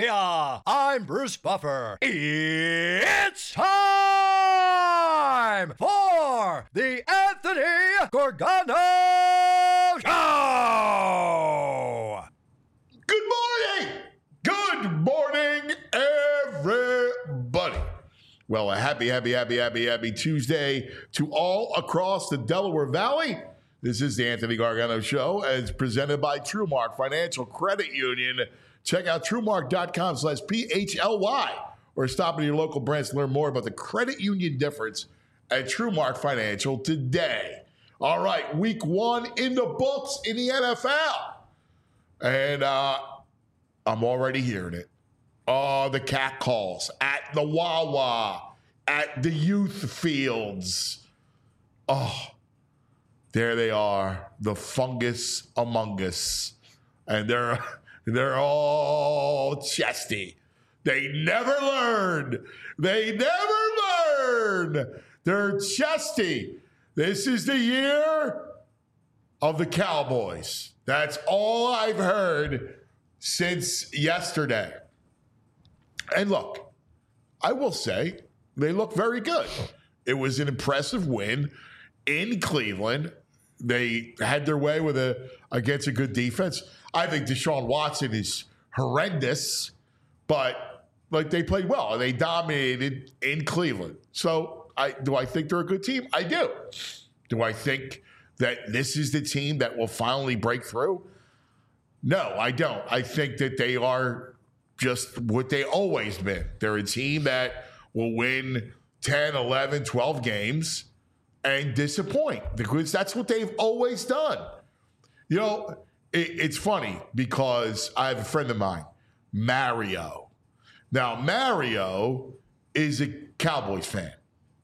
Philadelphia, I'm Bruce Buffer. It's time for the Anthony Gorgano Show! Good morning! Good morning, everybody. Well, a happy Tuesday to all across the Delaware Valley. This is the Anthony Gargano Show, as presented by TrueMark Financial Credit Union. Check out TrueMark.com/PHLY or stop at your local branch to learn more about the credit union difference at TrueMark Financial today. All right, week one in the books in the NFL. And I'm already hearing it. Oh, the cat calls at the Wawa, at the youth fields. Oh, there they are, the fungus among us. And they're all chesty. They never learn. They're chesty. This is the year of the Cowboys. That's all I've heard since yesterday. And look, I will say they look very good. It was an impressive win in Cleveland. They had their way against a good defense. I think Deshaun Watson is horrendous, but they played well. They dominated in Cleveland. So do I think they're a good team? I do. Do I think that this is the team that will finally break through? No, I don't. I think that they are just what they always been. They're a team that will win 10, 11, 12 games and disappoint, because that's what they've always done. You know, it's funny because I have a friend of mine, Mario. Now, Mario is a Cowboys fan.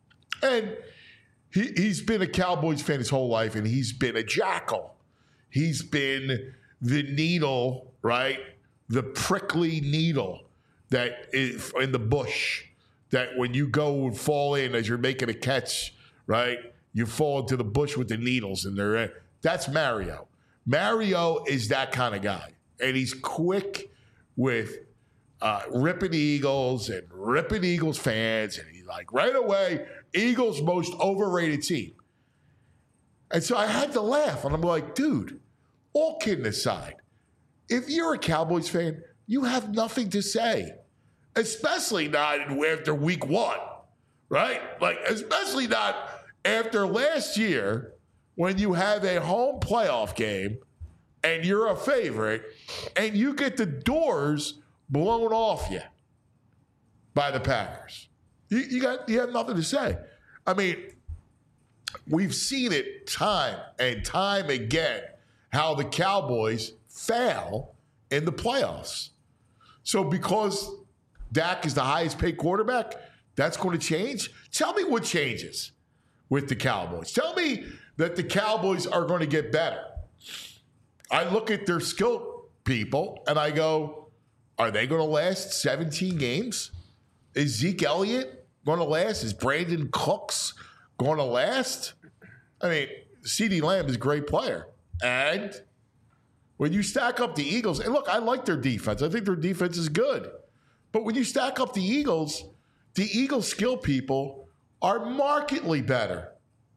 And he's been a Cowboys fan his whole life, and he's been a jackal. He's been the needle, right? The prickly needle that is in the bush, that when you go and fall in as you're making a catch, right? You fall into the bush with the needles in there. That's Mario. Mario is that kind of guy. And he's quick with ripping Eagles and ripping Eagles fans. And he's like, right away, Eagles' most overrated team. And so I had to laugh. And I'm like, dude, all kidding aside, if you're a Cowboys fan, you have nothing to say. Especially not after week one, right? Especially not after last year, when you have a home playoff game and you're a favorite and you get the doors blown off you by the Packers. You have nothing to say. I mean, we've seen it time and time again how the Cowboys fail in the playoffs. So because Dak is the highest paid quarterback, that's going to change? Tell me what changes with the Cowboys. Tell me that the Cowboys are going to get better. I look at their skill people and I go, are they going to last 17 games? Is Zeke Elliott going to last? Is Brandon Cooks going to last? I mean, CeeDee Lamb is a great player. And when you stack up the Eagles, and look, I like their defense. I think their defense is good. But when you stack up the Eagles skill people are markedly better.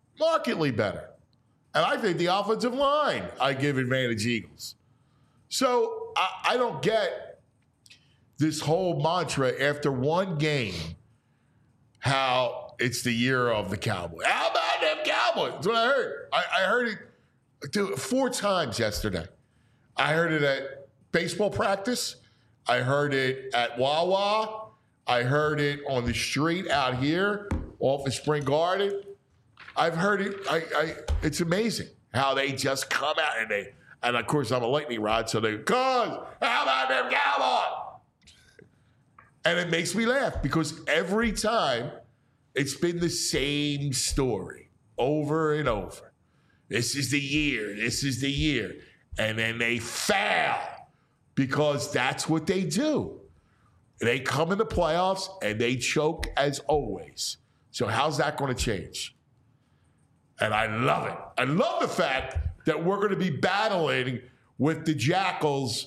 And I think the offensive line, I give advantage Eagles. So I don't get this whole mantra after one game, how it's the year of the Cowboys. How about them Cowboys? That's what I heard. I heard it 4 times yesterday. I heard it at baseball practice. I heard it at Wawa. I heard it on the street out here off of Spring Garden. I've heard it. It's amazing how they just come out and of course I'm a lightning rod, so they how about them Cowboys? And it makes me laugh because every time it's been the same story over and over. This is the year. And then they fail because that's what they do. They come in the playoffs and they choke as always. So how's that going to change? And I love it. I love the fact that we're going to be battling with the Jackals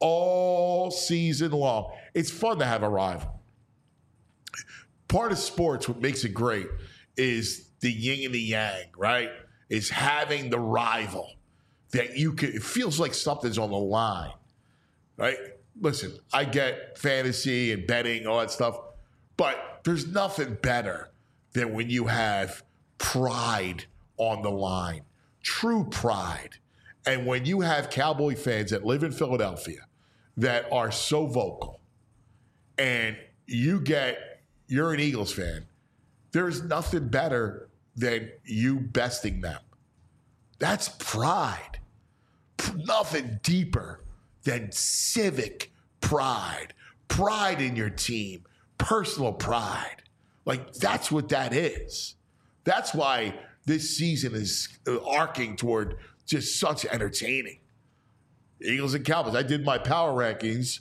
all season long. It's fun to have a rival. Part of sports, what makes it great is the yin and the yang, right? Is having the rival that you can, it feels like something's on the line, right? Listen, I get fantasy and betting, all that stuff, but there's nothing better than when you have pride on the line, true pride. And when you have Cowboy fans that live in Philadelphia that are so vocal, and you're an Eagles fan, there's nothing better than you besting them. That's pride. Nothing deeper than civic pride, pride in your team, personal pride. Like, that's what that is. That's why this season is arcing toward just such entertaining. Eagles and Cowboys. I did my power rankings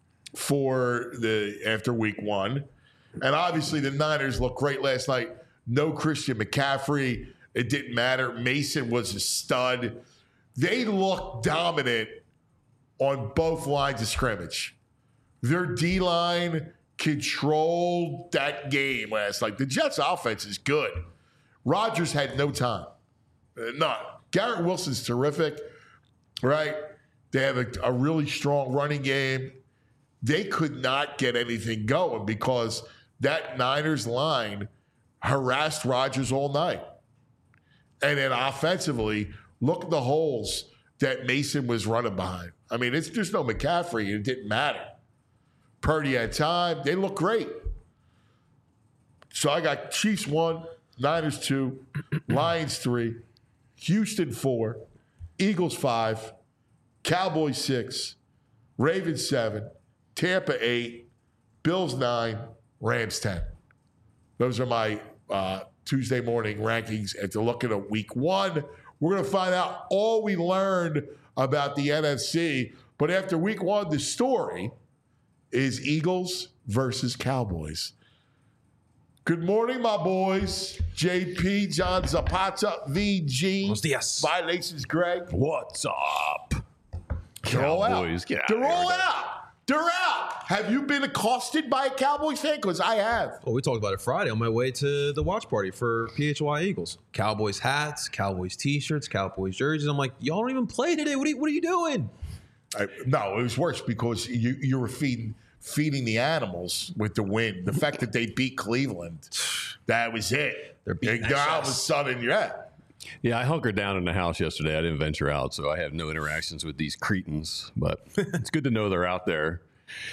after week 1. And obviously the Niners looked great last night. No Christian McCaffrey. It didn't matter. Mason was a stud. They looked dominant on both lines of scrimmage. Their D-line controlled that game last night. The Jets' offense is good. Rodgers had no time. None. Garrett Wilson's terrific, right? They have a really strong running game. They could not get anything going because that Niners line harassed Rodgers all night. And then offensively, look at the holes that Mason was running behind. I mean, there's no McCaffrey. It didn't matter. Purdy had time. They look great. So I got Chiefs 1, Niners 2, Lions 3, Houston 4, Eagles 5, Cowboys 6, Ravens 7, Tampa 8, Bills 9, Rams 10. Those are my Tuesday morning rankings after looking at week 1. We're going to find out all we learned about the NFC. But after week 1, the story is Eagles versus Cowboys. Good morning, my boys. JP, John Zapata, VG. Buenos dias. Violations, Greg. What's up? They're all out. Cowboys, get out They're of here. all out. They're out. Have you been accosted by a Cowboys fan? Because I have. Well, we talked about it Friday on my way to the watch party for PHY Eagles. Cowboys hats, Cowboys t-shirts, Cowboys jerseys. I'm like, y'all don't even play today. What are you doing? No, it was worse because you were feeding the animals with the win. The fact that they beat Cleveland, that was it. They're beating And all of a SS. sudden, yeah. Yeah, I hunkered down in the house yesterday. I didn't venture out, so I have no interactions with these cretins. But it's good to know they're out there.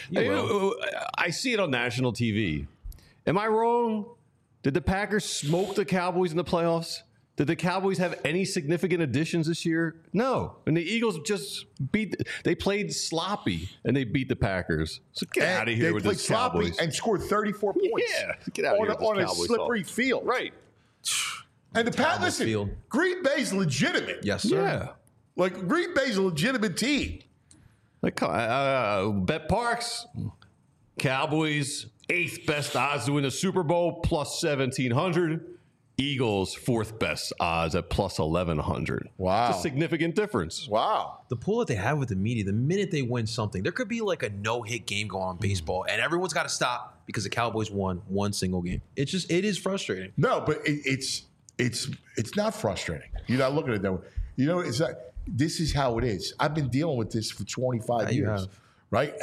I see it on national TV. Am I wrong? Did the Packers smoke the Cowboys in the playoffs? Did the Cowboys have any significant additions this year? No. And the Eagles just they played sloppy, and they beat the Packers. So get out of here with this Cowboys. And scored 34 points. Yeah, get out of here with this on a Cowboys slippery talk. field. Right. And the Packers, listen, field. Green Bay's legitimate. Yes, sir. Yeah. Like, Green Bay's a legitimate team. Like, Bet Parks, Cowboys, 8th best odds to win the Super Bowl, plus 1,700. Eagles, 4th best odds at plus 1,100. Wow. It's a significant difference. Wow. The pool that they have with the media, the minute they win something, there could be like a no-hit game going on in baseball, and everyone's got to stop because the Cowboys won one single game. It is frustrating. No, but it's not frustrating. You're not looking at it that way. You know, it's not, this is how it is. I've been dealing with this for 25 you years. have. Right?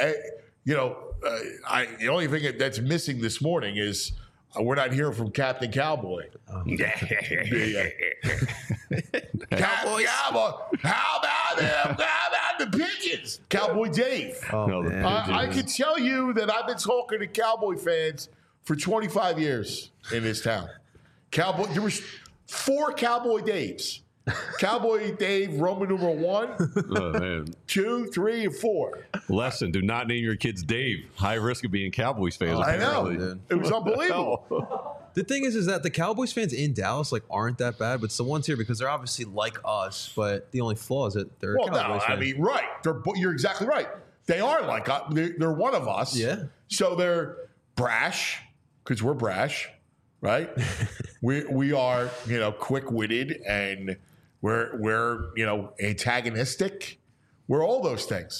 The only thing that's missing this morning is we're not hearing from Captain Cowboy. Cowboy. How about them? How about the pigeons? Cowboy Dave. No, the man. I can tell you that I've been talking to Cowboy fans for 25 years in this town. There was 4 Cowboy Daves. Cowboy Dave, Roman numeral 1, Oh, man. 2, 3, and 4. Lesson, do not name your kids Dave. High risk of being Cowboys fans. I know. apparently. It was unbelievable. The thing is that the Cowboys fans in Dallas aren't that bad, but it's the ones here because they're obviously like us. But the only flaw is that they're Well, Cowboys no, fans. I mean, right. You're exactly right. They are like us. They're one of us. Yeah. So they're brash because we're brash, right? we are, quick-witted, and we're antagonistic. We're all those things.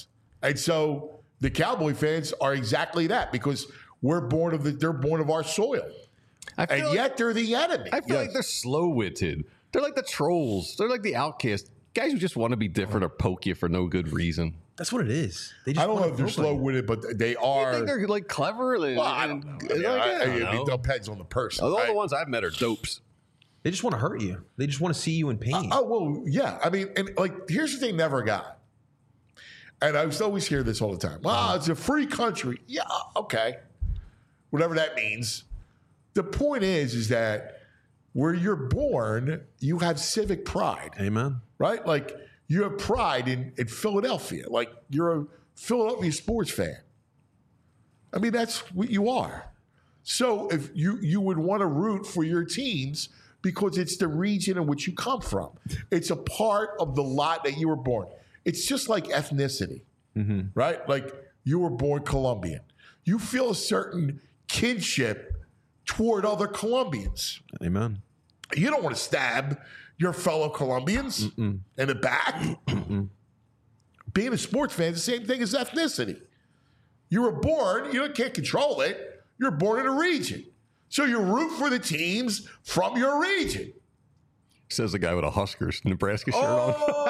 And so the Cowboy fans are exactly that because they're born of our soil. And yet they're the enemy. I feel like they're slow-witted. They're like the trolls. They're like the outcasts. Guys who just want to be different or poke you for no good reason. That's what it is. They just I don't know if they're slow-witted, but they are. I think they're like clever. Well, I don't know. It depends on the person. All the ones I've met are dopes. They just want to hurt you. They just want to see you in pain. Well, yeah. I mean, and like, here's the thing never got. And I used to always hear this all the time. Well, it's a free country. Yeah, okay. Whatever that means. The point is that where you're born, you have civic pride. Amen. Right? Like, you have pride in Philadelphia. Like, you're a Philadelphia sports fan. I mean, that's what you are. So if you would want to root for your teams because it's the region in which you come from. It's a part of the lot that you were born. It's just like ethnicity, right? Like, you were born Colombian. You feel a certain kinship toward other Colombians. Amen. You don't want to stab your fellow Colombians in the back. Being a sports fan is the same thing as ethnicity. You were born, you can't control it. You're born in a region. So you root for the teams from your region. Says the guy with a Huskers Nebraska shirt on.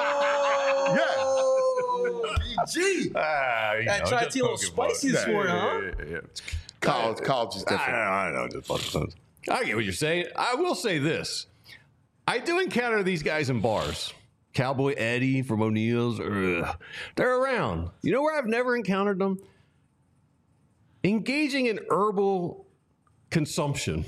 Yeah. Gee. I tried to be a little spicy this morning, huh? Yeah. College is different. I know. I get what you're saying. I will say this. I do encounter these guys in bars. Cowboy Eddie from O'Neill's. They're around. You know where I've never encountered them? Engaging in herbal consumption.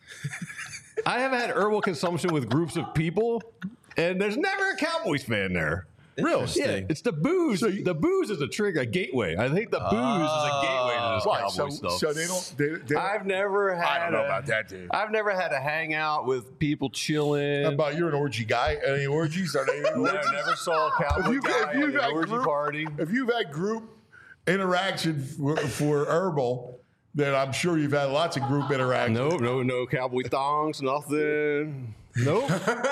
I have had herbal consumption with groups of people, and there's never a Cowboys fan there. Really? Yeah, it's the booze. So the booze is a gateway. I think the booze is a gateway to this Cowboys stuff. So they don't. I've never had. I don't know about that, dude. I've never had to hang out with people chilling. How about you're an orgy guy? Any orgies? Are they orgies? I never saw a Cowboy guy at an orgy party. If you've had group interaction for herbal, then I'm sure you've had lots of group interaction. No Cowboy thongs, nothing. Nope.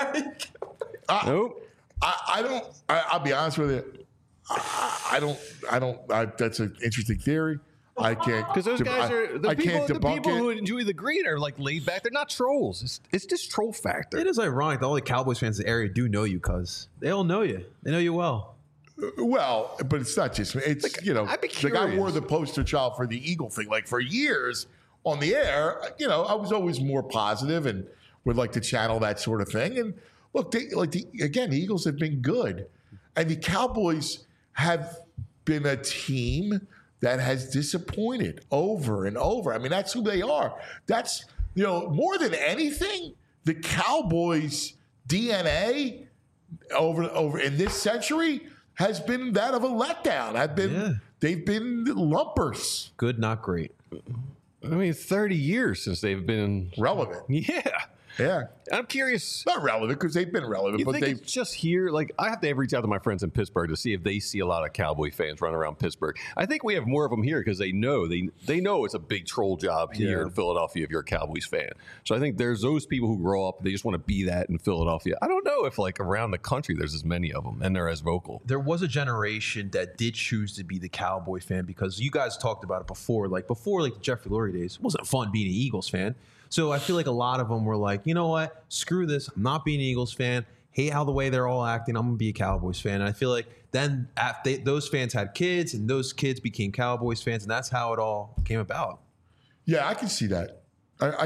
Nope. I don't. I'll be honest with you. I don't. That's an interesting theory. I can't, because those guys are the people who it. enjoy the green are like laid back. They're not trolls. It's just troll factor. It is ironic that all the Cowboys fans in the area do know you, cuz they all know you. They know you well. Well, but it's not just me. It's the guy wore the poster child for the Eagle thing. Like, for years on the air, I was always more positive and would like to channel that sort of thing. And look, the Eagles have been good, and the Cowboys have been a team that has disappointed over and over. I mean, that's who they are. That's, more than anything, the Cowboys' DNA over in this century has been that of a letdown. They've been lumpers. Good, not great. I mean, 30 years since they've been relevant. Yeah. I'm curious. Not relevant because they've been relevant, but it's just here. Like, I have to reach out to my friends in Pittsburgh to see if they see a lot of Cowboy fans running around Pittsburgh. I think we have more of them here because they know it's a big troll job here in Philadelphia if you're a Cowboys fan. So I think there's those people who grow up, they just want to be that in Philadelphia. I don't know if around the country there's as many of them and they're as vocal. There was a generation that did choose to be the Cowboy fan because you guys talked about it before. Like, before the Jeffrey Lurie days, it wasn't fun being an Eagles fan. So I feel like a lot of them were like, you know what? Screw this. I'm not being an Eagles fan. Hate how the way they're all acting. I'm going to be a Cowboys fan. And I feel like then those fans had kids, and those kids became Cowboys fans, and that's how it all came about. Yeah, I can see that. I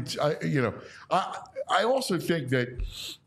also think that,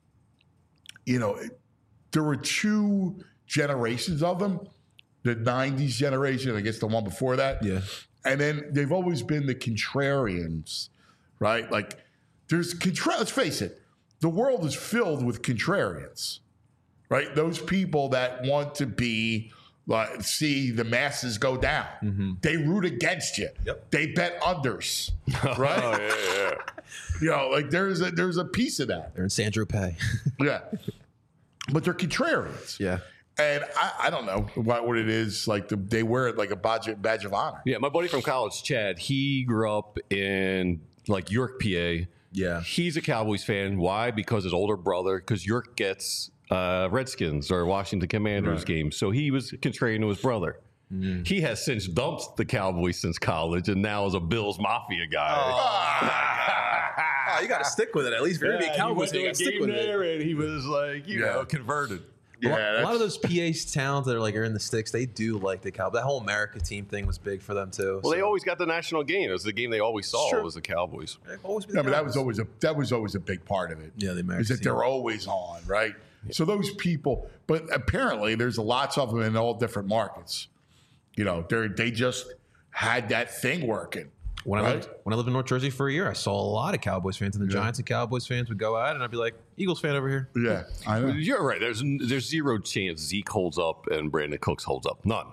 there were two generations of them. The 90s generation, I guess the one before that. Yeah. And then they've always been the contrarians. Right? Like, let's face it, the world is filled with contrarians, right? Those people that want to see the masses go down. Mm-hmm. They root against you. Yep. They bet unders, right? Oh, yeah. There's a piece of that. They're in San Tropez. Yeah. But they're contrarians. Yeah. And I don't know what it is. Like, they wear it like a badge of honor. Yeah, my buddy from college, Chad, he grew up in York, PA. Yeah. He's a Cowboys fan. Why? Because his older brother, because York gets Redskins or Washington Commanders games. So he was contrarian to his brother. He has since dumped the Cowboys since college and now is a Bills Mafia guy. You got to stick with it. At least if you're going to be a Cowboys, you got to stick with it. And he was like, you know, converted. Yeah, a lot of those PA towns that are in the sticks, they do like the Cowboys. That whole America team thing was big for them too. Well, they always got the national game. It was the game they always saw was the Cowboys. But that was always a big part of it. Yeah, the American is that they're always on, right? Yeah. So those people, but apparently there's lots of them in all different markets. You know, they just had that thing working. When I lived in North Jersey for a year, I saw a lot of Cowboys fans, and the Giants and Cowboys fans would go out, and I'd be like, Eagles fan over here. Yeah, I know. You're right. There's zero chance Zeke holds up and Brandon Cooks holds up. None.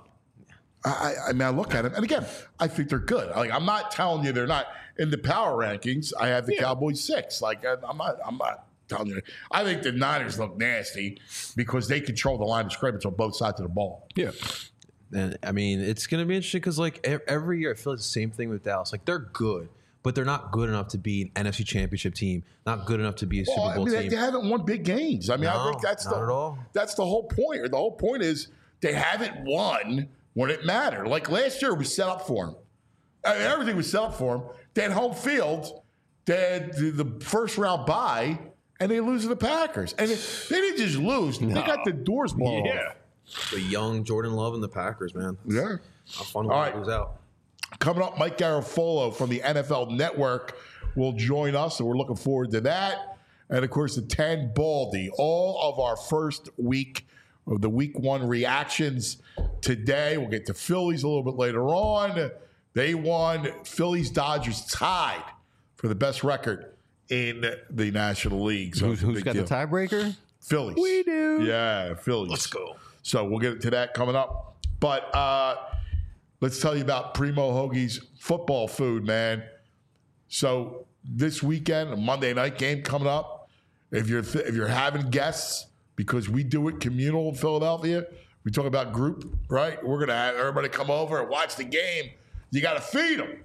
I mean, I look at them, and again, I think they're good. Like, I'm not telling you they're not. In the power rankings, I have the Cowboys 6. Like, I'm not telling you. I think the Niners look nasty because they control the line of scrimmage on both sides of the ball. Yeah. And I mean, it's going to be interesting because every year I feel like the same thing with Dallas. Like, they're good, but they're not good enough to be an NFC Championship team. Not good enough to be a Super Bowl team. They haven't won big games. I mean, I think that's not at all. That's the whole point. The whole point is they haven't won when it mattered. Like last year, was set up for them. I mean, everything was set up for them. They had home field. They had the first round bye, and they lose to the Packers. And they didn't just lose. They got the doors blown off. The young Jordan Love and the Packers, man. Yeah. How fun when he goes out. Coming up, Mike Garafolo from the NFL Network will join us, so we're looking forward to that. And, of course, the 10 Baldy. All of our first week of the Week 1 reactions today. We'll get to Phillies a little bit later on. They won. Phillies-Dodgers tied for the best record in the National League. So who's got the tiebreaker? Phillies. We do. Yeah, Phillies. Let's go. So we'll get to that coming up. But let's tell you about Primo Hoagie's football food, man. So this weekend, a Monday night game coming up. If you're having guests, because we do it communal in Philadelphia, we talk about group, right? We're going to have everybody come over and watch the game. You got to feed them.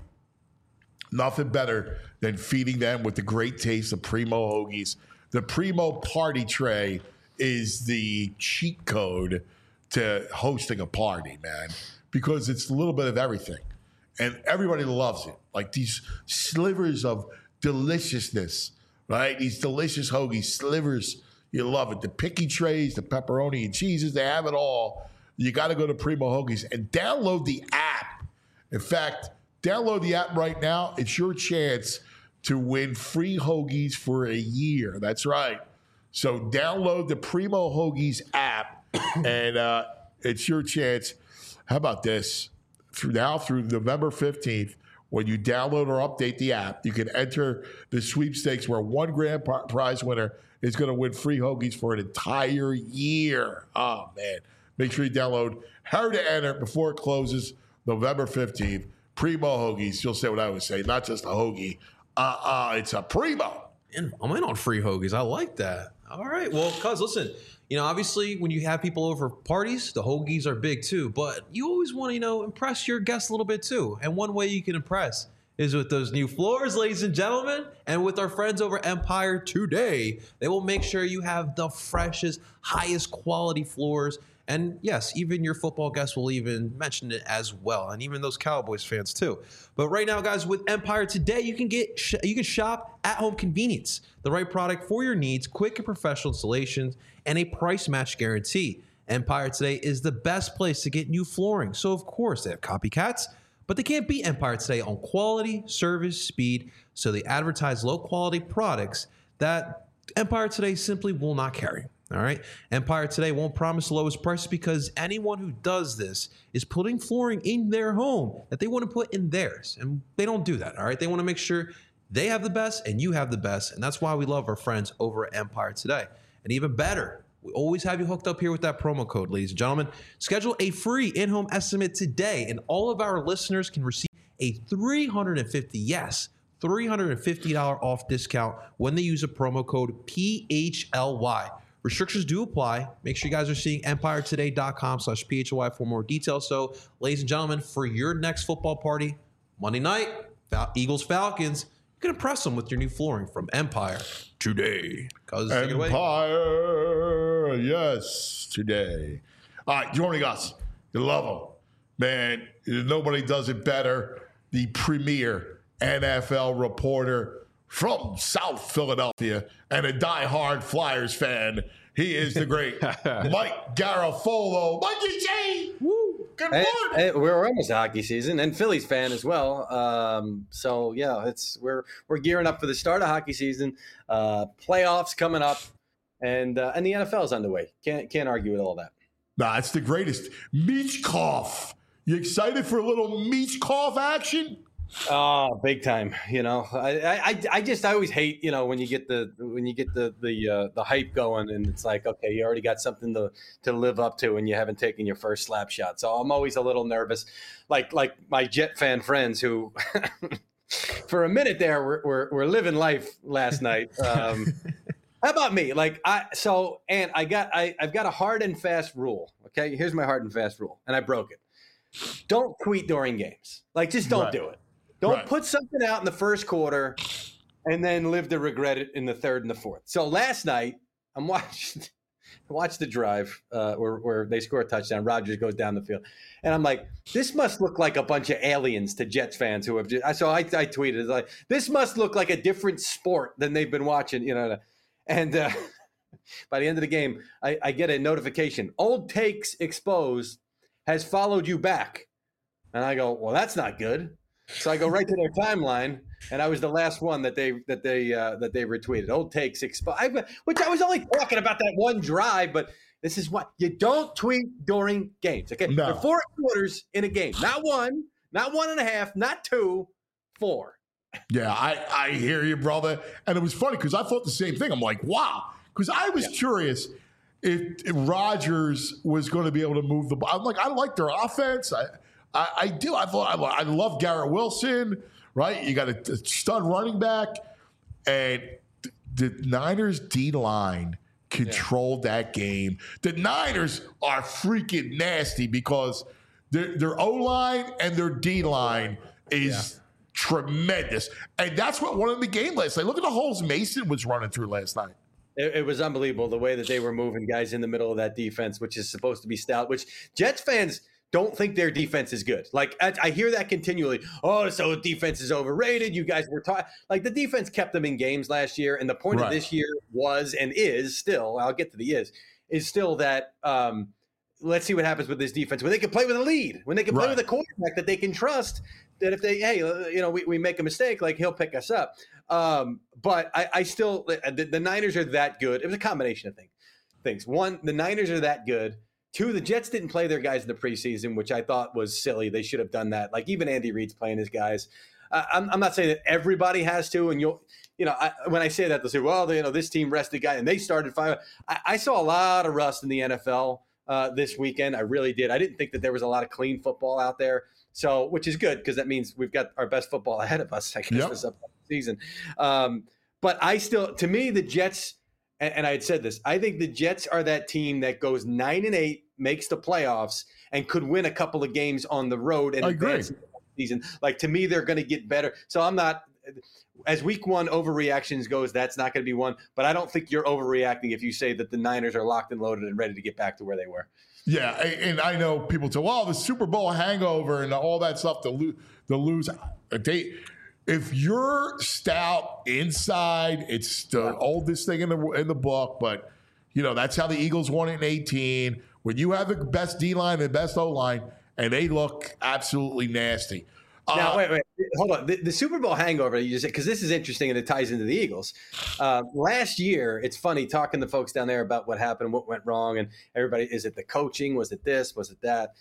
Nothing better than feeding them with the great taste of Primo Hoagies. The Primo Party Tray is the cheat code to hosting a party, man, because it's a little bit of everything. And everybody loves it. Like these slivers of deliciousness, right? These delicious hoagie slivers. You love it. The picky trays, the pepperoni and cheeses, they have it all. You got to go to Primo Hoagies and download the app. In fact, download the app right now. It's your chance to win free hoagies for a year. That's right. So download the Primo Hoagies app, and it's your chance. How about this? Through November 15th, when you download or update the app, you can enter the sweepstakes where one grand prize winner is going to win free hoagies for an entire year. Oh, man. Make sure you download. Hurry to enter before it closes November 15th. Primo Hoagies. You'll say what I would say. Not just a hoagie. It's a Primo. I'm in on free hoagies. I like that. All right. Well, cuz, listen, obviously when you have people over parties, the hoagies are big too, but you always want to, impress your guests a little bit too. And one way you can impress is with those new floors, ladies and gentlemen, and with our friends over Empire Today. They will make sure you have the freshest, highest quality floors. And yes, even your football guests will even mention it as well, and even those Cowboys fans too. But right now, guys, with Empire Today, you can shop at home convenience, the right product for your needs, quick and professional installations, and a price match guarantee. Empire Today is the best place to get new flooring. So of course they have copycats, but they can't beat Empire Today on quality, service, speed. So they advertise low quality products that Empire Today simply will not carry. All right. Empire Today won't promise the lowest prices because anyone who does this is putting flooring in their home that they want to put in theirs. And they don't do that. All right. They want to make sure they have the best and you have the best. And that's why we love our friends over at Empire Today. And even better, we always have you hooked up here with that promo code, ladies and gentlemen. Schedule a free in-home estimate today, and all of our listeners can receive a $350 off discount when they use a promo code PHLY. Restrictions do apply. Make sure you guys are seeing EmpireToday.com/PHLY for more details. So, ladies and gentlemen, for your next football party, Monday night, Eagles-Falcons, you can impress them with your new flooring from Empire Today. Empire, yes, today. All right, joining us, you love them. man, nobody does it better. The premier NFL reporter from South Philadelphia and a diehard Flyers fan. He is the great Mike Garafolo. Mikey J! Woo! Good morning. Hey, we're almost hockey season, and Phillies fan as well. So yeah, we're gearing up for the start of hockey season. Playoffs coming up, and the NFL is underway. Can't argue with all that. Nah, it's the greatest. Michkov. You excited for a little Michkov action? Oh, big time! You know, I always hate, you know, when you get the hype going, and it's like, okay, you already got something to live up to, and you haven't taken your first slap shot. So I'm always a little nervous, like my Jet fan friends who, for a minute there, were living life last night. How about me? I've got a hard and fast rule. Okay, here's my hard and fast rule, and I broke it. Don't tweet during games. Just don't do it. Don't put something out in the first quarter and then live to regret it in the third and the fourth. So last night, I watched the drive where they score a touchdown. Rodgers goes down the field. And I'm like, this must look like a bunch of aliens to Jets fans who have just – so I tweeted, like, this must look like a different sport than they've been watching, you know. And by the end of the game, I get a notification. Old Takes Exposed has followed you back. And I go, well, that's not good. So I go right to their timeline, and I was the last one that they retweeted. Old Takes which I was only talking about that one drive, but this is what you don't tweet during games. Okay, no. There are 4 quarters in a game, not 1, not 1.5, not 2, 4. Yeah, I hear you, brother. And it was funny because I thought the same thing. I'm like, wow, because I was curious if Rodgers was going to be able to move the ball. I'm like, I like their offense. I do. I love Garrett Wilson, right? You got a stud running back. And the Niners D-line controlled that game. The Niners are freaking nasty because their O-line and their D-line is tremendous. And that's what won in the game last night. Look at the holes Mason was running through last night. It was unbelievable the way that they were moving guys in the middle of that defense, which is supposed to be stout, which Jets fans – don't think their defense is good. I hear that continually. Oh, so defense is overrated. You guys were taught. The defense kept them in games last year, and the point of this year was and is still. I'll get to the is still that. Let's see what happens with this defense when they can play with a lead, when they can play with a quarterback that they can trust. That if we make a mistake, he'll pick us up. But I still the Niners are that good. It was a combination of things. One, the Niners are that good. 2, the Jets didn't play their guys in the preseason, which I thought was silly. They should have done that. Even Andy Reid's playing his guys. I'm not saying that everybody has to, and when I say that, they'll say, well, this team rested guy, and they started 5. I saw a lot of rust in the NFL this weekend. I really did. I didn't think that there was a lot of clean football out there, so which is good because that means we've got our best football ahead of us, I guess, this upcoming season. But to me, the Jets. And I had said this, I think the Jets are that team that goes 9-8, makes the playoffs, and could win a couple of games on the road and advance in the season. To me, they're going to get better. So I'm not, as week 1 overreactions goes, that's not going to be one. But I don't think you're overreacting if you say that the Niners are locked and loaded and ready to get back to where they were. Yeah, and I know people say, well, the Super Bowl hangover and all that stuff, the lose. If you're stout inside, it's the oldest thing in the book. But that's how the Eagles won it in 2018. When you have the best D line and the best O line, and they look absolutely nasty. Now wait, hold on. The Super Bowl hangover you just said, because this is interesting and it ties into the Eagles. Last year, it's funny talking to folks down there about what happened, what went wrong, and everybody. Is it the coaching? Was it this? Was it that?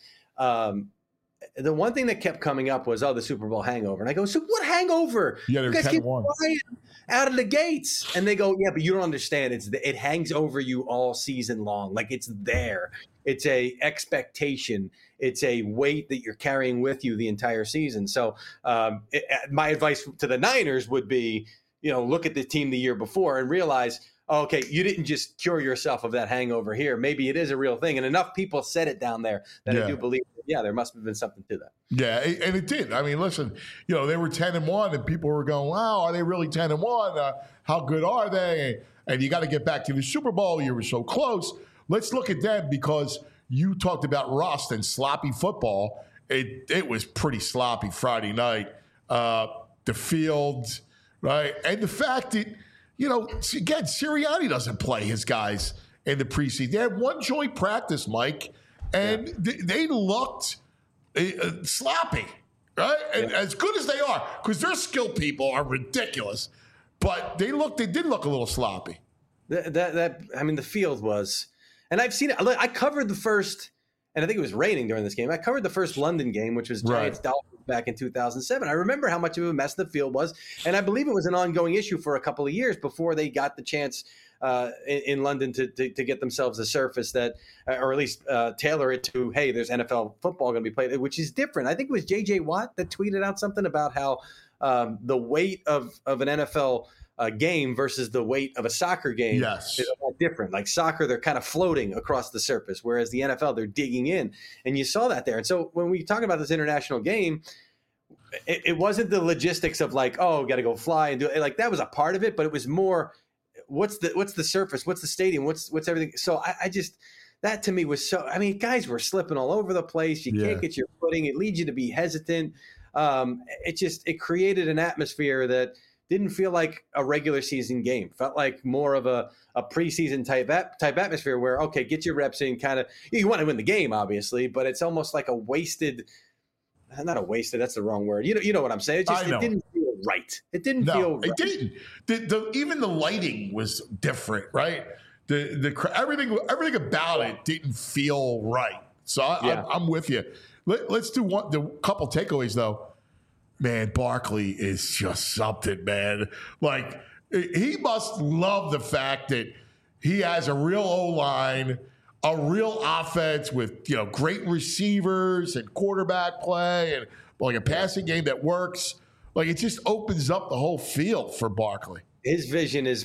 The one thing that kept coming up was, the Super Bowl hangover. And I go, so what hangover? Yeah, you guys keep flying out of the gates. And they go, yeah, but you don't understand. It hangs over you all season long. It's there. It's a expectation. It's a weight that you're carrying with you the entire season. So my advice to the Niners would be, look at the team the year before and realize, okay, you didn't just cure yourself of that hangover here. Maybe it is a real thing. And enough people said it down there that I do believe, there must have been something to that. Yeah, and it did. I mean, listen, they were 10-1, and people were going, wow, are they really 10-1? How good are they? And you got to get back to the Super Bowl. You were so close. Let's look at them because you talked about rust and sloppy football. it was pretty sloppy Friday night. The field, right? And the fact that, again, Sirianni doesn't play his guys in the preseason. They had one joint practice, Mike, and they looked sloppy, right? And as good as they are, because their skill people are ridiculous, but they did look a little sloppy. The field was, and I've seen it. I covered the first, and I think it was raining during this game. I covered the first London game, which was Giants Dolphins back in 2007. I remember how much of a mess the field was, and I believe it was an ongoing issue for a couple of years before they got the chance in London to get themselves a surface that, or at least tailor it to, hey, there's NFL football going to be played, which is different. I think it was J.J. Watt that tweeted out something about how the weight of an NFL game versus the weight of a soccer game is a lot different. Like soccer, they're kind of floating across the surface, whereas the NFL, they're digging in. And you saw that there. And so when we talk about this international game, it wasn't the logistics of like, oh, got to go fly and do it. Like that was a part of it, but it was more, what's the surface? What's the stadium? What's everything? So I just, that to me was so, guys were slipping all over the place. You can't get your footing. It leads you to be hesitant. It created an atmosphere that didn't feel like a regular season game. Felt like more of a preseason type atmosphere where, okay, get your reps in, kind of, you want to win the game, obviously, but it's almost like a wasted, not a wasted, that's the wrong word. You know what I'm saying? It didn't feel right. It didn't feel right. It didn't. Even the lighting was different, right? Everything about it didn't feel right. So I'm with you. Let's do the couple takeaways, though. Man, Barkley is just something, man. Like, he must love the fact that he has a real O-line, a real offense with, great receivers and quarterback play and like a passing game that works. Like, it just opens up the whole field for Barkley. His vision is,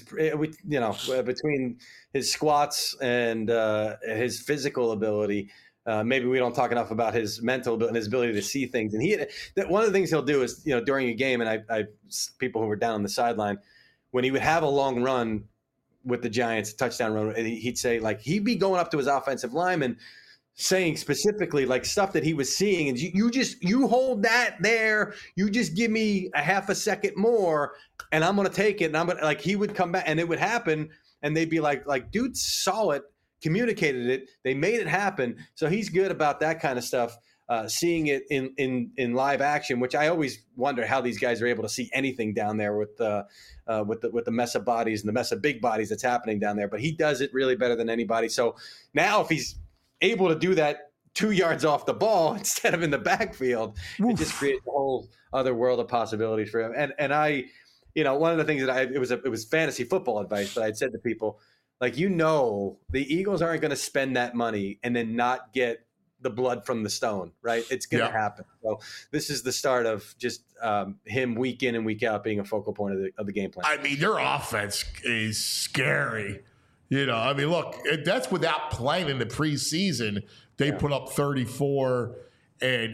between his squats and his physical ability. Maybe we don't talk enough about his mental ability and his ability to see things. And one of the things he'll do is, during a game, and I people who were down on the sideline, when he would have a long run with the Giants, a touchdown run, and he'd say, like, he'd be going up to his offensive lineman saying specifically, like, stuff that he was seeing. And you hold that there. You just give me a half a second more and I'm going to take it. And he would come back and it would happen. And they'd be like, dude saw it, communicated it, they made it happen. So he's good about that kind of stuff, seeing it in live action, which I always wonder how these guys are able to see anything down there with the mess of bodies and the mess of big bodies that's happening down there. But he does it really better than anybody. So now if he's able to do that 2 yards off the ball instead of in the backfield, it just creates a whole other world of possibilities for him. And I, one of the things that it was fantasy football advice, but I'd said to people, like, the Eagles aren't going to spend that money and then not get the blood from the stone, right? It's going to happen. So this is the start of just him week in and week out being a focal point of the game plan. Their offense is scary. Look, that's without playing in the preseason. They put up 34, and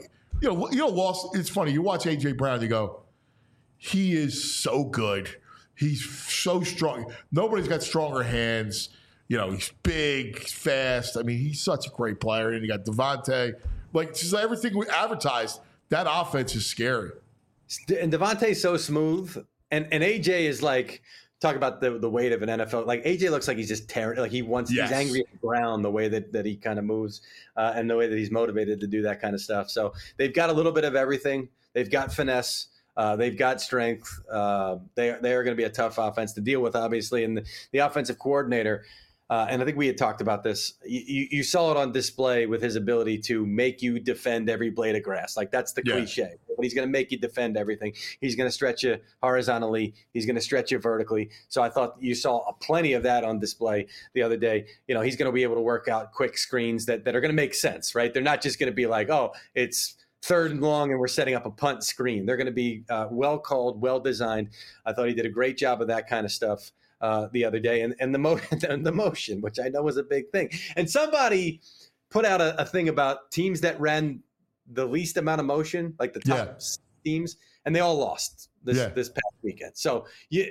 it's funny. You watch A.J. Brown, you go, he is so good. He's so strong. Nobody's got stronger hands. He's big, he's fast. He's such a great player. And you got Devontae. Like, just everything we advertised, that offense is scary. And Devontae's so smooth. And AJ is like, talk about the weight of an NFL. Like, AJ looks like he's just tearing. Like, he's angry at the ground, the way that he kind of moves and the way that he's motivated to do that kind of stuff. So they've got a little bit of everything. They've got finesse. They've got strength. They are going to be a tough offense to deal with, obviously. And the offensive coordinator, and I think we had talked about this, you saw it on display with his ability to make you defend every blade of grass. Like, that's the cliche. But he's going to make you defend everything. He's going to stretch you horizontally. He's going to stretch you vertically. So I thought you saw plenty of that on display the other day. He's going to be able to work out quick screens that are going to make sense, right? They're not just going to be like, oh, it's 3rd and long and we're setting up a punt screen. They're going to be well called, well designed. I thought he did a great job of that kind of stuff the other day. And the motion, which I know was a big thing. And somebody put out a thing about teams that ran the least amount of motion, like the top teams, and they all lost this past weekend. So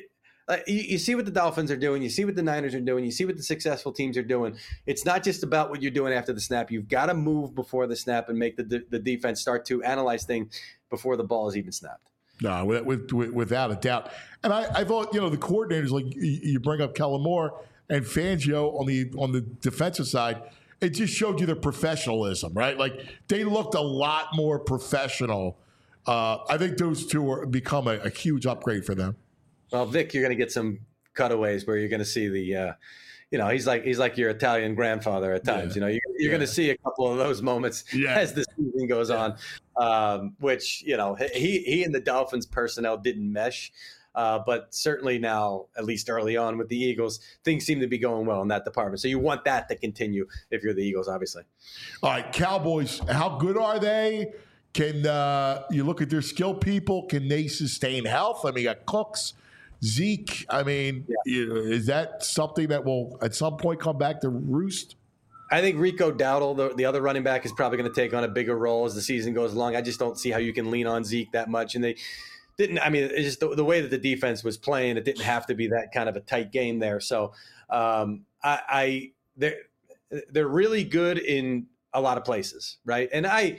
you see what the Dolphins are doing. You see what the Niners are doing. You see what the successful teams are doing. It's not just about what you're doing after the snap. You've got to move before the snap and make the defense start to analyze things before the ball is even snapped. No, without a doubt. And I thought, the coordinators, like you bring up Kellen Moore and Fangio on the defensive side, it just showed you their professionalism, right? Like they looked a lot more professional. I think those two are become a huge upgrade for them. Well, Vic, you're going to get some cutaways where you're going to see the, he's like your Italian grandfather at times. Yeah. You're going to see a couple of those moments as the season goes on, which he and the Dolphins personnel didn't mesh, but certainly now, at least early on with the Eagles, things seem to be going well in that department. So you want that to continue if you're the Eagles, obviously. All right, Cowboys, how good are they? Can you look at their skill people? Can they sustain health? I mean, you got Cooks. Zeke, I mean, is that something that will at some point come back to roost? I think Rico Dowdle, the other running back, is probably going to take on a bigger role as the season goes along. I just don't see how you can lean on Zeke that much. And they didn't, I mean, it's just the way that the defense was playing, it didn't have to be that kind of a tight game there. So they're really good in a lot of places, right? And I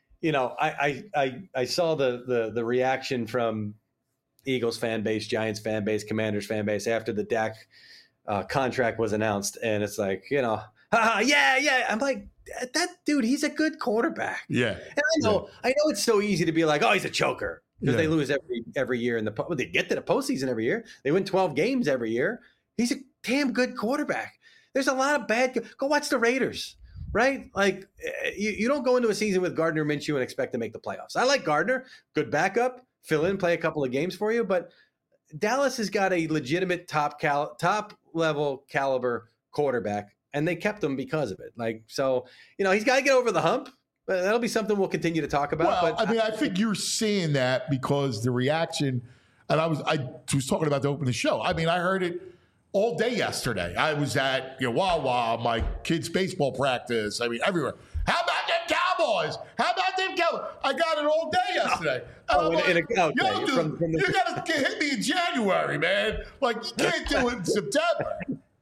saw the reaction from Eagles fan base, Giants fan base, Commanders fan base after the Dak contract was announced, and it's like, yeah. I'm like, that dude, he's a good quarterback. Yeah, and I know it's so easy to be like, oh, he's a choker because they lose every year in they get to the postseason every year. They win 12 games every year. He's a damn good quarterback. There's a lot of bad. Go watch the Raiders. Right? Like you don't go into a season with Gardner Minshew and expect to make the playoffs. I like Gardner, good backup, fill in, play a couple of games for you, but Dallas has got a legitimate top level caliber quarterback, and they kept him because of it. Like, so, he's got to get over the hump. But that'll be something we'll continue to talk about. Well, I think you're seeing that because the reaction, and I was talking about to open the show. I mean, I heard it all day yesterday. I was at Wawa, my kids' baseball practice. I mean, everywhere. How about them Cowboys? How about them Cowboys? I got it all day yesterday. You got to hit me in January, man. Like, you can't do it in September.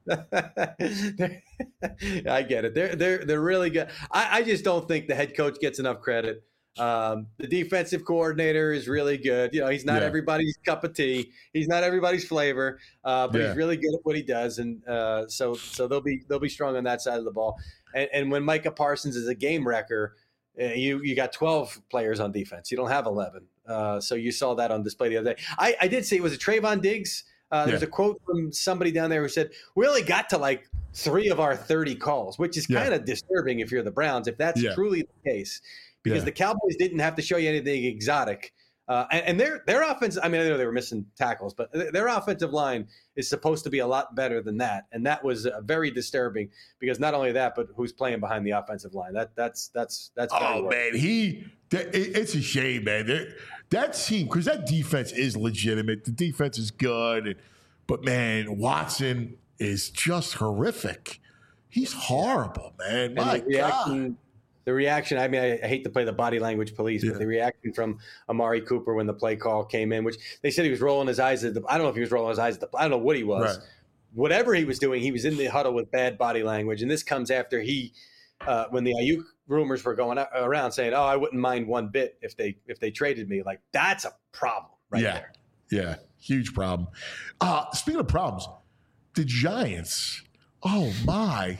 I get it. They're really good. I just don't think the head coach gets enough credit. The defensive coordinator is really good. He's not everybody's cup of tea. He's not everybody's flavor, but he's really good at what he does, and so they'll be strong on that side of the ball. And when Micah Parsons is a game wrecker, you got 12 players on defense. You don't have 11. So you saw that on display the other day. I did see, was it Trayvon Diggs? There's a quote from somebody down there who said, "We only got to like 3 of our 30 calls," which is kind of disturbing if you're the Browns, if that's truly the case. Because the Cowboys didn't have to show you anything exotic. And their offense, I mean, I know they were missing tackles, but their offensive line is supposed to be a lot better than that. And that was very disturbing because not only that, but who's playing behind the offensive line. That's oh, man, it's a shame, man. That team, because that defense is legitimate. The defense is good. But, man, Watson is just horrific. He's horrible, man. My God. The reaction, I mean, I hate to play the body language police, but the reaction from Amari Cooper when the play call came in, which they said he was rolling his eyes at I don't know if he was rolling his eyes at I don't know what he was. Right. Whatever he was doing, he was in the huddle with bad body language. And this comes after when the Ayuk rumors were going around saying, "Oh, I wouldn't mind one bit if they traded me." Like, that's a problem there. Yeah, huge problem. Speaking of problems, the Giants, oh my.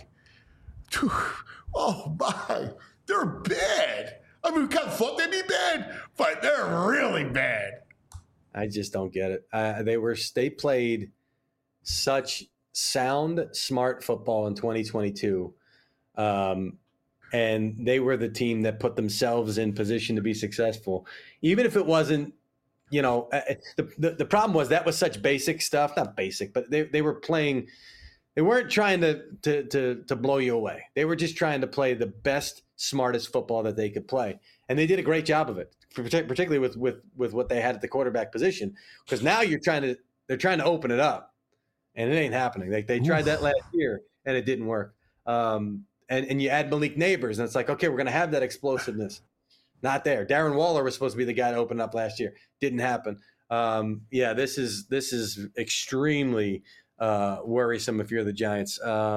They're bad. I mean, we kind of thought they'd be bad, but they're really bad. I just don't get it. They played such sound, smart football in 2022, and they were the team that put themselves in position to be successful, even if it wasn't. The problem was that was such basic stuff. Not basic, but they were playing. They weren't trying to blow you away. They were just trying to play the best, smartest football that they could play, and they did a great job of it, particularly with what they had at the quarterback position. Because now they're trying to open it up, and it ain't happening. They tried that last year, and it didn't work. And you add Malik Neighbors, and it's like, okay, we're going to have that explosiveness. Not there. Darren Waller was supposed to be the guy to open up last year. Didn't happen. Yeah, this is extremely worrisome if you're the Giants.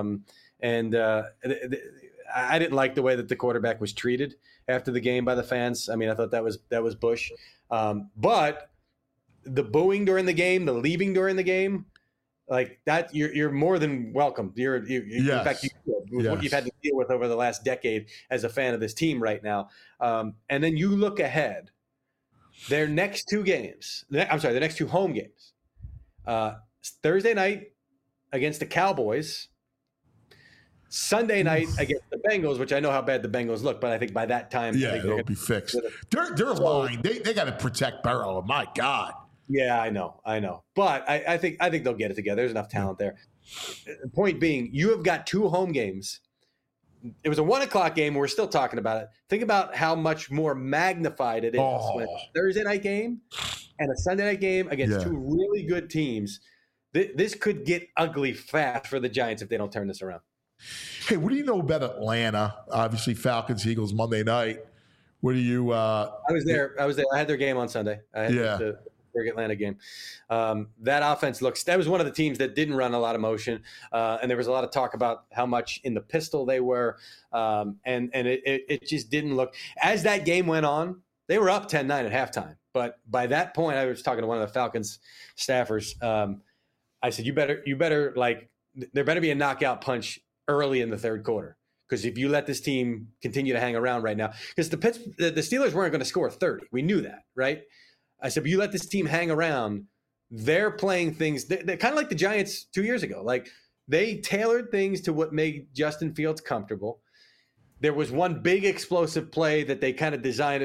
I didn't like the way that the quarterback was treated after the game by the fans. I mean, I thought that was Bush. But the booing during the game, the leaving during the game, like that, you're more than welcome. In fact, what you've had to deal with over the last decade as a fan of this team right now. And then you look ahead, their next two home games, Thursday night against the Cowboys, Sunday night against the Bengals, which I know how bad the Bengals look, but I think by that time, it'll be fixed. They're lying. They got to protect Burrow. My God. Yeah, I know. But I think they'll get it together. There's enough talent there. Point being, you have got two home games. It was a 1:00 game, and we're still talking about it. Think about how much more magnified it is when a Thursday night game and a Sunday night game against two really good teams. This could get ugly fast for the Giants if they don't turn this around. Hey, what do you know about Atlanta? Obviously, Falcons, Eagles, Monday night. What do you? I was there. I had their game on Sunday. I had the Atlanta game. That offense that was one of the teams that didn't run a lot of motion, and there was a lot of talk about how much in the pistol they were, and it just didn't look. As that game went on, they were up 10-9 at halftime, but by that point, I was talking to one of the Falcons staffers. I said, "You better like there better be a knockout punch early in the third quarter, because if you let this team continue to hang around right now, because the Steelers weren't going to score 30, we knew that, right?" I said, but you let this team hang around, they're playing things. They're kind of like the Giants 2 years ago. Like, they tailored things to what made Justin Fields comfortable. There was one big explosive play that they kind of designed.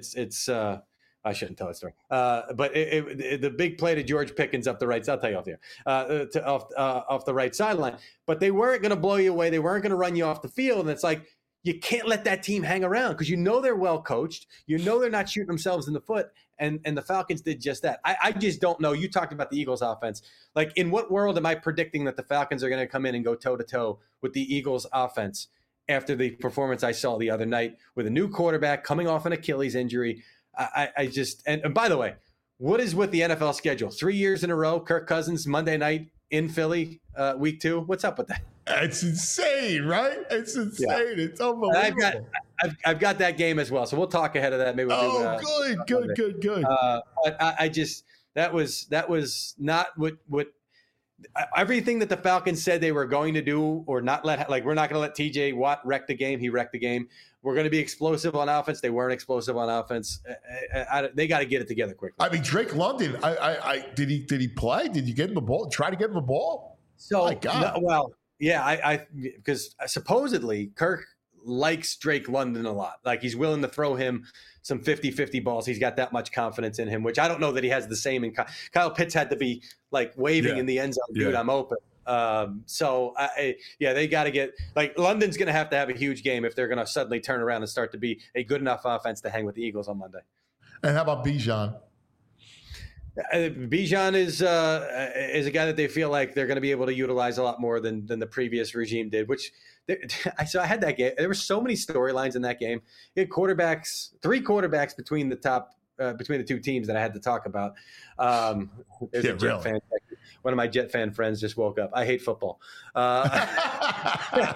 I shouldn't tell that story. But the big play to George Pickens up the right side, I'll tell you off there, off the right sideline. But they weren't going to blow you away. They weren't going to run you off the field. And it's like, you can't let that team hang around, because you know they're well coached. You know they're not shooting themselves in the foot. And the Falcons did just that. I just don't know. You talked about the Eagles offense. Like, in what world am I predicting that the Falcons are going to come in and go toe-to-toe with the Eagles offense after the performance I saw the other night with a new quarterback coming off an Achilles injury? I just – and by the way, what is with the NFL schedule? 3 years in a row, Kirk Cousins, Monday night in Philly, week 2. What's up with that? It's insane, right? It's insane. Yeah. It's unbelievable. I've got that game as well, so we'll talk ahead of that. Maybe we'll good. I just that was not what everything that the Falcons said they were going to do or not let. Like, we're not going to let T.J. Watt wreck the game. He wrecked the game. We're going to be explosive on offense. They weren't explosive on offense. They got to get it together quickly. I mean, Drake London. Did he play? Did you get him the ball? Try to get him the ball? So, my God. Because supposedly Kirk likes Drake London a lot. Like, he's willing to throw him some 50-50 balls. He's got that much confidence in him, which I don't know that he has the same in Kyle Pitts had to be like waving in the end zone, dude, I'm open. They got to get, like, London's going to have a huge game if they're going to suddenly turn around and start to be a good enough offense to hang with the Eagles on Monday. And how about Bijan? Bijan is a guy that they feel like they're going to be able to utilize a lot more than the previous regime did. So I had that game. There were so many storylines in that game. You had three quarterbacks between the two teams that I had to talk about. There's a Jet fan. One of my Jet fan friends just woke up. I hate football. I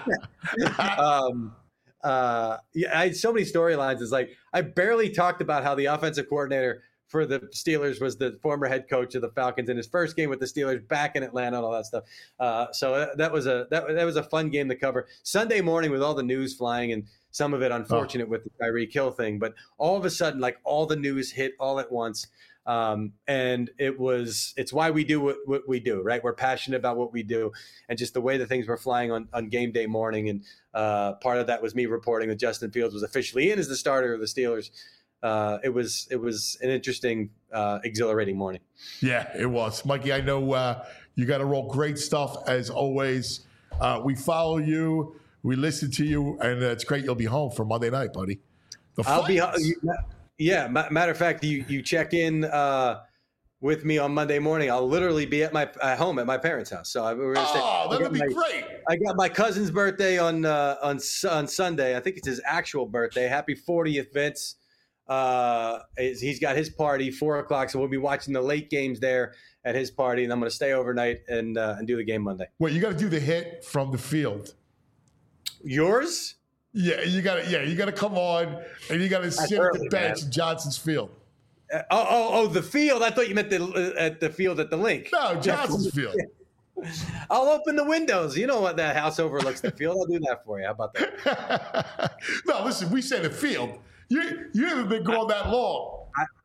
had so many storylines. It's like, I barely talked about how the offensive coordinator for the Steelers was the former head coach of the Falcons in his first game with the Steelers back in Atlanta and all that stuff. So that was a fun game to cover. It's morning with all the news flying, and some of it unfortunate with the Tyreek Hill thing, but all of a sudden, like, all the news hit all at once. And it's why we do what we do, right? We're passionate about what we do, and just the way that things were flying on game day morning. And part of that was me reporting that Justin Fields was officially in as the starter of the Steelers. It was an interesting, exhilarating morning. Yeah, it was. Mikey, I know you got to roll great stuff as always. We follow you, we listen to you, and it's great you'll be home for Monday night, buddy. I'll be home. Yeah, matter of fact, you check in with me on Monday morning. I'll literally be at my home at my parents' house. So we're gonna stay. That would be great. I got my cousin's birthday on Sunday. I think it's his actual birthday. Happy 40th, Vince. He's got his party 4:00, so we'll be watching the late games there at his party, and I'm going to stay overnight and do the game Monday. Wait, you got to do the hit from the field. Yours? Yeah, you got to come on and you got to sit at the bench in Johnson's Field. The field. I thought you meant at the field at the link. No, Johnson's Field. I'll open the windows. You know what? That house overlooks the field. I'll do that for you. How about that? No, listen, we said the field. You haven't been going that long.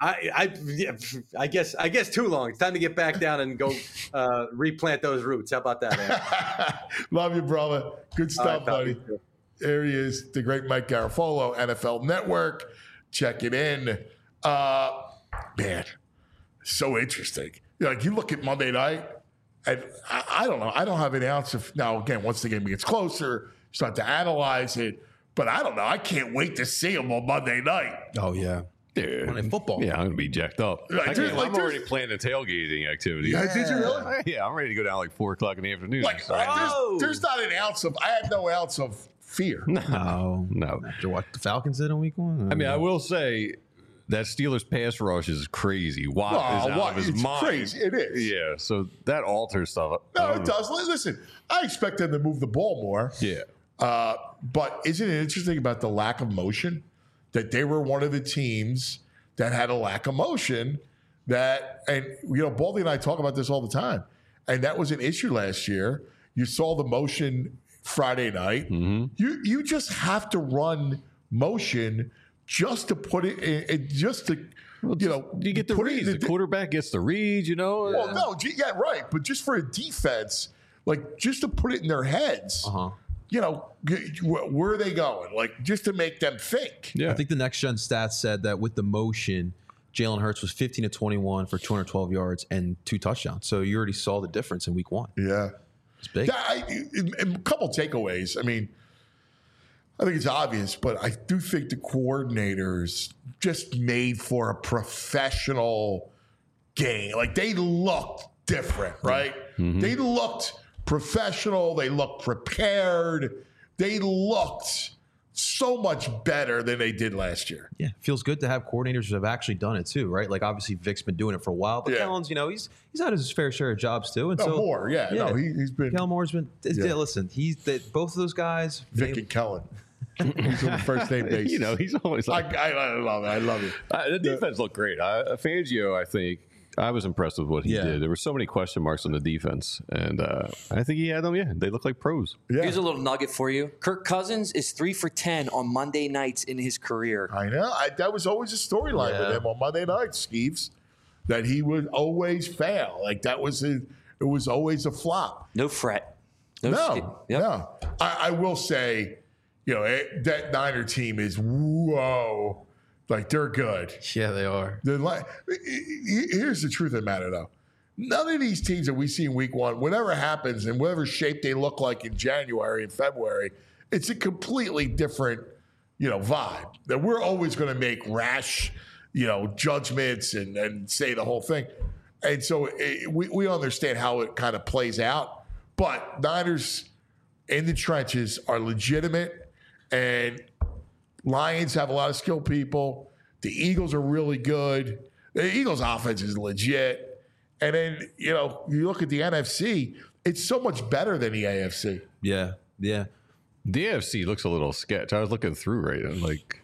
I guess too long. It's time to get back down and go replant those roots. How about that? Love you, brother. Good stuff, buddy. Too. There he is, the great Mike Garafolo, NFL Network. Check it in. Man, so interesting. Like, you look at Monday night, and I don't know. I don't have any ounce of, now again, once the game gets closer, start to analyze it. But I don't know. I can't wait to see him on Monday night. Oh, yeah. Dude. Monday football. Yeah, I'm going to be jacked up. Like, I'm already planning a tailgating activity. Yeah, did you really? Yeah, I'm ready to go down like 4 o'clock in the afternoon. Like, there's not an ounce of, I have no ounce of fear. No. After what the Falcons did in week 1? I mean, I will say that Steelers pass rush is crazy. Watt is out of his mind. Crazy. It is. Yeah, so that alters stuff. No, it does. Listen, I expect them to move the ball more. Yeah. But isn't it interesting about the lack of motion? That they were one of the teams that had a lack of motion. And Baldy and I talk about this all the time. And that was an issue last year. You saw the motion Friday night. Mm-hmm. You just have to run motion just to put it in, just to, you get the reads. The quarterback gets the reads, Well, no, yeah, right. But just for a defense, like, just to put it in their heads. Where are they going? Like, just to make them think. Yeah. I think the next gen stats said that with the motion, Jalen Hurts was 15 of 21 for 212 yards and 2 touchdowns. So you already saw the difference in week 1. Yeah. It's big. A couple takeaways. I mean, I think it's obvious, but I do think the coordinators just made for a professional game. Like, they looked different, right? Mm-hmm. They looked professional. They looked prepared. They looked so much better than they did last year. Yeah, feels good to have coordinators who have actually done it too, right? Like, obviously Vic's been doing it for a while, but Kellen's, he's had his fair share of jobs too. And more, No, he's been. Kellen Moore's been. Yeah, listen, both of those guys, Vic and Kellen. He's on the first name basis. He's always like, I love it. I love it. The defense looked great. Fangio, I think, I was impressed with what he did. There were so many question marks on the defense, and I think he had them. Yeah, they look like pros. Yeah. Here's a little nugget for you. Kirk Cousins is 3 for 10 on Monday nights in his career. I know. That was always a storyline with him on Monday nights, Skeeves, that he would always fail. Like, it was always a flop. No fret. No. I will say, that Niner team is whoa. Like, they're good. Yeah, they are. Here's the truth of the matter, though. None of these teams that we see in week 1, whatever happens and whatever shape they look like in January and February, it's a completely different, vibe. That we're always going to make rash, judgments and say the whole thing. And so we understand how it kind of plays out. But Niners in the trenches are legitimate, and Lions have a lot of skilled people. The Eagles are really good. The Eagles' offense is legit. And then, you look at the NFC, it's so much better than the AFC. Yeah. The AFC looks a little sketch. I was looking through right now, like,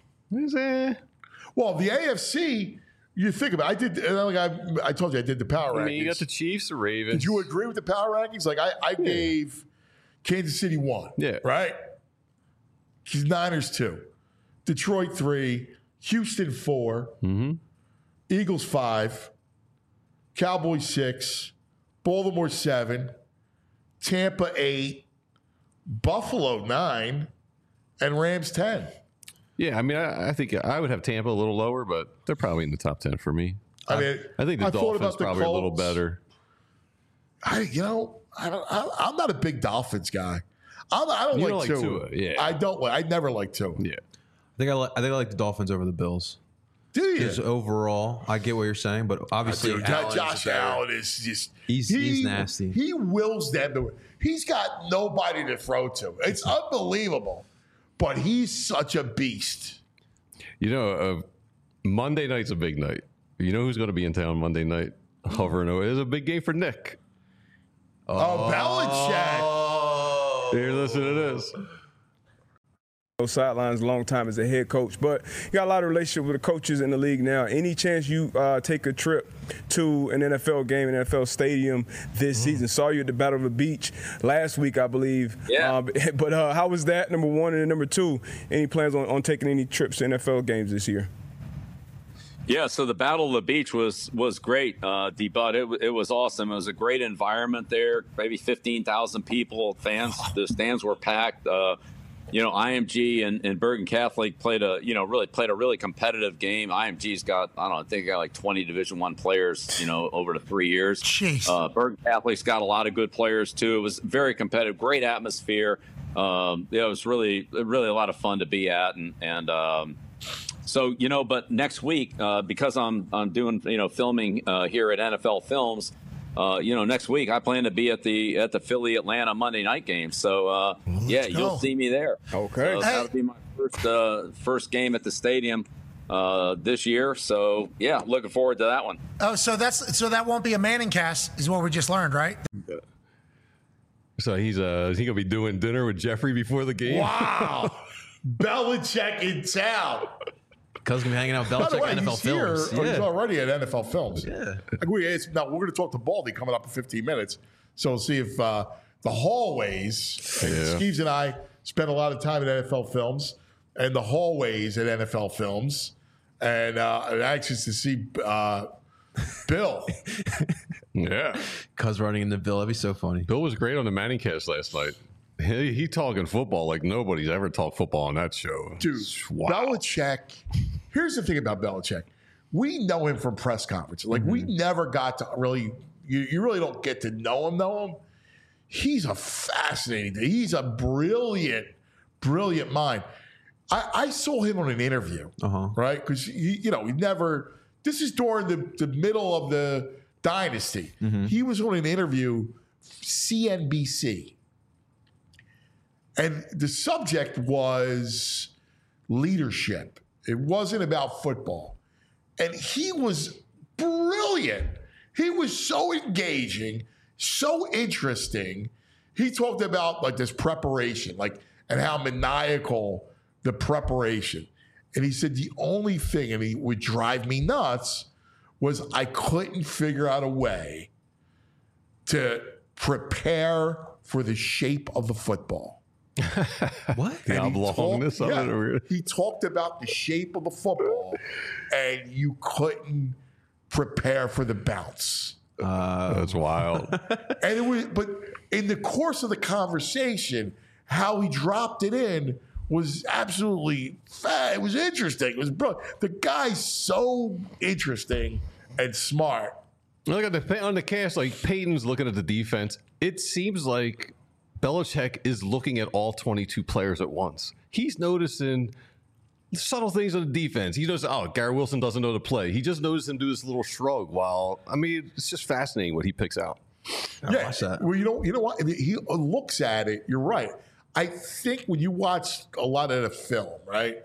Well, the AFC, you think about it. I told you I did the power rankings. I mean, you got the Chiefs, the Ravens. Did you agree with the power rankings? Like, I gave Kansas City 1. Yeah. Right? Niners 2. Detroit 3, Houston 4, Eagles 5, Cowboys 6, Baltimore 7, Tampa 8, Buffalo 9, and Rams 10. Yeah, I mean, I think I would have Tampa a little lower, but they're probably in the top 10 for me. I think the Dolphins probably a little better. I'm not a big Dolphins guy. I don't like Tua. Yeah. I never liked Tua. Yeah. I think I like the Dolphins over the Bills. Do you? Just overall, I get what you're saying, but obviously Josh Allen is just he's nasty. He wills them to. He's got nobody to throw to. It's unbelievable, but he's such a beast. Monday night's a big night. You know who's going to be in town Monday night? Hovering over. It's a big game for Nick. Belichick. Here, listen to this. Sidelines a long time as a head coach, but you got a lot of relationship with the coaches in the league now. Any chance you take a trip to an NFL game, an NFL stadium this season? Saw you at the Battle of the Beach last week, I believe. Yeah. But how was that, number one? And then number two, any plans on taking any trips to NFL games this year? Yeah, so the Battle of the Beach was great, D-Bud. It was awesome. It was a great environment there, maybe 15,000 people, fans. The stands were packed. IMG and Bergen Catholic played a really competitive game. IMG's got, I think they got like 20 Division I players, over the 3 years. Jeez. Bergen Catholic's got a lot of good players too. It was very competitive, great atmosphere. It was really a lot of fun to be at. But next week, because I'm doing, filming here at NFL Films, next week I plan to be at the Philly Atlanta Monday night game. So you'll see me there. Okay, so that'll be my first game at the stadium this year. So yeah, looking forward to that one. Oh, so that won't be a Manning cast, is what we just learned, right? So is he gonna be doing dinner with Jeffrey before the game? Wow, Belichick in town. Because we're hanging out with Belichick at NFL Films. He's already at NFL Films. Yeah. We're going to talk to Baldy coming up in 15 minutes. So we'll see if the hallways, Skeeves and I spent a lot of time at NFL Films, and the hallways at NFL Films, and anxious to see Bill. Yeah. Cuz running into Bill. That'd be so funny. Bill was great on the Manning cast last night. He talking football like nobody's ever talked football on that show. Dude, wow. Belichick. Here's the thing about Belichick. We know him from press conferences. Like, we never got to really, you really don't get to know him. He's a fascinating thing. He's a brilliant mind. I saw him on an interview, right? Because, he never, this is during the middle of the dynasty. He was on an interview, CNBC. And the subject was leadership. It wasn't about football. And he was brilliant. He was so engaging, so interesting. He talked about like this preparation, and how maniacal the preparation. And he said the only thing, and he would drive me nuts, was I couldn't figure out a way to prepare for the shape of the football. What? The oblongness of it? Or... He talked about the shape of the football, and you couldn't prepare for the bounce. That's wild. And it was, but in the course of the conversation, how he dropped it in was absolutely it was interesting. It was brilliant. The guy's so interesting and smart. Look at on the cast, like Peyton's looking at the defense. It seems like Belichick is looking at all 22 players at once. He's noticing subtle things on the defense. He knows, Garrett Wilson doesn't know to play. He just noticed him do this little shrug it's just fascinating what he picks out. Watch that. Well, you know what? He looks at it. You're right. I think when you watch a lot of the film, right,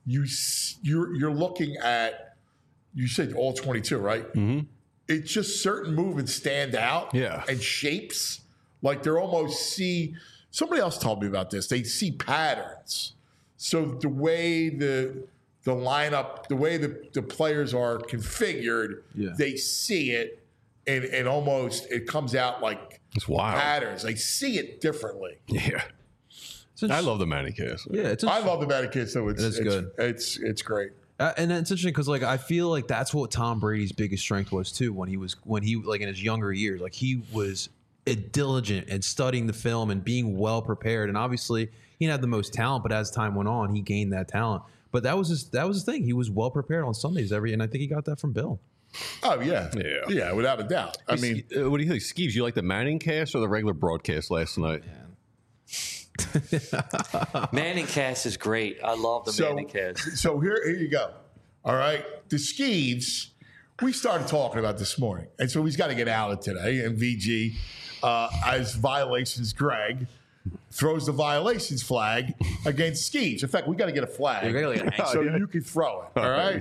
you're looking at, you said all 22, right? Mm-hmm. It's just certain movements stand out and shapes. Like they're almost somebody else told me about this. They see patterns. So the way the lineup, the way the players are configured, they see it and almost it comes out like it's wild patterns. They see it differently. Yeah. I love the Manning cast. Yeah, I love the Manning cast, so it's good. It's great. And it's interesting because I feel like that's what Tom Brady's biggest strength was too when he in his younger years. Like he was diligent and studying the film and being well prepared. And obviously he didn't have the most talent, but as time went on, he gained that talent. But that was his thing. He was well prepared on Sundays and I think he got that from Bill. Oh yeah, without a doubt. I mean, what do you think, Skeeves? You like the Manning cast or the regular broadcast last night? Manning cast is great. I love the Manning cast. So here you go. All right, the Skeeves. We started talking about this morning, and so he's got to get out of today. And VG, as violations, Greg throws the violations flag against Skeeves. In fact, we got to get a flag so you can throw it. All right. Yeah.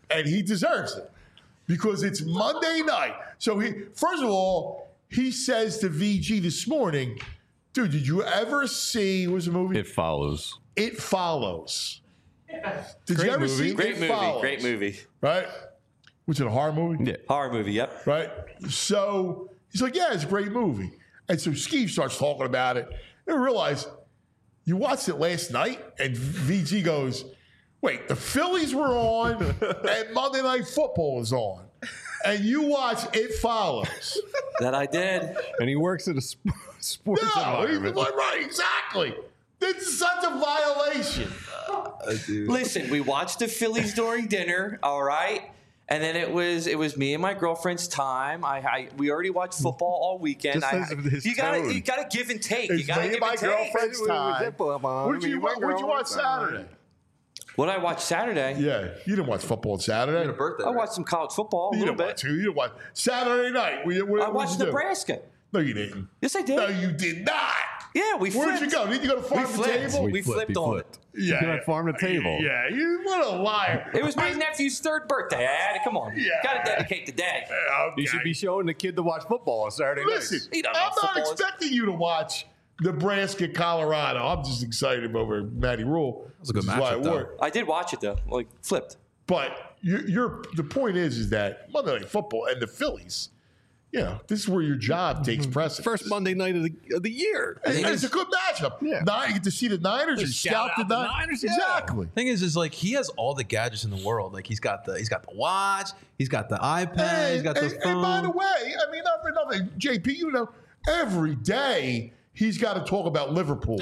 and he deserves it because it's Monday night. So first of all, he says to VG this morning, dude, did you ever see, what was the movie? It Follows. It Follows. Did Great you ever movie. see Great It movie. Follows? Great movie. Right? Was it a horror movie? Yeah. Horror movie. Yep. Right? So he's like, yeah, it's a great movie. And so Steve starts talking about it. And I realize, you watched it last night? And VG goes, wait, the Phillies were on and Monday Night Football was on. And you watch It Follows. That I did. And he works at a sports No, he's environment. like, right, exactly. This is such a violation. Listen, we watched the Phillies during dinner. All right. And then it was me and my girlfriend's time. We already watched football all weekend. Just his you tone. gotta give and take. It's You gotta me give and my and take. girlfriend's time. What'd you watch Saturday? What I watched Saturday? Yeah, you didn't watch football on Saturday. You had a birthday. I right? watched some college football a You little didn't watch bit. two. You didn't watch Saturday night. What I watched did you do? Nebraska. No, you didn't. Yes, I did. No, you did not. Yeah, we flipped. Where'd you go? Did you go to We farm to flipped. table? We flipped on it. Yeah, You're at farm to table. Yeah, you what a liar. It was my nephew's 3rd birthday. I had to come on. Yeah. Gotta dedicate the day. Okay. You should be showing the kid to watch football on Saturday Listen, nights. He don't I'm know not football. expecting you to watch Nebraska, Colorado. I'm just excited over Matty Rule. was a good which is why matchup, it though. worked. I did watch it though. Like flipped. But the point is that Monday Night Football and the Phillies, this is where your job takes precedence. First Monday night of the year. And it's a good matchup. Yeah. You get to see the Niners and Shout scout the out the Niners. Niners, yeah. Exactly. Thing is like he has all the gadgets in the world. Like he's got the watch, he's got the iPad, he's got the phone. And by the way, I mean, not for nothing, JP, every day he's got to talk about Liverpool.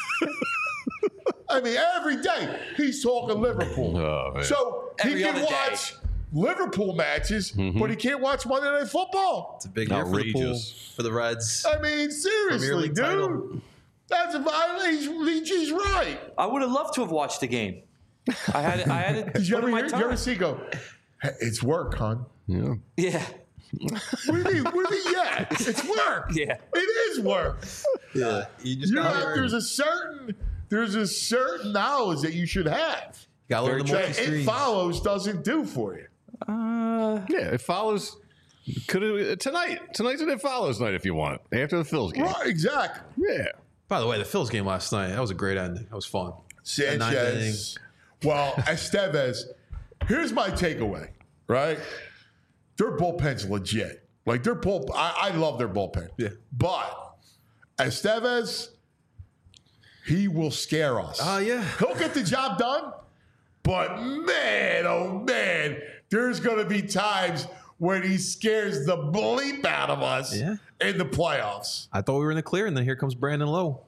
I mean, every day he's talking Liverpool. Oh, man. So Every he can other day. watch Liverpool matches, but he can't watch Monday Night Football. It's a big year for the pool, Outrageous. for the Reds. I mean, seriously, League dude. title. That's a violation. VG's right. I would have loved to have watched the game. I had to Did you put ever in my hear? Did you time. ever see? Go. Hey, it's work, hon. Yeah. Yeah. What do you mean? What do you mean? Yeah, it's work. Yeah. It is work. Yeah, you just You got have, there's a certain knowledge that you should have. to learn the That multi It screens. Follows doesn't do for you. Yeah, It Follows. Tonight's an It Follows night if you want. After the Phil's game. Right, exactly. Yeah. By the way, the Phil's game last night, that was a great ending. That was fun. The ninth inning. Sanchez. Well, Estevez. Here's my takeaway. Right, their bullpen's legit. Like I love their bullpen. Yeah. But Estevez, he will scare us. Yeah. He'll get the job done. But man, oh man, there's going to be times when he scares the bleep out of us in the playoffs. I thought we were in the clear, and then here comes Brandon Lowe.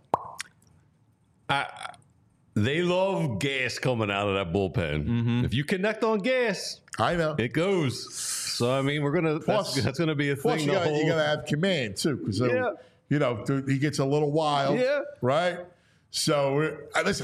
They love gas coming out of that bullpen. If you connect on gas, I know. it goes. So I mean, Plus- that's gonna be a Plus, thing. you the got whole- to have command too, because he gets a little wild. Yeah. Right. So listen,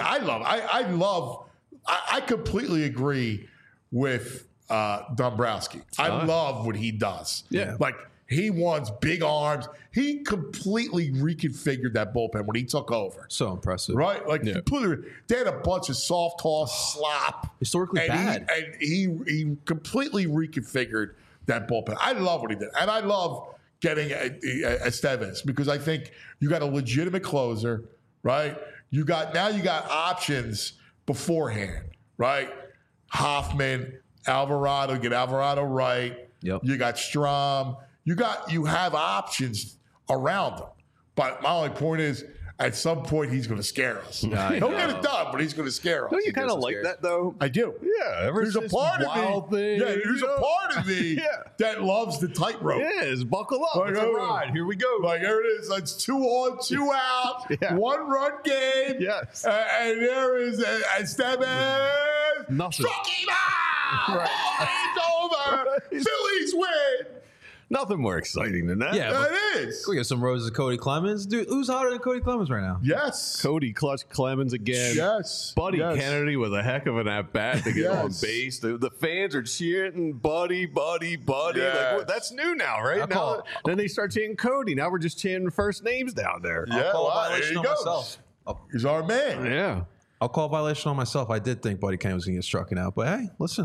I completely agree with Dombrowski. I love what he does. Yeah. Like he wants big arms. He completely reconfigured that bullpen when he took over. So impressive. Right? Like completely, they had a bunch of soft toss slop. Historically and bad. He completely reconfigured that bullpen. I love what he did. And I love getting Estevez because I think you got a legitimate closer, right? You got options beforehand, right? Hoffman, Alvarado, get Alvarado right. Yep. You got Strom. You have options around him. But my only point is, at some point, he's going to scare us. He'll get it done, but he's going to scare us. Don't you kind of like that though? I do. Yeah. Ever There's a since part of Wild me. Thing, Yeah, there's a part of me that loves the tightrope. Yeah, it's buckle up. Like, It's a ride. Here we go. Like there it is. It's 2 on, 2 out, Yeah. 1 run game. Yes. And there is Estevez. Nothing. Struck him out. It's over. Phillies win. Nothing more exciting than that. Yeah, but It is. we got some roses of Cody Clemens. Dude, who's hotter than Cody Clemens right now? Yes. Cody Clutch Clemens again. Yes. Buddy Yes. Kennedy with a heck of an at bat to get on Yes. base. The fans are cheering, buddy. Yes. Like, that's new now, right? I'll call- Then they start chanting Cody. Now we're just chanting first names down there. Yeah, Call a well, there violation he on goes. myself. He's our man. Yeah. I'll call a violation on myself. I did think Buddy Kane was going to get struck out. But hey, listen.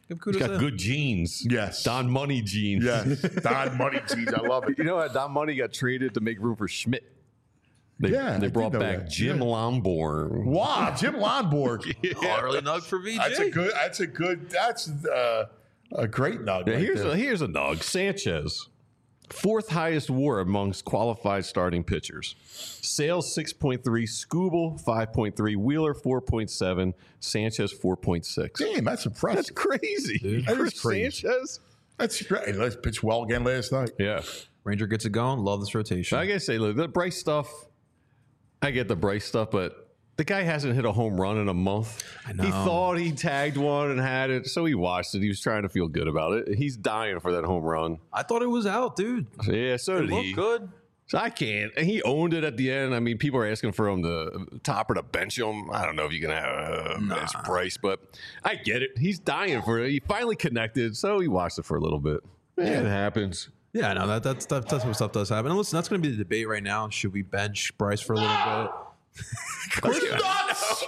Give He's kudos got to him. good genes. Yes. Don Money genes. Yes. Don Money G's. I love it. You know how Don Money got traded to make room for Schmidt? They I brought did know back that. Jim Lonborn. Wow, Jim Lonborg. Early nug for VJ. That's a good. That's a great nug. Yeah, right here's there. a nug. Sanchez, fourth highest WAR amongst qualified starting pitchers. Sales 6.3, Skubal 5.3, Wheeler 4.7, Sanchez 4.6. Damn, that's impressive. That's crazy. That is Chris crazy. Sanchez. That's great. Let's pitch well again last night. Yeah. Ranger gets it going. Love this rotation. I gotta say, look, the Bryce stuff. I get the Bryce stuff, but the guy hasn't hit a home run in a month. I know. He thought he tagged one and had it, so he watched it. He was trying to feel good about it. He's dying for that home run. I thought it was out, dude. Yeah, so It did looked he. good. So I can't. And he owned it at the end. I mean, people are asking for him to top or to bench him. I don't know if you can bench Bryce, but I get it. He's dying for it. He finally connected, so he watched it for a little bit. Yeah, it happens. Yeah, no, that's what stuff does happen. And listen, that's going to be the debate right now. Should we bench Bryce for a little bit? Chris nuts.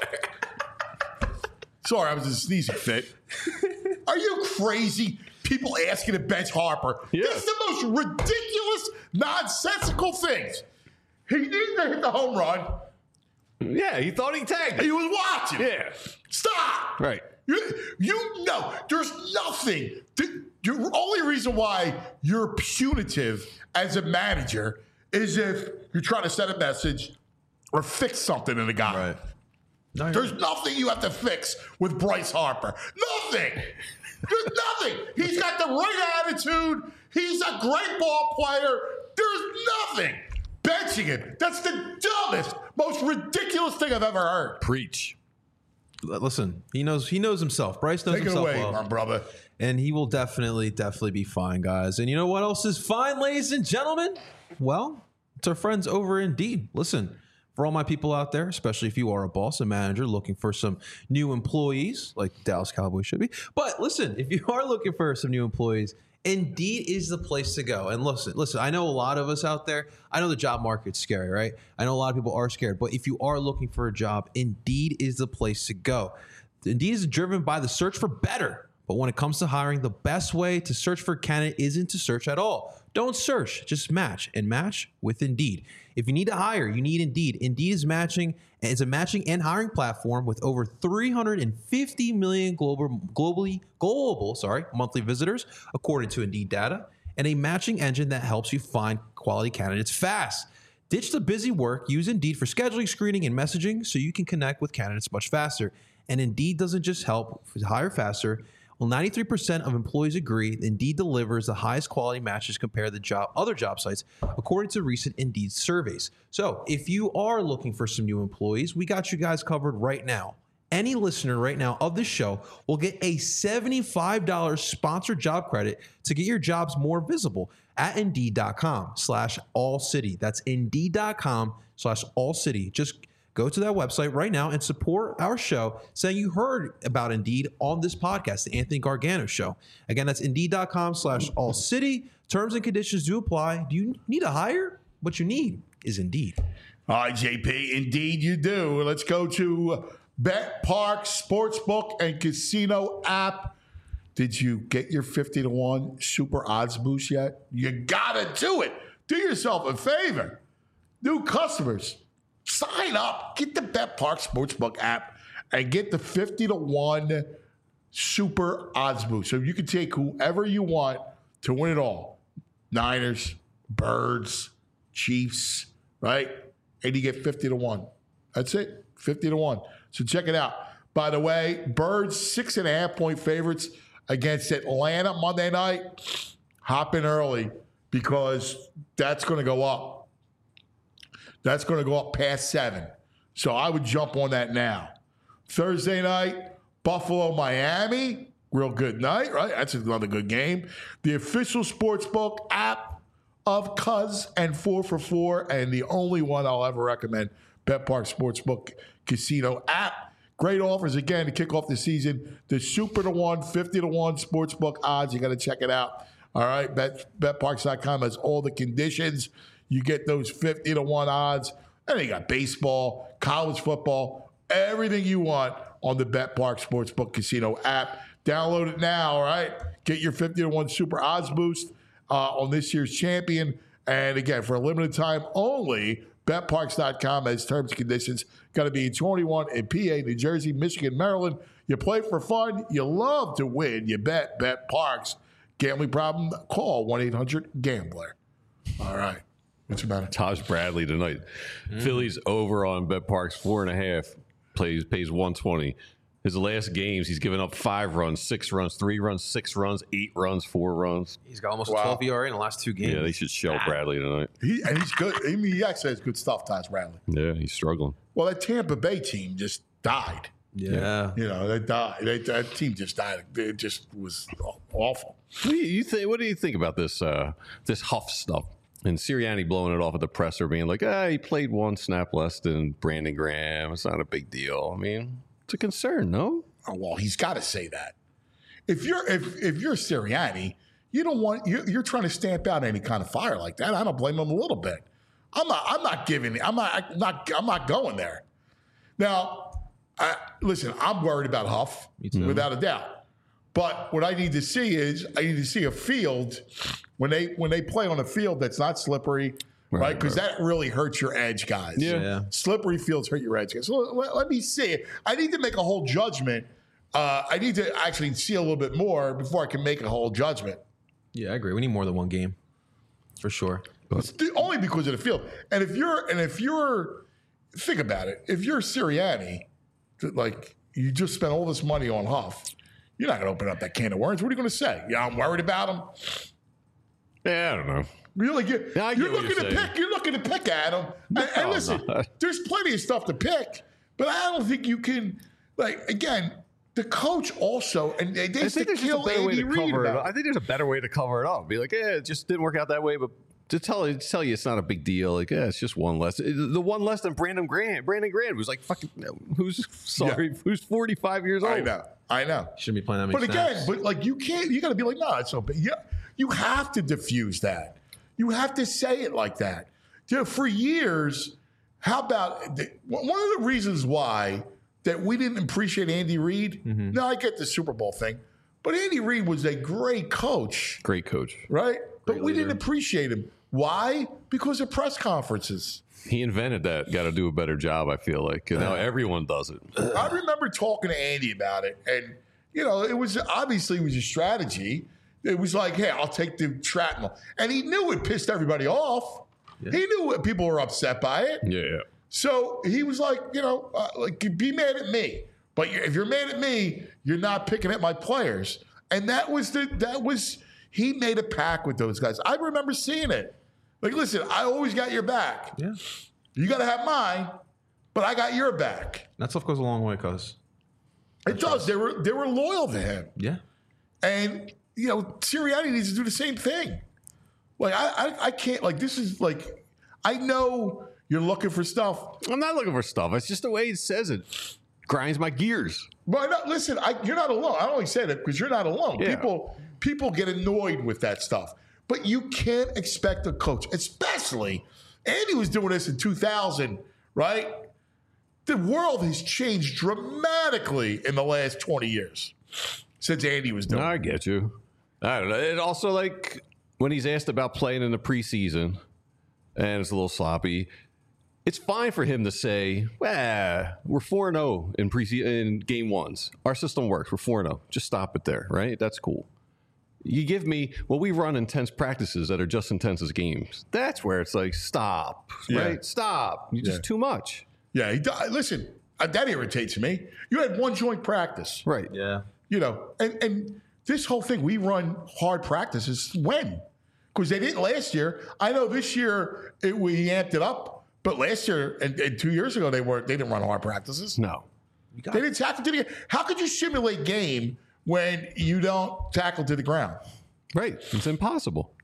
Sorry, I was in a sneezing fit. Are you crazy? People asking to bench Harper. Yeah. This is the most ridiculous, nonsensical things. He needed to hit the home run. Yeah, he thought he tagged He it. was watching. Yeah. Stop. Right. You know, there's nothing. The only reason why you're punitive as a manager is if you're trying to send a message or fix something in the guy. Right. No, you're There's nothing you have to fix with Bryce Harper. Nothing. There's nothing. He's got the right attitude. He's a great ball player. There's nothing. Benching him. That's the dumbest, most ridiculous thing I've ever heard. Preach. Listen, he knows himself. Bryce knows Take it himself away, well. my brother. And he will definitely be fine, guys. And you know what else is fine, ladies and gentlemen? Well, it's our friends over Indeed. Listen, for all my people out there, especially if you are a boss, a manager looking for some new employees, like Dallas Cowboys should be. But listen, if you are looking for some new employees, Indeed is the place to go. And listen, I know a lot of us out there, I know the job market's scary, right? I know a lot of people are scared, but if you are looking for a job, Indeed is the place to go. Indeed is driven by the search for better. But when it comes to hiring, the best way to search for a candidate isn't to search at all. Don't search, just match, and match with Indeed. If you need to hire, you need Indeed. Indeed is a matching and hiring platform with over 350 million global monthly visitors, according to Indeed data, and a matching engine that helps you find quality candidates fast. Ditch the busy work. Use Indeed for scheduling, screening, and messaging so you can connect with candidates much faster. And Indeed doesn't just help hire faster. Well, 93% of employees agree Indeed delivers the highest quality matches compared to other job sites, according to recent Indeed surveys. So if you are looking for some new employees, we got you guys covered right now. Any listener right now of this show will get a $75 sponsored job credit to get your jobs more visible at Indeed.com/allcity. That's Indeed.com/allcity. Just go to that website right now and support our show saying you heard about Indeed on this podcast, the Anthony Gargano Show. Again, that's Indeed.com/allcity. Terms and conditions do apply. Do you need a hire? What you need is Indeed. All right, JP, indeed you do. Let's go to Bet Park Sportsbook and Casino app. Did you get your 50-1 super odds boost yet? You got to do it. Do yourself a favor. New customers, sign up. Get the Bet Park Sportsbook app and get the 50-1 super odds boost. So you can take whoever you want to win it all. Niners, Birds, Chiefs, right? And you get 50-1. That's it, 50-1. So check it out. By the way, Birds 6.5-point favorites against Atlanta Monday night. Hop in early because that's going to go up. That's going to go up past 7. So I would jump on that now. Thursday night, Buffalo, Miami. Real good night, right? That's another good game. The official sportsbook app of Cuz and 4 for 4, and the only one I'll ever recommend, Bet Park Sportsbook Casino app. Great offers again to kick off the season. The Super to 1, 50-1 sportsbook odds. You got to check it out. All right, betparks.com has all the conditions. You get those 50-1 odds. And then you got baseball, college football, everything you want on the Bet Park Sportsbook Casino app. Download it now, all right? Get your 50-1 Super Odds Boost on this year's champion. And again, for a limited time only, BetParks.com has terms and conditions. Got to be 21 in PA, New Jersey, Michigan, Maryland. You play for fun. You love to win. You bet. BetParks. Gambling problem? Call 1-800-GAMBLER. All right. What's the matter? Taj Bradley tonight. Phillies over on BetParks 4.5. Pays 120. His last games, he's given up 5 runs, 6 runs, 3 runs, 6 runs, 8 runs, 4 runs. He's got almost a 12 ERA in the last 2 games. Yeah, they should shell Bradley tonight. He's good. I mean, he actually has good stuff, Taj Bradley. Yeah, he's struggling. Well, that Tampa Bay team just died. Yeah. You know, they died. That team just died. It just was awful. What do you think about this this Huff stuff? And Sirianni blowing it off at the presser, being like, he played 1 snap less than Brandon Graham. It's not a big deal. I mean, it's a concern, no? Oh, well, he's got to say that. If you're Sirianni, you don't want you're trying to stamp out any kind of fire like that. I don't blame him a little bit. I'm not going there. Now, listen, I'm worried about Huff without a doubt. But what I need to see is a field when they play on a field that's not slippery, right? Because that really hurts your edge, guys. Yeah. Slippery fields hurt your edge, guys. So let me see. I need to make a whole judgment. I need to actually see a little bit more before I can make a whole judgment. Yeah, I agree. We need more than 1 game, for sure. Only because of the field. And if you're think about it, if you're Sirianni, like you just spent all this money on Huff. You're not going to open up that can of worms. What are you going to say? Yeah, I'm worried about him. Yeah, I don't know. Really, you're looking to pick at him. And listen, there's plenty of stuff to pick, but I don't think you can. Like again, the coach also, and they used to kill Andy Reid. I think there's a better way to cover it up. Be like, it just didn't work out that way, but to tell you it's not a big deal. Like, it's just 1 less. The 1 less than Brandon Graham. Brandon Graham was like fucking. Who's 45 years old? I know. Shouldn't be playing that many snaps. But like you can't. You got to be like, no, it's so big. Yeah, you have to diffuse that. You have to say it like that. For years, how about one of the reasons why that we didn't appreciate Andy Reid? Mm-hmm. Now I get the Super Bowl thing, but Andy Reid was a great coach. Great coach, right? But we didn't appreciate him. Why? Because of press conferences. He invented that. Got to do a better job, I feel like. And now everyone does it. I remember talking to Andy about it. And, it was obviously a strategy. It was like, hey, I'll take the shrapnel. And he knew it pissed everybody off. Yeah. He knew people were upset by it. Yeah. So he was like, be mad at me. But if you're mad at me, you're not picking at my players. And he made a pact with those guys. I remember seeing it. Like, listen, I always got your back. Yeah. You got to have mine, but I got your back. That stuff goes a long way, cuz. It does. They were loyal to him. Yeah. And, Sirianni needs to do the same thing. Like, I can't, like, this is like, I know you're looking for stuff. I'm not looking for stuff. It's just the way he says it. Grinds my gears. But listen, you're not alone. I only said it because you're not alone. Yeah. People get annoyed with that stuff. But you can't expect a coach, especially Andy was doing this in 2000, right? The world has changed dramatically in the last 20 years since Andy was doing it. I get you. I don't know. And also, like, when he's asked about playing in the preseason and it's a little sloppy, it's fine for him to say, we're 4-0 in game ones. Our system works. We're 4-0. Just stop it there, right? That's cool. You give me, we run intense practices that are just intense as games. That's where it's like, stop, right? Stop. You're just too much. Yeah, listen, that irritates me. You had 1 joint practice. Right. Yeah. And this whole thing, we run hard practices when? Because they didn't last year. I know this year we amped it up, but last year and 2 years ago, they didn't run hard practices. No. They didn't tackle to the ground. How could you simulate game when you don't tackle to the ground? Right. It's impossible.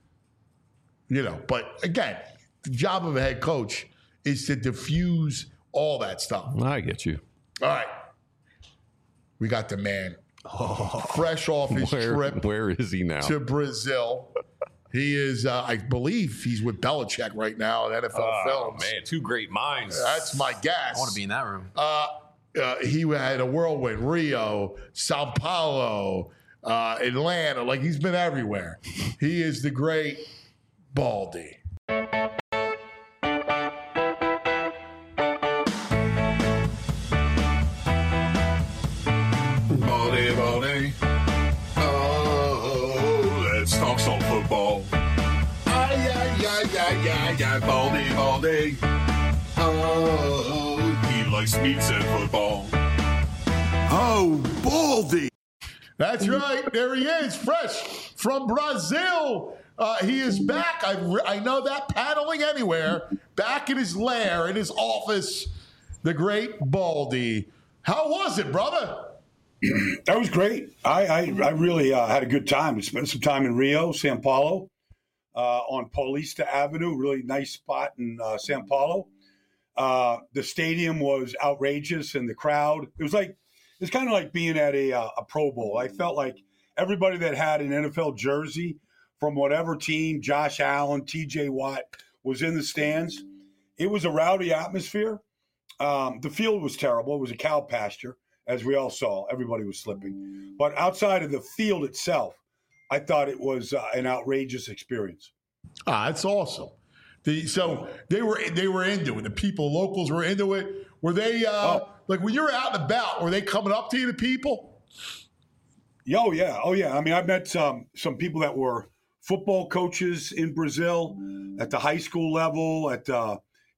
But again, the job of a head coach is to diffuse all that stuff. I get you. All right. We got the man. Fresh off his trip. Where is he now? To Brazil. He is, I believe he's with Belichick right now at NFL Films. Man, 2 great minds. That's my guess. I want to be in that room. he had a whirlwind. Rio, Sao Paulo, Atlanta. Like, he's been everywhere. He is the great Baldy. Baldy. Oh, let's talk some football. Baldy. Oh, he likes meats and football. Oh, Baldy. That's right. There he is, fresh from Brazil. He is back. I know that, paddling anywhere. Back in his lair, in his office, the great Baldy. How was it, brother? That was great. I really had a good time. We spent some time in Rio, Sao Paulo, on Paulista Avenue, really nice spot in Sao Paulo. The stadium was outrageous, and the crowd. It's kind of like being at a Pro Bowl. I felt like everybody that had an NFL jersey from whatever team, Josh Allen, T.J. Watt, was in the stands. It was a rowdy atmosphere. The field was terrible. It was a cow pasture, as we all saw. Everybody was slipping. But outside of the field itself, I thought it was an outrageous experience. That's awesome. So they were into it. The people, locals were into it. Were they like when you were out and about? Were they coming up to you, the people? Oh yeah. I mean, I met some people that were football coaches in Brazil at the high school level, at to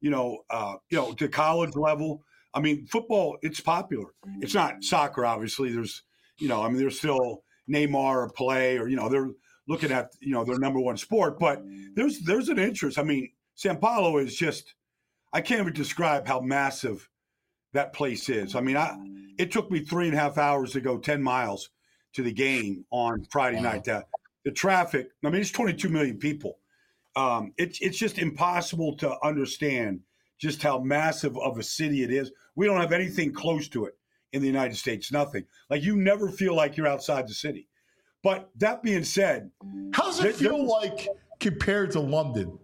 college level. I mean, football, it's popular. It's not soccer, obviously. There's still Neymar or Pelé, or they're looking at their number one sport, but there's an interest. I mean, Sao Paulo is just, I can't even describe how massive that place is. I mean, it took me 3.5 hours to go 10 miles to the game on Friday night. The traffic, I mean, it's 22 million people. It's just impossible to understand just how massive of a city it is. We don't have anything close to it in the United States, nothing. Like, you never feel like you're outside the city. But that being said, how does it feel like compared to London?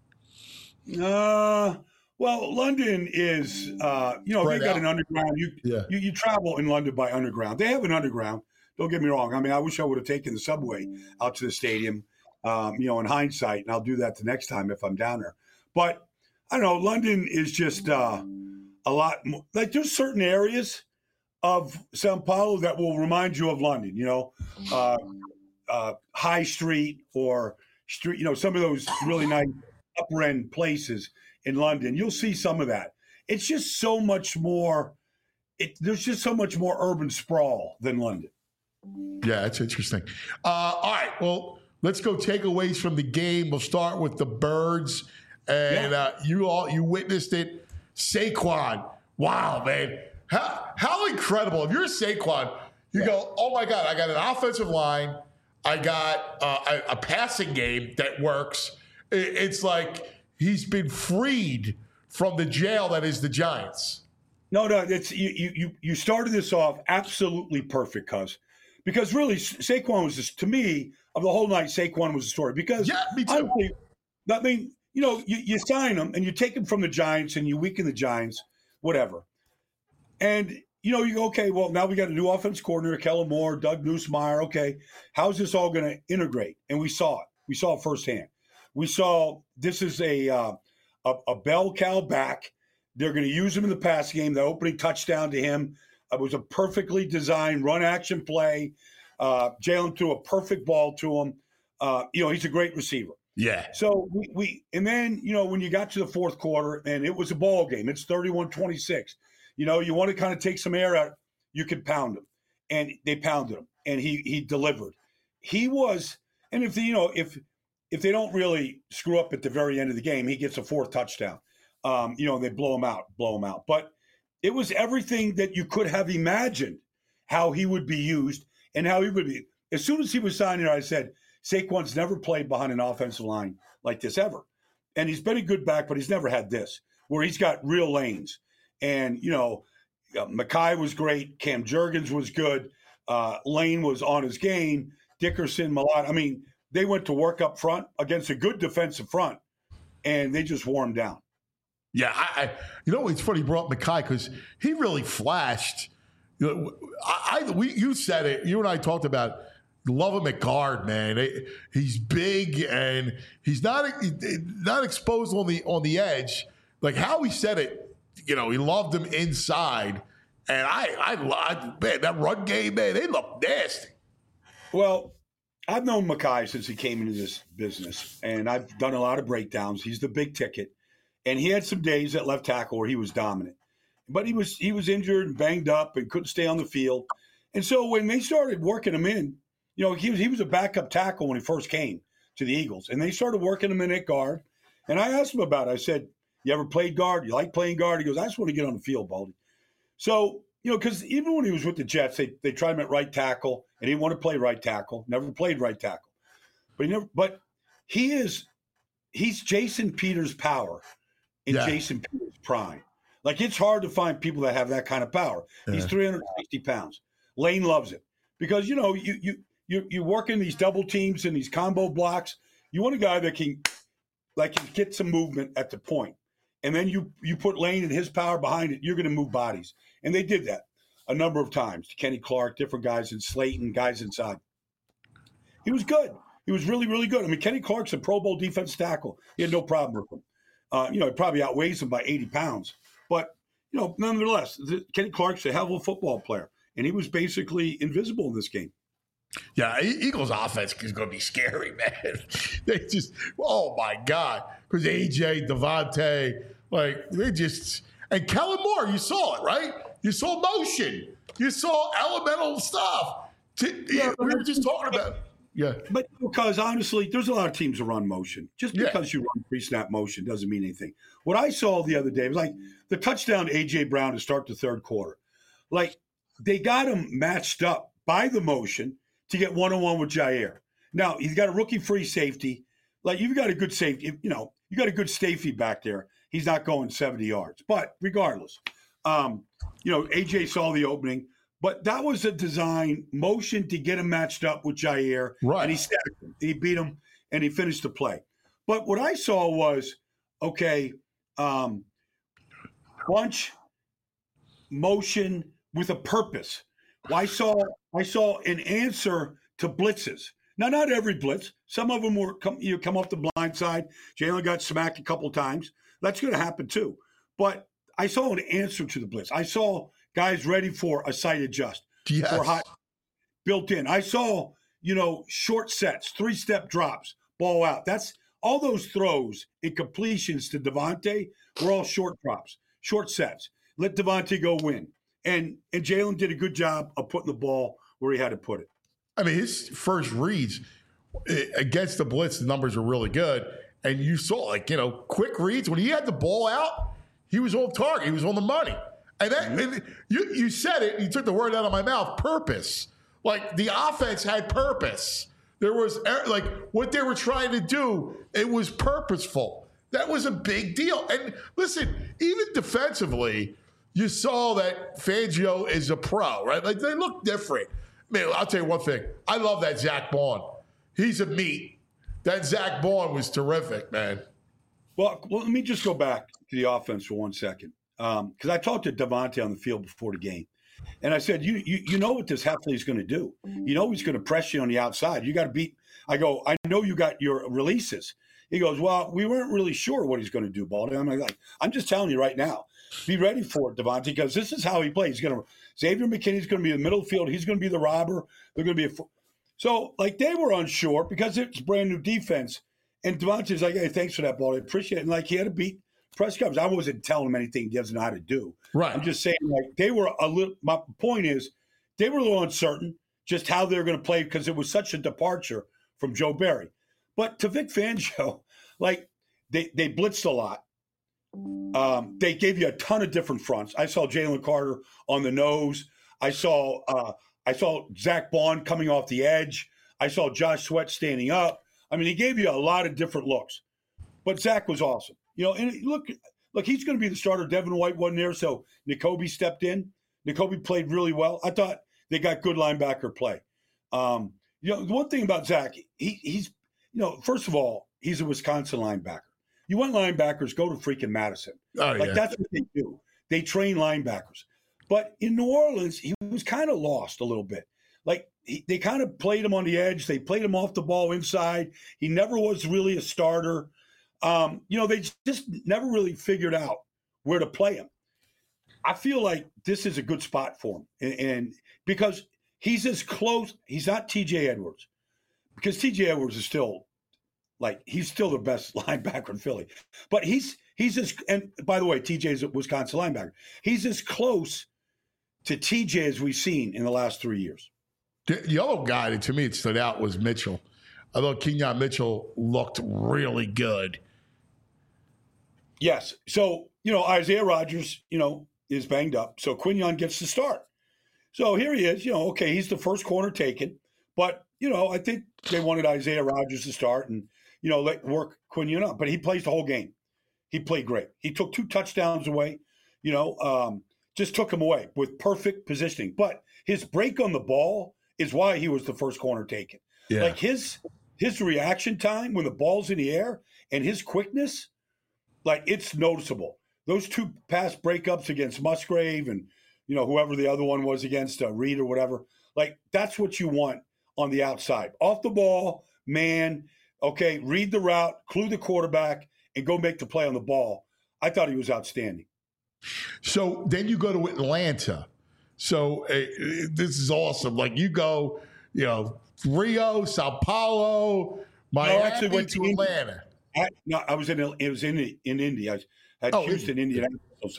Well, London is, they got an underground. You travel in London by underground. They have an underground. Don't get me wrong. I mean, I wish I would have taken the subway out to the stadium, in hindsight, and I'll do that the next time if I'm down there. But I don't know. London is just a lot more, like, there's certain areas of Sao Paulo that will remind you of London, High Street or street, some of those really nice upper end places in London. You'll see some of that. It's just so much more. There's just so much more urban sprawl than London. Yeah, that's interesting. All right, well, let's go takeaways from the game. We'll start with the Birds, and you witnessed it. Saquon, wow, man, how incredible! If you're Saquon, you go, oh my God, I got an offensive line, I got a passing game that works. It's like he's been freed from the jail that is the Giants. No, it's you started this off absolutely perfect, because really Saquon was just, to me, of the whole night, Saquon was the story. Because me too. I mean, you sign him and you take him from the Giants and you weaken the Giants, whatever. And you go, okay, well, now we got a new offense coordinator, Kellen Moore, Doug Nussmeier. Okay, how's this all going to integrate? And we saw it. We saw it firsthand. We saw this is a bell cow back. They're going to use him in the pass game. The opening touchdown to him was a perfectly designed run action play. Jalen threw a perfect ball to him. He's a great receiver. Yeah. So and then, when you got to the fourth quarter and it was a ball game, it's 31-26. You want to kind of take some air out, you could pound him. And they pounded him. And he delivered. He was, and if they don't really screw up at the very end of the game, he gets a fourth touchdown. They blow him out. But it was everything that you could have imagined how he would be used and how he would be. As soon as he was signed here, I said, Saquon's never played behind an offensive line like this ever. And he's been a good back, but he's never had this, where he's got real lanes. And, Mackay was great. Cam Jurgens was good. Lane was on his game. Dickerson, Malott. I mean, they went to work up front against a good defensive front, and they just wore him down. Yeah, it's funny you brought up Mekhi because he really flashed. You said it. You and I talked about love him at guard, man. He's big and he's not exposed on the edge. Like how he said it, he loved him inside. And man, that run game, man, they look nasty. Well, I've known Mekhi since he came into this business, and I've done a lot of breakdowns. He's the big ticket, and he had some days at left tackle where he was dominant, but he was injured and banged up and couldn't stay on the field. And so when they started working him in, he was a backup tackle when he first came to the Eagles, and they started working him in at guard. And I asked him about it. I said, "You ever played guard? You like playing guard?" He goes, "I just want to get on the field, Baldy." So, because even when he was with the Jets, they tried him at right tackle, and he didn't want to play right tackle. Never played right tackle, but he's Jason Peters' power in Jason Peters' prime. Like it's hard to find people that have that kind of power. Yeah. He's 360 pounds. Lane loves it because you work in these double teams and these combo blocks. You want a guy that can get some movement at the point. And then you put Lane and his power behind it, you're going to move bodies. And they did that a number of times. Kenny Clark, different guys in Slayton, guys inside. He was good. He was really, really good. I mean, Kenny Clark's a Pro Bowl defense tackle. He had no problem with him. He probably outweighs him by 80 pounds. But, nonetheless, Kenny Clark's a hell of a football player. And he was basically invisible in this game. Yeah, Eagles offense is going to be scary, man. They just, oh my God. Because AJ, Devontae, and Kellen Moore, you saw it, right? You saw motion. You saw elemental stuff. We were just talking about it. Yeah. But because honestly, there's a lot of teams that run motion. Just because you run pre-snap motion doesn't mean anything. What I saw the other day was like the touchdown to A.J. Brown to start the third quarter. Like they got him matched up by the motion to get one-on-one with Jair. Now, he's got a rookie free safety. Like you've got a good safety, you got a good safety back there. He's not going 70 yards. But regardless, A.J. saw the opening. But that was a design motion to get him matched up with Jair. Right. And he stacked him. He beat him, and he finished the play. But what I saw was, bunch, motion with a purpose. I saw an answer to blitzes. Now, not every blitz. Some of them were come off the blind side. Jalen got smacked a couple times. That's going to happen too. But I saw an answer to the blitz. I saw guys ready for a side adjust, for hot built in. I saw, short sets, 3-step drops, ball out. That's all those throws and completions to Devontae were all short drops, short sets. Let Devontae go win. And Jalen did a good job of putting the ball where he had to put it. I mean, his first reads against the blitz, the numbers were really good. And you saw, quick reads. When he had the ball out, he was on target. He was on the money. And you said it, you took the word out of my mouth, purpose. Like, the offense had purpose. There was, what they were trying to do, it was purposeful. That was a big deal. And listen, even defensively, you saw that Fangio is a pro, right? Like, they look different. Man, I'll tell you one thing. I love that Zach Baun. He's a meat. That Zach Baun was terrific, man. Well, let me just go back to the offense for 1 second. Because I talked to Devontae on the field before the game. And I said, you know what this Heffley is going to do. You know he's going to press you on the outside. You got to beat. I go, I know you got your releases. He goes, well, we weren't really sure what he's going to do, Baldy. I'm like, I'm just telling you right now. Be ready for it, Devontae, because this is how he plays. Xavier McKinney's going to be in the middle field. He's going to be the robber. They're going to be so they were unsure because it's brand new defense. And Devontae's like, hey, thanks for that, Baldy. I appreciate it. And he had to beat press coverage. I wasn't telling him anything he doesn't know how to do. Right. I'm just saying, they were a little. My point is, they were a little uncertain just how they're going to play because it was such a departure from Joe Barry. But to Vic Fangio, they blitzed a lot. They gave you a ton of different fronts. I saw Jalen Carter on the nose. I saw Zach Baun coming off the edge. I saw Josh Sweat standing up. I mean, he gave you a lot of different looks. But Zach was awesome. And look, he's going to be the starter. Devin White wasn't there, so Nakobe stepped in. Nakobe played really well. I thought they got good linebacker play. The one thing about Zach, he's first of all, he's a Wisconsin linebacker. You want linebackers, go to freaking Madison. That's what they do. They train linebackers. But in New Orleans, he was kind of lost a little bit. Like, they kind of played him on the edge. They played him off the ball inside. He never was really a starter. They just never really figured out where to play him. I feel like this is a good spot for him. And because he's as close, he's not TJ Edwards. Because TJ Edwards is still, he's still the best linebacker in Philly. But he's and by the way, TJ is a Wisconsin linebacker. He's as close to TJ as we've seen in the last 3 years. The other guy that to me it stood out was Mitchell. I thought Kenyon Mitchell looked really good. Yes. So, Isaiah Rodgers, is banged up. So Quinyon gets the start. So here he is, okay, he's the first corner taken. But, I think they wanted Isaiah Rodgers to start and, let work Quinyon up. But he plays the whole game. He played great. He took 2 touchdowns away, just took him away with perfect positioning. But his break on the ball is why he was the first corner taken. Yeah. Like his reaction time when the ball's in the air and his quickness, it's noticeable. Those 2 pass breakups against Musgrave and, whoever the other one was against, Reed or whatever, that's what you want on the outside. Off the ball, man, okay, read the route, clue the quarterback, and go make the play on the ball. I thought he was outstanding. So then you go to Atlanta. So this is awesome. You go, Rio, Sao Paulo, Miami went to Atlanta. I was in Indy. I had Houston, Indianapolis.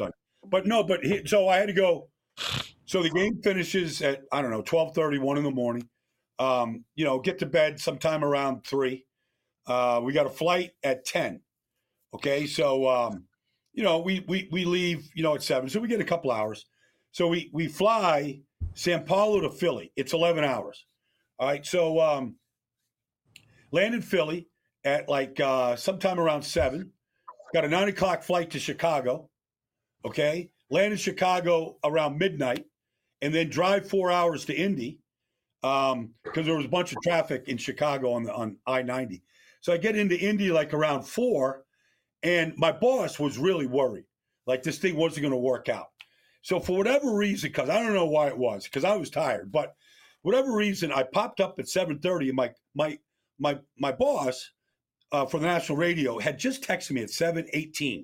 So I had to go. So the game finishes at 12:30, 1 in the morning. Get to bed sometime around 3. We got a flight at 10. Okay, so we leave at 7, so we get a couple hours. So we fly Sao Paulo to Philly. It's 11 hours. All right, so land in Philly at sometime around 7. Got a 9 o'clock flight to Chicago. Okay, land in Chicago around midnight, and then drive 4 hours to Indy because there was a bunch of traffic in Chicago on I-90. So I get into Indy around 4, and my boss was really worried, this thing wasn't going to work out. So for whatever reason, because I don't know why it was, because I was tired, but whatever reason, I popped up at 7:30, and my boss for the national radio had just texted me at 7:18.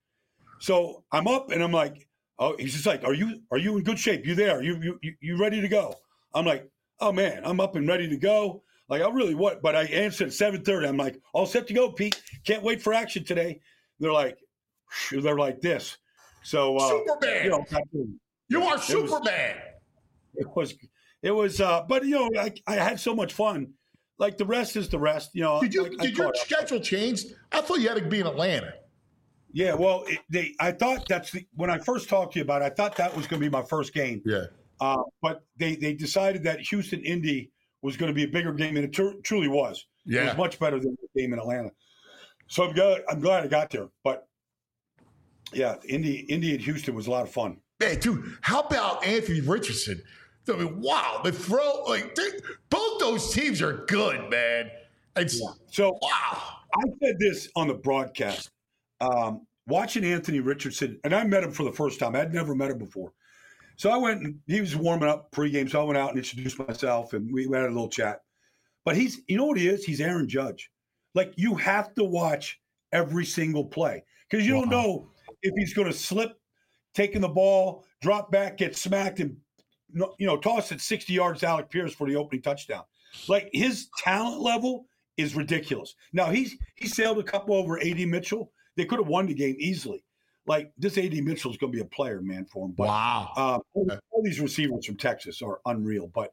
So I'm up and I'm like, oh, he's just like, are you in good shape? You there? You ready to go? I'm like, oh man, I'm up and ready to go. I really what? But I answered at 7:30. I'm like, all set to go, Pete. Can't wait for action today. They're like this. So Superman, you are Superman. It was, but I had so much fun. The rest is the rest. Did your schedule change? I thought you had to be in Atlanta. Yeah, well, I thought when I first talked to you about it, I thought that was going to be my first game. Yeah. But they decided that Houston Indy was going to be a bigger game, and it truly was. Yeah. It was much better than the game in Atlanta. So I'm glad I got there. But yeah, Indy and Houston was a lot of fun. Man, dude, how about Anthony Richardson? I mean, wow, they throw both those teams are good, man. So wow. I said this on the broadcast. Watching Anthony Richardson, and I met him for the first time. I'd never met him before. So I went and he was warming up pregame. So I went out and introduced myself and we had a little chat. But you know what he is? He's Aaron Judge. You have to watch every single play because you don't know if he's going to slip, taking the ball, drop back, get smacked, and toss it 60 yards to Alec Pierce for the opening touchdown. His talent level is ridiculous. Now he sailed a couple over A.D. Mitchell. They could have won the game easily. This A.D. Mitchell is going to be a player, man, for him. But, wow. All these receivers from Texas are unreal. But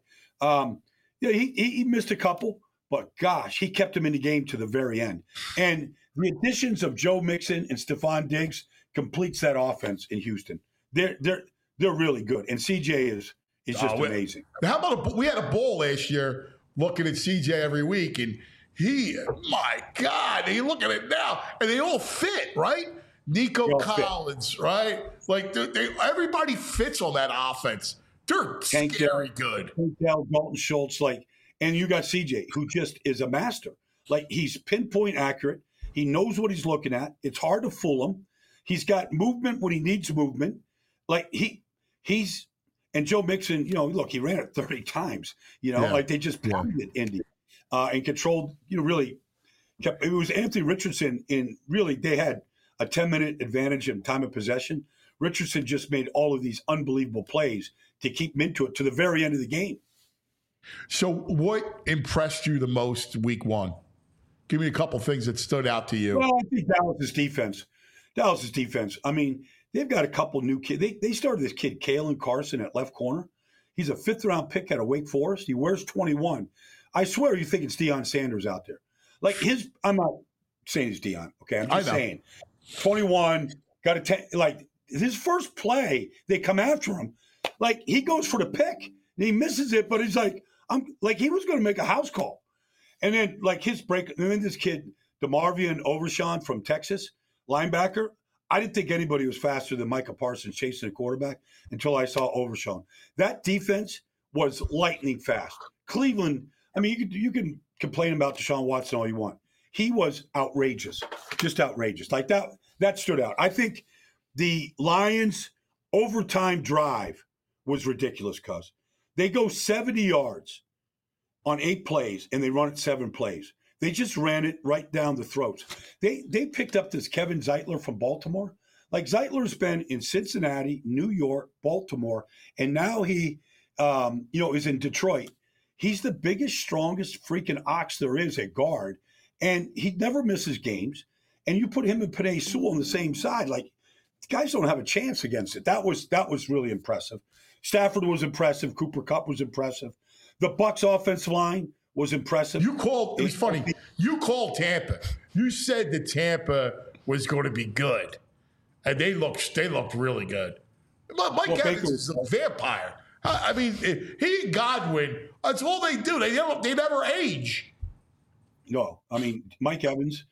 he missed a couple. But gosh, he kept him in the game to the very end. And the additions of Joe Mixon and Stephon Diggs completes that offense in Houston. They're really good. And CJ is just amazing. How about we had a bowl last year looking at CJ every week, and my God, you look at it now, and they all fit, right? Nico Collins, right? Everybody fits on that offense. They're scary good. Dalton Schultz, and you got CJ, who just is a master. He's pinpoint accurate. He knows what he's looking at. It's hard to fool him. He's got movement when he needs movement. Like he's and Joe Mixon, look, he ran it 30 times. Like they just pounded Indy and controlled. Really kept. It was Anthony Richardson they had a 10-minute advantage in time of possession. Richardson just made all of these unbelievable plays to keep him into it to the very end of the game. So what impressed you the most week one? Give me a couple things that stood out to you. Well, I think Dallas's defense. I mean, they've got a couple new kids. They started this kid, Kalen Carson, at left corner. He's a 5th-round pick out of Wake Forest. He wears 21. I swear you think it's Deion Sanders out there. Like I'm not saying he's Deion, okay? I'm just saying 21, got a 10. Like his first play, they come after him. Like he goes for the pick and he misses it, but he's like, he was going to make a house call. And then like his break, and then this kid, DeMarvion Overshawn from Texas, linebacker. I didn't think anybody was faster than Micah Parsons chasing a quarterback until I saw Overshawn. That defense was lightning fast. Cleveland, I mean, you can complain about Deshaun Watson all you want. He was outrageous, just outrageous. Like that stood out. I think the Lions' overtime drive was ridiculous because they go 70 yards on 8 plays and they run it 7 plays. They just ran it right down the throats. They picked up this Kevin Zeitler from Baltimore. Like Zeitler's been in Cincinnati, New York, Baltimore, and now he, is in Detroit. He's the biggest, strongest freaking ox there is at guard, and he never misses games. And you put him and Penei Sewell on the same side, like guys don't have a chance against it. That was really impressive. Stafford was impressive. Cooper Kupp was impressive. The Bucs offensive line was impressive. It was funny. You called Tampa. You said that Tampa was going to be good, and they looked really good. Mike Evans is a vampire. I mean, he and Godwin. That's all they do. They never age. No, I mean Mike Evans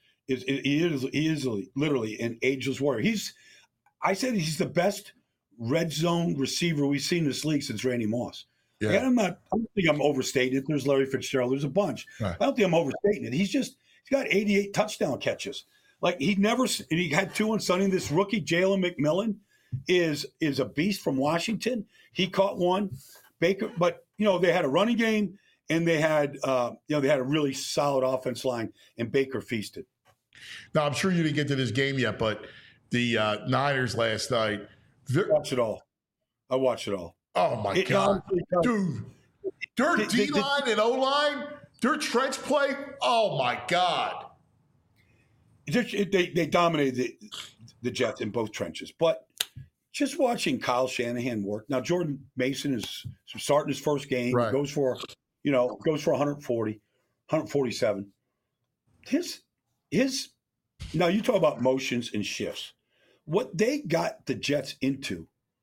is literally an ageless warrior. I said he's the best red zone receiver we've seen in this league since Randy Moss. Yeah. And I don't think I'm overstating it. There's Larry Fitzgerald. There's a bunch. Right. I don't think I'm overstating it. He's got 88 touchdown catches. Like he had 2 on Sunday. This rookie, Jalen McMillan, is a beast from Washington. He caught one. Baker, but they had a running game and they had a really solid offense line, and Baker feasted. Now I'm sure you didn't get to this game yet, but the Niners last night. I watched it all. Oh, my God. Dude, their D-line and O-line, their trench play, oh, my God. They dominated the Jets in both trenches. But just watching Kyle Shanahan work. Now, Jordan Mason is starting his first game. Right. He goes for 140, 147. Now, you talk about motions and shifts. What they got the Jets into,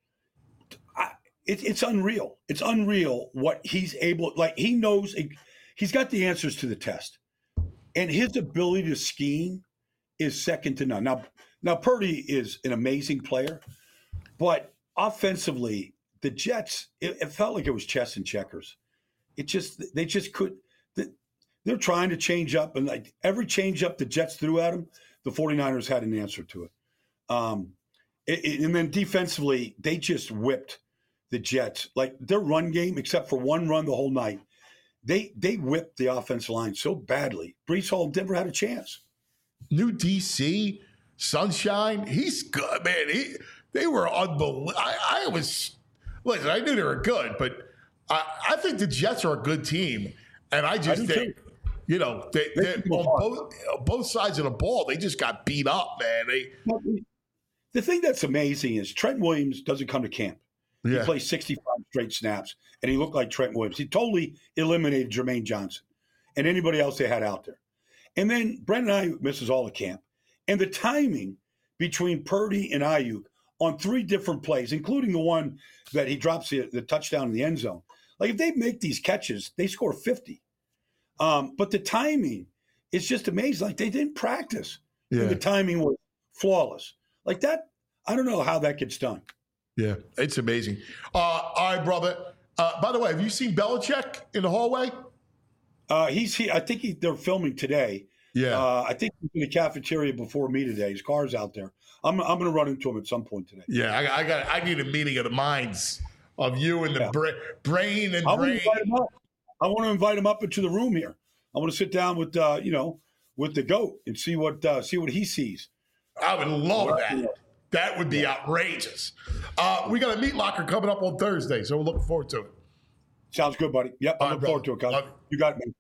it's unreal. It's unreal what he's able. Like he knows, he's got the answers to the test, and his ability to scheme is second to none. Now Purdy is an amazing player, but offensively, the Jets, it felt like it was chess and checkers. They just couldn't. They're trying to change up, and like every change up the Jets threw at them, the 49ers had an answer to it. And then defensively, they just whipped the Jets. Like their run game, except for one run the whole night, they whipped the offensive line so badly. Breece Hall never had a chance. New DC, Sunshine, he's good, man. They were unbelievable. Listen, I knew they were good, but I think the Jets are a good team. And I just think, they on both sides of the ball, they just got beat up, man. The thing that's amazing is Trent Williams doesn't come to camp. Yeah. He plays 65 straight snaps, and he looked like Trent Williams. He totally eliminated Jermaine Johnson and anybody else they had out there. And then Brandon Ayuk misses all the camp. And the timing between Purdy and Ayuk on 3 different plays, including the one that he drops the touchdown in the end zone. Like if they make these catches, they score 50. But the timing is just amazing. Like they didn't practice. Yeah. And the timing was flawless. Like that, I don't know how that gets done. Yeah, it's amazing. All right, brother. By the way, have you seen Belichick in the hallway? He's here. I think they're filming today. Yeah. I think he's in the cafeteria before me today. His car's out there. I'm going to run into him at some point today. Yeah, I need a meeting of the minds of you and the brain and I brain. want to invite him up into the room here. I want to sit down with with the GOAT and see what he sees. I would love that. That would be outrageous. We got a meat locker coming up on Thursday, so we're looking forward to it. Sounds good, buddy. Yep, I'm looking forward to it, guys. You got it, man.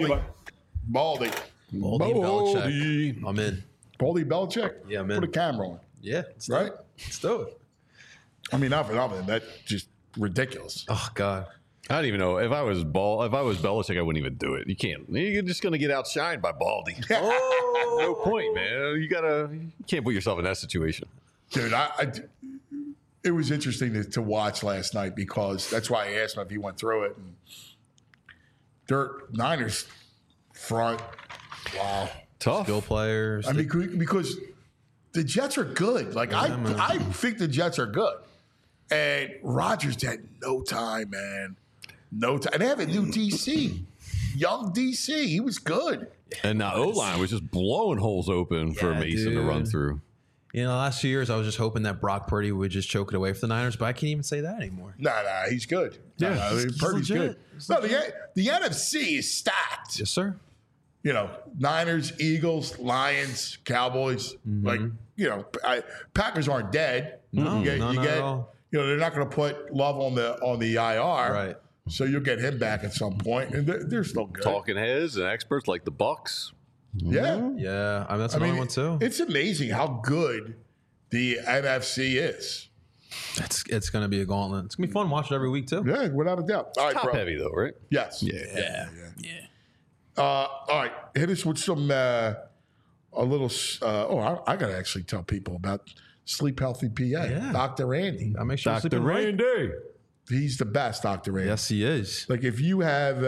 Baldy Belichick. I'm in. Baldy Belichick? Yeah, man. Put a camera on. Yeah. Right? Let's do it. I mean, not for nothing. That's just ridiculous. Oh, God. I don't even know if I was Belichick, I wouldn't even do it. You can't. You're just going to get outshined by Baldy. No point, man. You can't put yourself in that situation. Dude, it was interesting to watch last night because that's why I asked him if he went through it. And their Niners front, wow, tough skill players. I mean, because the Jets are good. Like I think the Jets are good, and Rodgers had no time, man, no time. And they have a new DC, young DC. He was good, and the O-line was just blowing holes open for Mason to run through. You know, the last few years, I was just hoping that Brock Purdy would just choke it away for the Niners, but I can't even say that anymore. Nah, he's good. Yeah, Purdy's good. No, the NFC is stacked. Yes, sir. You know, Niners, Eagles, Lions, Cowboys. Like, you know, Packers aren't dead. No, not at all. You know, they're not going to put Love on the IR. Right. So you'll get him back at some point, and they're still good. Talking heads and experts like the Bucks. Yeah. Yeah. I mean, that's another one, too. It's amazing how good the NFC is. It's going to be a gauntlet. It's going to be fun watching every week, too. Yeah, without a doubt. All right, top heavy, though, right? Yes. Yeah. All right, hit us with some I got to actually tell people about Sleep Healthy PA. Yeah. Dr. Andy. I make sure Dr. Randy. He's the best, Dr. Andy. Yes, he is. Like if you have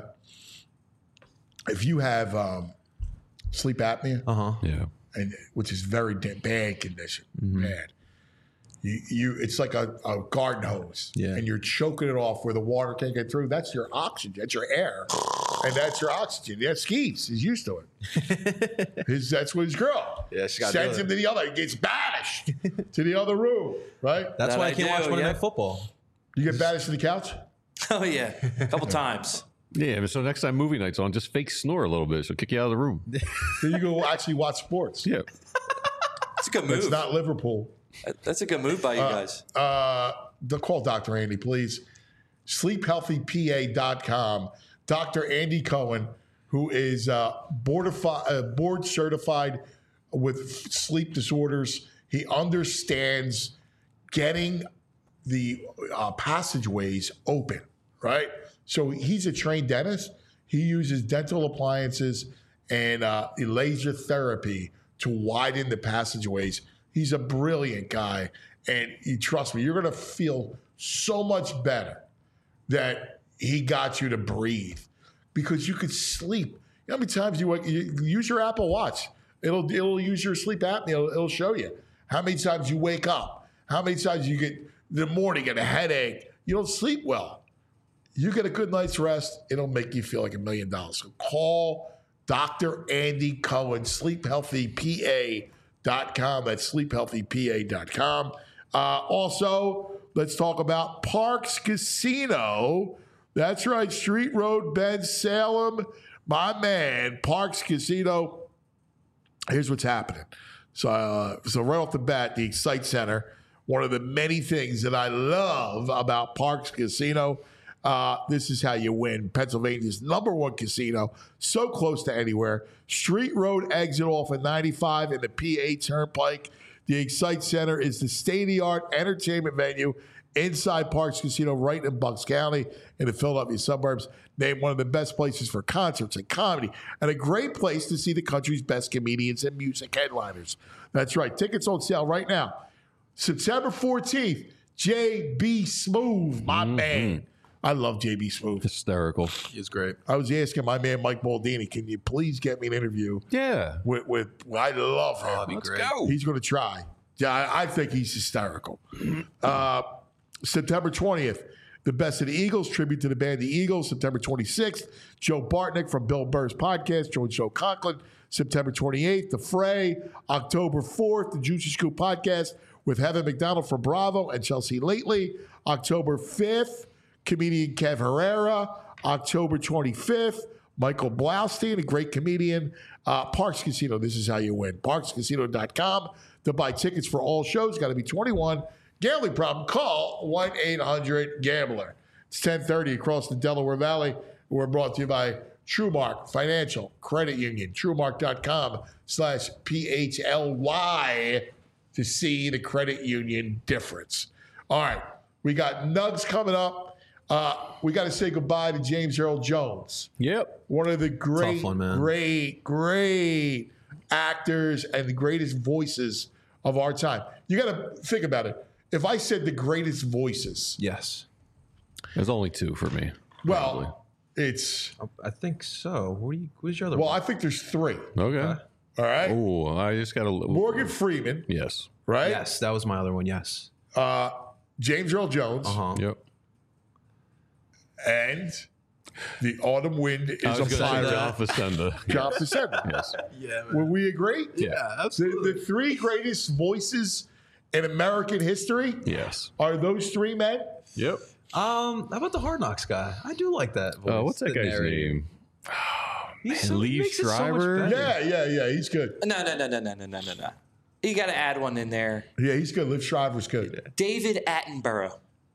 sleep apnea, Yeah. and which is very bad condition, bad. It's like a garden hose, and you're choking it off where the water can't get through. That's your oxygen. That's your air, and that's your oxygen. Yeah, Skeets. He's used to it. That's what his girl sends him to the other. He gets banished to the other room. Right. That's why I can't watch Monday Night Football. You get banished to the couch. Oh yeah, a couple times. Yeah, so next time movie night's on, just fake snore a little bit. She'll kick you out of the room. Then you go actually watch sports. Yeah. It's a good move. It's not Liverpool. That's a good move by you guys. Call Dr. Andy, please. SleepHealthyPA.com. Dr. Andy Cohen, who is board certified with sleep disorders. He understands getting the passageways open, right? So he's a trained dentist. He uses dental appliances and laser therapy to widen the passageways. He's a brilliant guy. And trust me, you're going to feel so much better that he got you to breathe because you could sleep. You know how many times you use your Apple Watch? It'll use your sleep apnea. It'll show you how many times you wake up, how many times you get the morning get a headache. You don't sleep well. You get a good night's rest, it'll make you feel like $1 million. So call Dr. Andy Cohen, SleepHealthyPA.com. That's SleepHealthyPA.com. Also, let's talk about Parks Casino. That's right, Street Road, Ben Salem. My man, Parks Casino. Here's what's happening. So right off the bat, the Excite Center, one of the many things that I love about Parks Casino. This is how you win. Pennsylvania's #1 casino, so close to anywhere. Street Road exit off of 95 in the PA Turnpike. The Excite Center is the state-of-the-art entertainment venue inside Parks Casino right in Bucks County in the Philadelphia suburbs. Named one of the best places for concerts and comedy and a great place to see the country's best comedians and music headliners. That's right. Tickets on sale right now. September 14th, J.B. Smoove, my man. I love J.B. Smoove. Hysterical. He's great. I was asking my man Mike Baldini, can you please get me an interview? Yeah. With I love him. Oh, that'd be great. Go. He's going to try. Yeah, I think he's hysterical. September 20th, The Best of the Eagles, tribute to the band The Eagles, September 26th. Joe Bartnick from Bill Burr's podcast, joins Joe Conklin, September 28th. The Fray, October 4th. The Juicy Scoop podcast with Heather McDonald from Bravo and Chelsea Lately, October 5th. Comedian Kev Herrera, October 25th. Michael Blaustein, a great comedian. Parks Casino, this is how you win. ParksCasino.com to buy tickets for all shows. Got to be 21. Gambling problem, call 1-800-GAMBLER. It's 10:30 across the Delaware Valley. We're brought to you by TrueMark Financial Credit Union. TrueMark.com/PHLY to see the credit union difference. All right, we got Nugs coming up. We got to say goodbye to James Earl Jones. Yep. One of the great, one, man. great actors and the greatest voices of our time. You got to think about it. If I said the greatest voices, Yes. There's only two for me. well, it's I think so. Who's your other well, one? I think there's three. Okay. All right, Oh, I just got to. Morgan Freeman, Yes. right? Yes, that was my other one. Yes. James Earl Jones, Yep. and the autumn wind I is was a going to say fire. John Facenda. John Facenda. Yes. Yeah. Will we agree? Yeah. The three greatest voices in American history Yes. are those three men. Yep. How about the Hard Knocks guy? I do like that voice. What's that the guy's narrator. name? He's Man, he Liev makes it so much Schreiber? better. Yeah. He's good. No. You got to add one in there. Yeah, he's good. Liv Shriver's good. David Attenborough.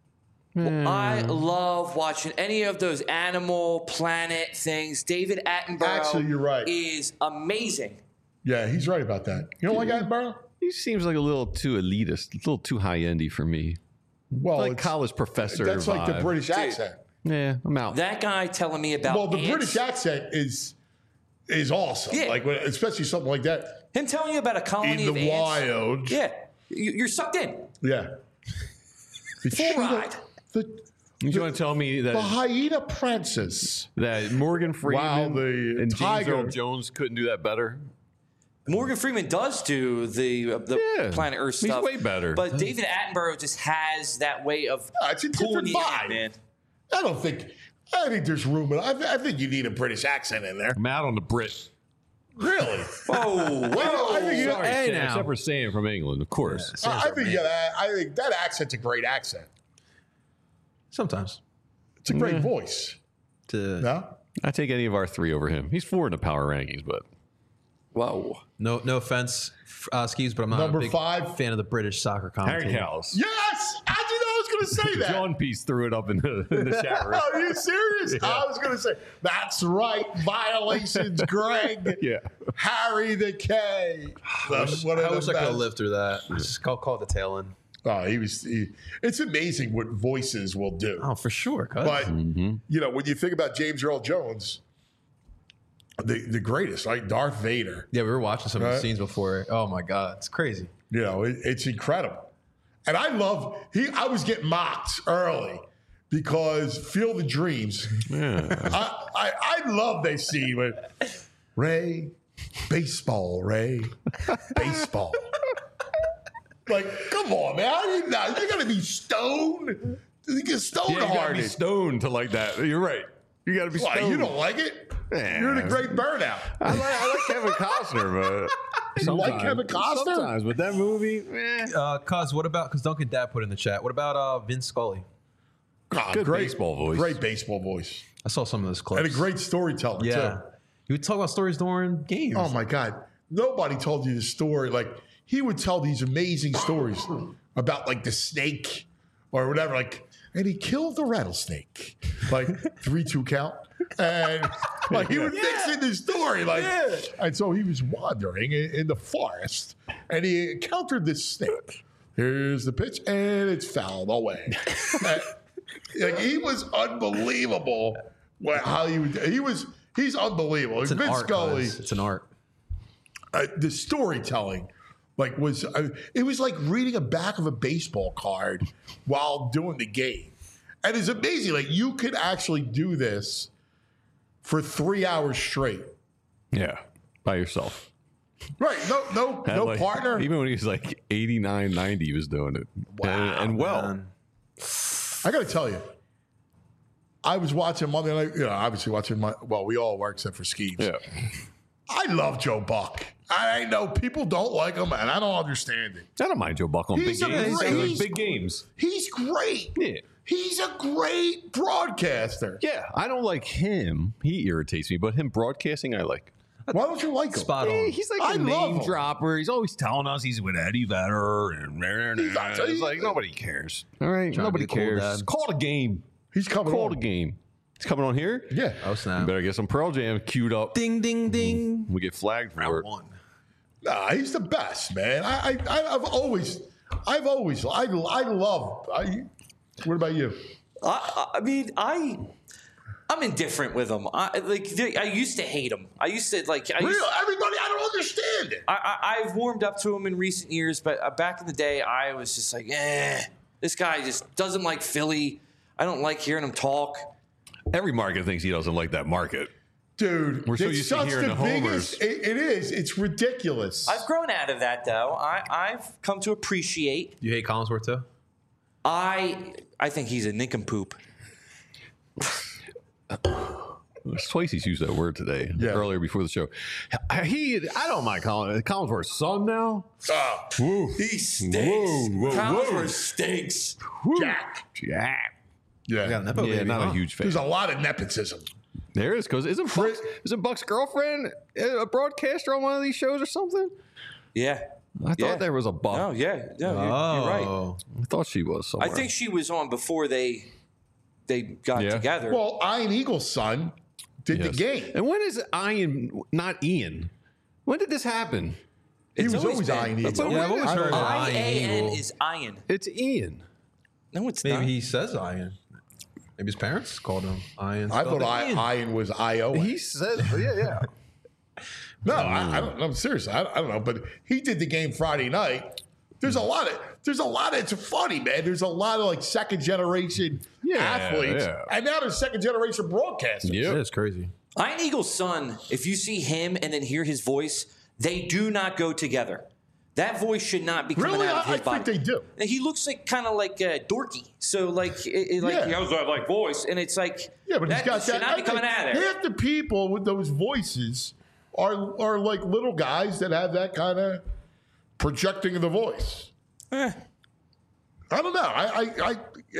I love watching any of those Animal Planet things. David Attenborough Actually, you're right. is amazing. Yeah, he's right about that. You don't like Attenborough? He seems like a little too elitist, a little too high-endy for me. Well, Like it's- college professor That's like the vibe. British accent. Yeah, I'm out. That guy telling me about Well, the ants, British accent is awesome. Yeah. Like especially something like that him telling you about a colony in of the ants. wild. Yeah, you're sucked in. Yeah. Full ride. You want to tell me The that hyena princess. that Morgan Freeman Wow, the and James tiger. Earl Jones couldn't do that better? Morgan Freeman does do the Yeah, Planet Earth he's stuff. way better. But David Attenborough just has that way of It's a pulling different you vibe. in, man. I think there's room. I think you need a British accent in there. I'm out on the Brit. Really? Whoa, I think you, Sorry, Hey, Sam, now. except for Sam from England, of course. I think I think that accent's a great accent. Sometimes. It's a great voice. No? I take any of our three over him. He's 4 in the power rankings, but whoa. No offense, Skis, but I'm not Number a big 5. fan of the British soccer Harry commentator. Cowles. Yes! I did know I was going to say that. John Peace threw it up in the chat room. Are you serious? I was going to say, that's right. Violations, Greg. Yeah. Harry the K. I wish I could have lived through that. Just call it the tail end. Oh, it's amazing what voices will do. Oh, for sure. Cuz. But, you know, when you think about James Earl Jones, the greatest, right? Darth Vader. Yeah, we were watching some of the Right. scenes before. Oh my God, it's crazy. You know, it's incredible. And I love, I was getting mocked early because Field of Dreams. Yeah. I love that scene with Ray, baseball, Ray, baseball. Like, come on, man. You're going to be stoned. You get stoned Yeah, you gotta be hearted. stoned to like that. You're right. You got to be Why, stoned. you don't like it? Yeah. You're the great burnout. I like Kevin Costner, but You like Kevin Costner? Sometimes, but that movie, Cuz, what about, because Duncan Dad put in the chat, what about Vince Scully? good baseball voice. Great baseball voice. I saw some of those clips. And a great storyteller, Yeah. too. You would talk about stories during games. Oh, my God. Nobody told you the story. Like, he would tell these amazing stories about, like, the snake or whatever. Like, and he killed the rattlesnake. Like, 3-2 count. And, like, he would mix in the story. Like, and so he was wandering in the forest, and he encountered this snake. Here's the pitch, and it's fouled away. Like, he was unbelievable. How he's unbelievable. It's an Vince art, Scully. guys. It's an art. The storytelling, like, was it was like reading a back of a baseball card while doing the game, and it's amazing. Like, you could actually do this for 3 hours straight. Yeah, by yourself. Right? No Like, partner. Even when he was like 89, 90, he was doing it. Wow, and well. man. I got to tell you, I was watching Monday night. Obviously watching we all were except for Skeeves. Yeah. I love Joe Buck. I know people don't like him, and I don't understand it. I don't mind Joe Buck on big games. Big games. He's great. Yeah. He's a great broadcaster. Yeah, I don't like him. He irritates me, but him broadcasting, I like. Why don't you like him? Spot on. He's like a name dropper. He's always telling us he's with Eddie Vedder. It's like, nobody cares. All right? Nobody cares. Call it a game. He's coming on. Call it a game. He's coming on here? Yeah. Oh, snap. You better get some Pearl Jam queued up. Ding, ding, ding. We get flagged for Round it. one. Nah, he's the best, man. I've always, I love. What about you? I mean, I'm indifferent with him. I used to hate him. Everybody, I don't understand it. I've warmed up to him in recent years, but back in the day, I was just like, this guy just doesn't like Philly. I don't like hearing him talk. Every market thinks he doesn't like that market. Dude, We're so used to hearing the homers. It is. It's ridiculous. I've grown out of that, though. I've come to appreciate. You hate Collinsworth, too? I think he's a nincompoop. Swayze's used that word today, earlier before the show. I don't mind Collinsworth's son now. He stinks. Collinsworth stinks. Jack. Yeah. Yeah. Yeah, not a huge fan. There's a lot of nepotism. There is, because isn't Buck's girlfriend a broadcaster on one of these shows or something? Yeah. I thought there was a Buck. Oh, yeah. No, you're right. I thought she was somewhere. I think she was on before they got together. Well, Ian Eagle's son did the game. And when is Ian, not Ian? When did this happen? He was always Ian Eagle. Yeah, I've always heard of I-A-N is Ian. It's Ian. No, it's not. Maybe he says Ian. Maybe his parents called him Ian. I thought Ian was I-O. He said, yeah. No, I'm serious. I don't know, but he did the game Friday night. There's a lot of. It's funny, man. There's a lot of like second generation athletes, and now there's second generation broadcasters. Yeah, it's crazy. Ian Eagle's son. If you see him and then hear his voice, they do not go together. That voice should not be coming out of his body. I think they do. And he looks like kind of like Dorky. So like, he has that like voice, and it's like but that he's got should that. not be coming out of there. Half the people with those voices are like little guys that have that kind of projecting of the voice. I don't know.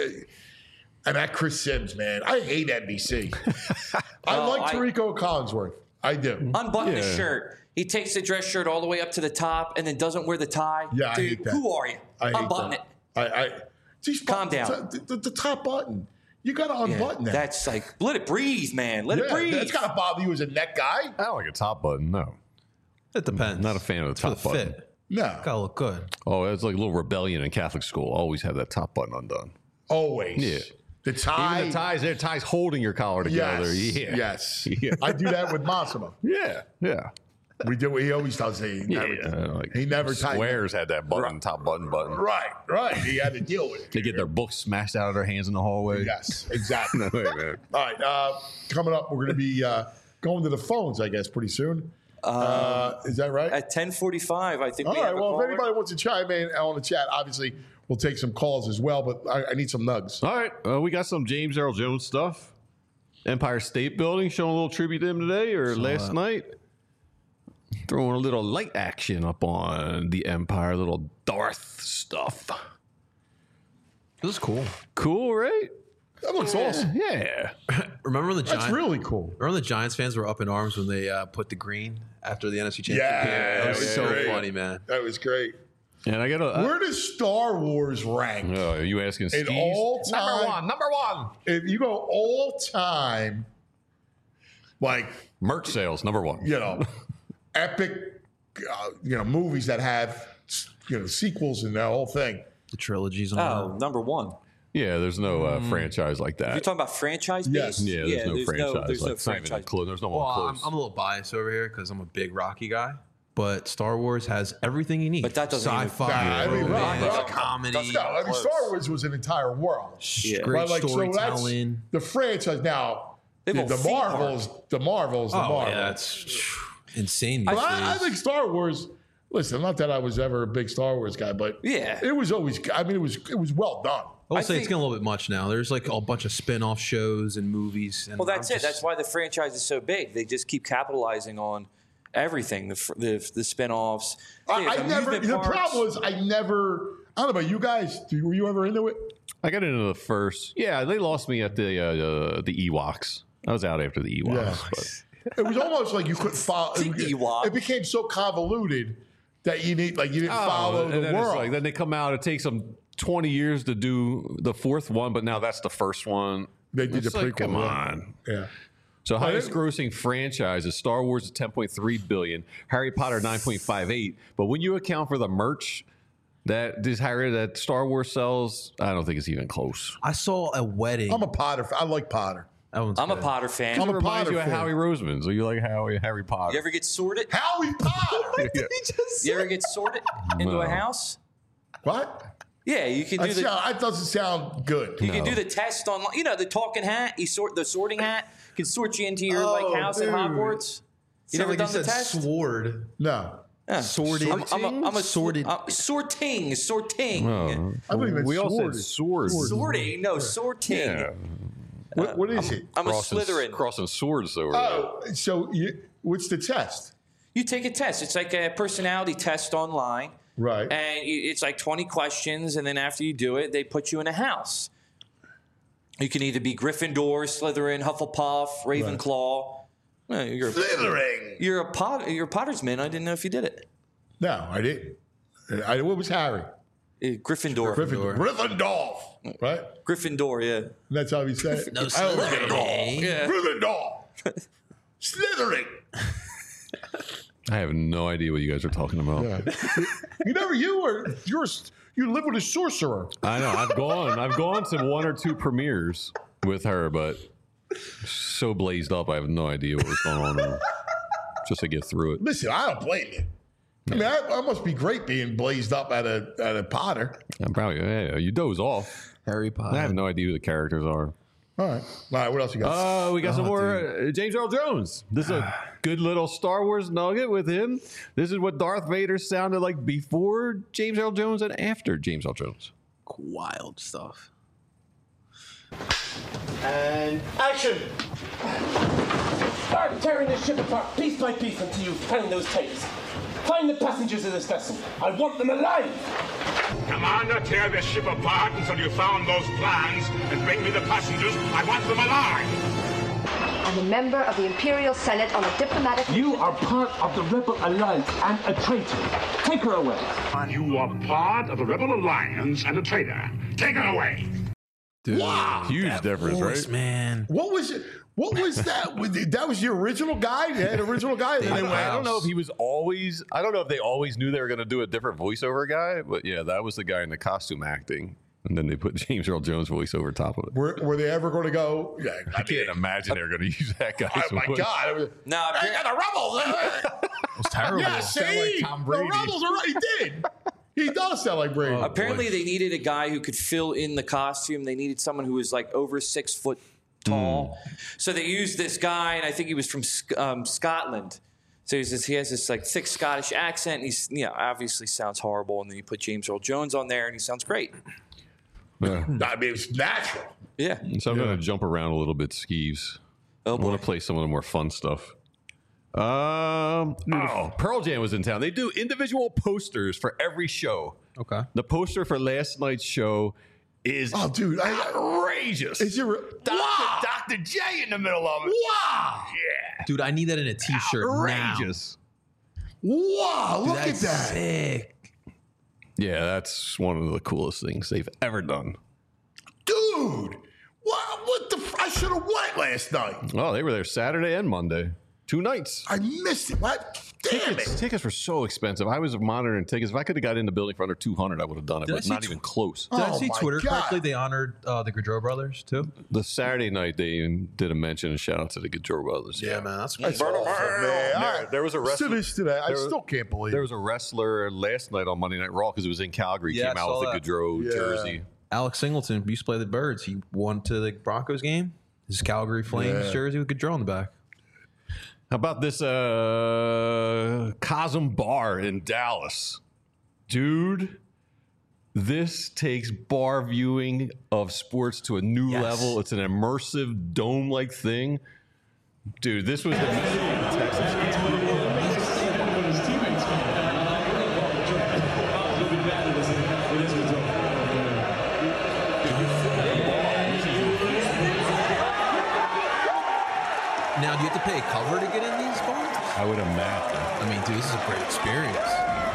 And that Chris Sims, man, I hate NBC. I like Tirico Collinsworth. I do. Unbutton his shirt. He takes the dress shirt all the way up to the top and then doesn't wear the tie. Yeah, I dude, hate that. who are you? Unbutton it. Calm down. The top button. You got to unbutton that. That's like, let it breathe, man. Let it breathe. That's got to bother you as a neck guy. I don't like a top button, no. It depends. Not a fan of the top button. Fit. No. Gotta look good. Oh, it's like a little rebellion in Catholic school. Always have that top button undone. Always. Yeah. The tie. Even the ties holding your collar together. Yes. Yeah. I do that with Massimo. Yeah. We do. He always does. He never Squares had that button, top button. Right. He had to deal with it. They get their books smashed out of their hands in the hallway. Yes, exactly. No way, man. All right. Coming up, we're going to be going to the phones, I guess, pretty soon. Is that right? At 10:45, I think. All right. Well, if anybody wants to chime in on the chat, obviously we'll take some calls as well. But I need some nugs. All right. We got some James Earl Jones stuff. Empire State Building, showing a little tribute to him today or last night. Throwing a little light action up on the Empire, a little Darth stuff. This is cool. Cool, right? That looks awesome. Yeah. Remember when the That's really cool. Remember the Giants fans were up in arms when they put the green after the NFC Championship? Yeah, That was so great. funny, man. That was great. And I got Where does Star Wars rank? Oh, are you asking In Steve? all time, Number one. If you go all time, like Merch sales, number one. Epic, movies that have sequels and that whole thing. The trilogies. Number one. Yeah, there's no franchise like that. You're talking about franchise Yes. based? Yeah, there's no franchise. There's no It's not even franchise. close. There's no Well, one I'm close. a little biased over here because I'm a big Rocky guy. But Star Wars has everything you need. But that doesn't even- sci-fi, romance, comedy, Star Wars was an entire world. great So storytelling. the franchise now. They have a The theme Marvels. The Marvels. Yeah, that's insane. But I think Star Wars, listen, not that I was ever a big Star Wars guy, but it was always. I mean, it was well done. I would say it's getting a little bit much now. There's like a bunch of spin-off shows and movies. And well, that's it. That's why the franchise is so big. They just keep capitalizing on everything, the spin-offs. The problem was I don't know about you guys. Were you ever into it? I got into the first. Yeah, they lost me at the Ewoks. I was out after the Ewoks. Yeah. But. It was almost like you couldn't follow. Ewok. It became so convoluted that you didn't follow the world. Then they come out. It takes them 20 years to do the fourth one, but now that's the first one. They did the prequel. Come on. Yeah. So highest grossing franchise is Star Wars at $10.3 billion, Harry Potter 9.58. But when you account for the merch that Star Wars sells, I don't think it's even close. I saw a wedding. I'm a Potter. I like Potter. I'm a Potter fan. I'm a Potter fan. You of Howie Roseman, so you like Harry Potter. You ever get sorted? Howie Potter. You ever get sorted into a house? What? Yeah, you can do that doesn't sound good. You can do the test online. You know, the talking hat. The sorting hat can sort you into your house at Hogwarts. You never done the test? Sword. No. Sorting. I'm a sorted. Sorting. I believe we all said sword. Sorting. No, sorting. Yeah. What is it? I'm a Slytherin. Crossing swords over there. So what's the test? You take a test. It's like a personality test online. Right. And it's like 20 questions, and then after you do it, they put you in a house. You can either be Gryffindor, Slytherin, Hufflepuff, Ravenclaw. Right. You're Slytherin. You're a Pottersman. I didn't know if you did it. No, I didn't. What was Harry? Gryffindor. Gryffindor. Right? Gryffindor, yeah. That's how he said it. No, Slytherin. Yeah. Gryffindor. Slytherin. I have no idea what you guys are talking about. Yeah. You live with a sorcerer. I know. I've gone to one or two premieres with her, but so blazed up, I have no idea what was going on there. Just to get through it. Listen, I don't blame you. I mean, I must be great being blazed up at a Potter. I'm probably, you doze off. Harry Potter. I have no idea who the characters are. All right. What else you got? We got some more James Earl Jones. This is a good little Star Wars nugget with him. This is what Darth Vader sounded like before James Earl Jones and after James Earl Jones. Wild stuff. And action! Start tearing this ship apart piece by piece until you find those tapes. Find the passengers of this vessel. I want them alive. Commander, tear this ship apart until you found those plans and bring me the passengers. I want them alive. I'm a member of the Imperial Senate on a diplomatic... You are part of the Rebel Alliance and a traitor. Take her away. You are part of the Rebel Alliance and a traitor. Take her away. Dude, wow. Huge difference, voice, right? Man. What was it? What was that? That was the original guy? They had an original guy? I don't know if he was always... I don't know if they always knew they were going to do a different voiceover guy, but yeah, that was the guy in the costume acting. And then they put James Earl Jones' voice over top of it. Were they ever going to go? Yeah, I can't imagine they were going to use that guy. Oh, my God. No, the Rebels. It was terrible. Yeah, see? Like Tom Brady. The Rebels are right. He did. He does sound like Brady. Apparently, they needed a guy who could fill in the costume. They needed someone who was like over 6 foot tall. So they used this guy, and I think he was from Scotland. So he has this like thick Scottish accent. And he's obviously sounds horrible. And then you put James Earl Jones on there, and he sounds great. I mean, it's natural. Yeah. So I'm going to jump around a little bit, Skeeves. I want to play some of the more fun stuff. Pearl Jam was in town. They do individual posters for every show. Okay. The poster for last night's show is outrageous. Is it Dr. J in the middle of it. Wow. Yeah. Dude, I need that in a t-shirt outrageous. Now. Wow, Dude, look at that. Sick. Yeah, that's one of the coolest things they've ever done. Dude, what the... I should have went last night. Oh, they were there Saturday and Monday. 2 nights. I missed it. What? Damn it. Tickets were so expensive. I was monitoring tickets. If I could have got in the building for under $200, I would have done it, but not even close. Did I see Twitter correctly? They honored the Gaudreau brothers, too? The Saturday night, they did a mention and shout out to the Gaudreau brothers. Yeah, man. That's awesome, man. There was a wrestler. Today. I still can't believe there was a wrestler last night on Monday Night Raw because it was in Calgary. Yeah, came out with a Gaudreau jersey. Alex Singleton used to play the Birds. He won to the Broncos game. His Calgary Flames jersey with Gaudreau on the back. How about this Cosm Bar in Dallas? Dude, this takes bar viewing of sports to a new level. It's an immersive dome-like thing. Dude, this was the Texas. Now, do you have to pay a cover to get in these bars? I would imagine. I mean, dude, this is a great experience.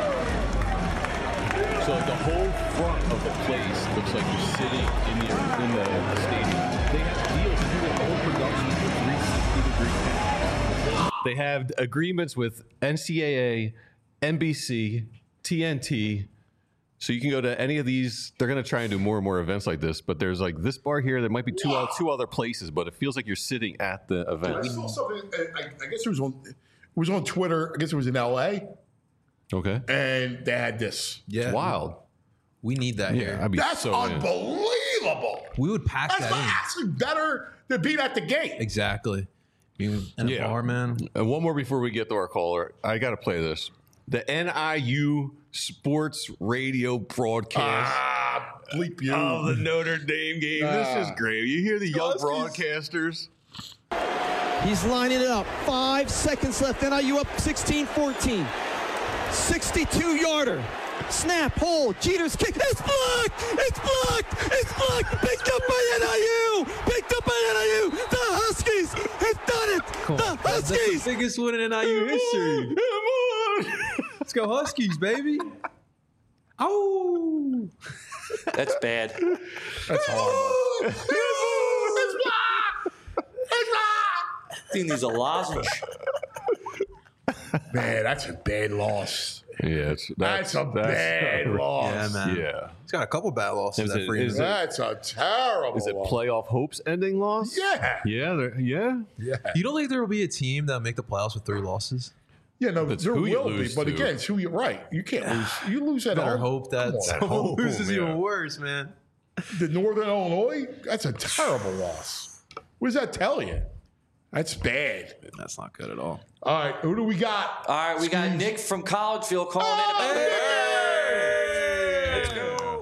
So like the whole front of the place looks like you're sitting in the stadium. They have deals to do the whole production for 360-degree cameras. They have agreements with NCAA, NBC, TNT. So you can go to any of these. They're going to try and do more and more events like this. But there's like this bar here. There might be two other places, but it feels like you're sitting at the event. I saw something. I guess it was on Twitter. I guess it was in LA. Okay. And they had this. Yeah. It's wild. We need that here. That's unbelievable. We would pack that in. That's actually better than being at the game. Exactly. Being in a bar, man. And one more before we get to our caller. I got to play this. The NIU sports radio broadcast. Bleep you. Oh, the Notre Dame game. This is great. You hear the young broadcasters. He's lining it up. 5 seconds left. NIU up 16-14. 62-yarder. Snap, hold, Jeter's kick. It's blocked! It's blocked! It's blocked! Picked up by NIU! Picked up by NIU! The Huskies have done it! The Huskies! That's the biggest win in NIU history. Come on! Let's go Huskies, baby. Oh! That's bad. That's horrible. It's blocked! It's blocked! I think there's a lozenge. Man, that's a bad loss. Yeah, that's a bad loss. Yeah, man. Yeah. He's got a couple bad losses. That's a terrible Is it loss. playoff hopes ending loss? Yeah. Yeah. You don't think there will be a team that'll make the playoffs with 3 losses? Yeah, no, That's there who you will be. lose But to. again, it's who you're right. You can't lose. You lose at Better home. hope that Come on. someone loses yeah. even worse, man. The Northern Illinois, that's a terrible loss. What does that tell you? That's bad. That's not good at all. All right, who do we got? All right, we got Nick from Collegeville calling in about Let's go.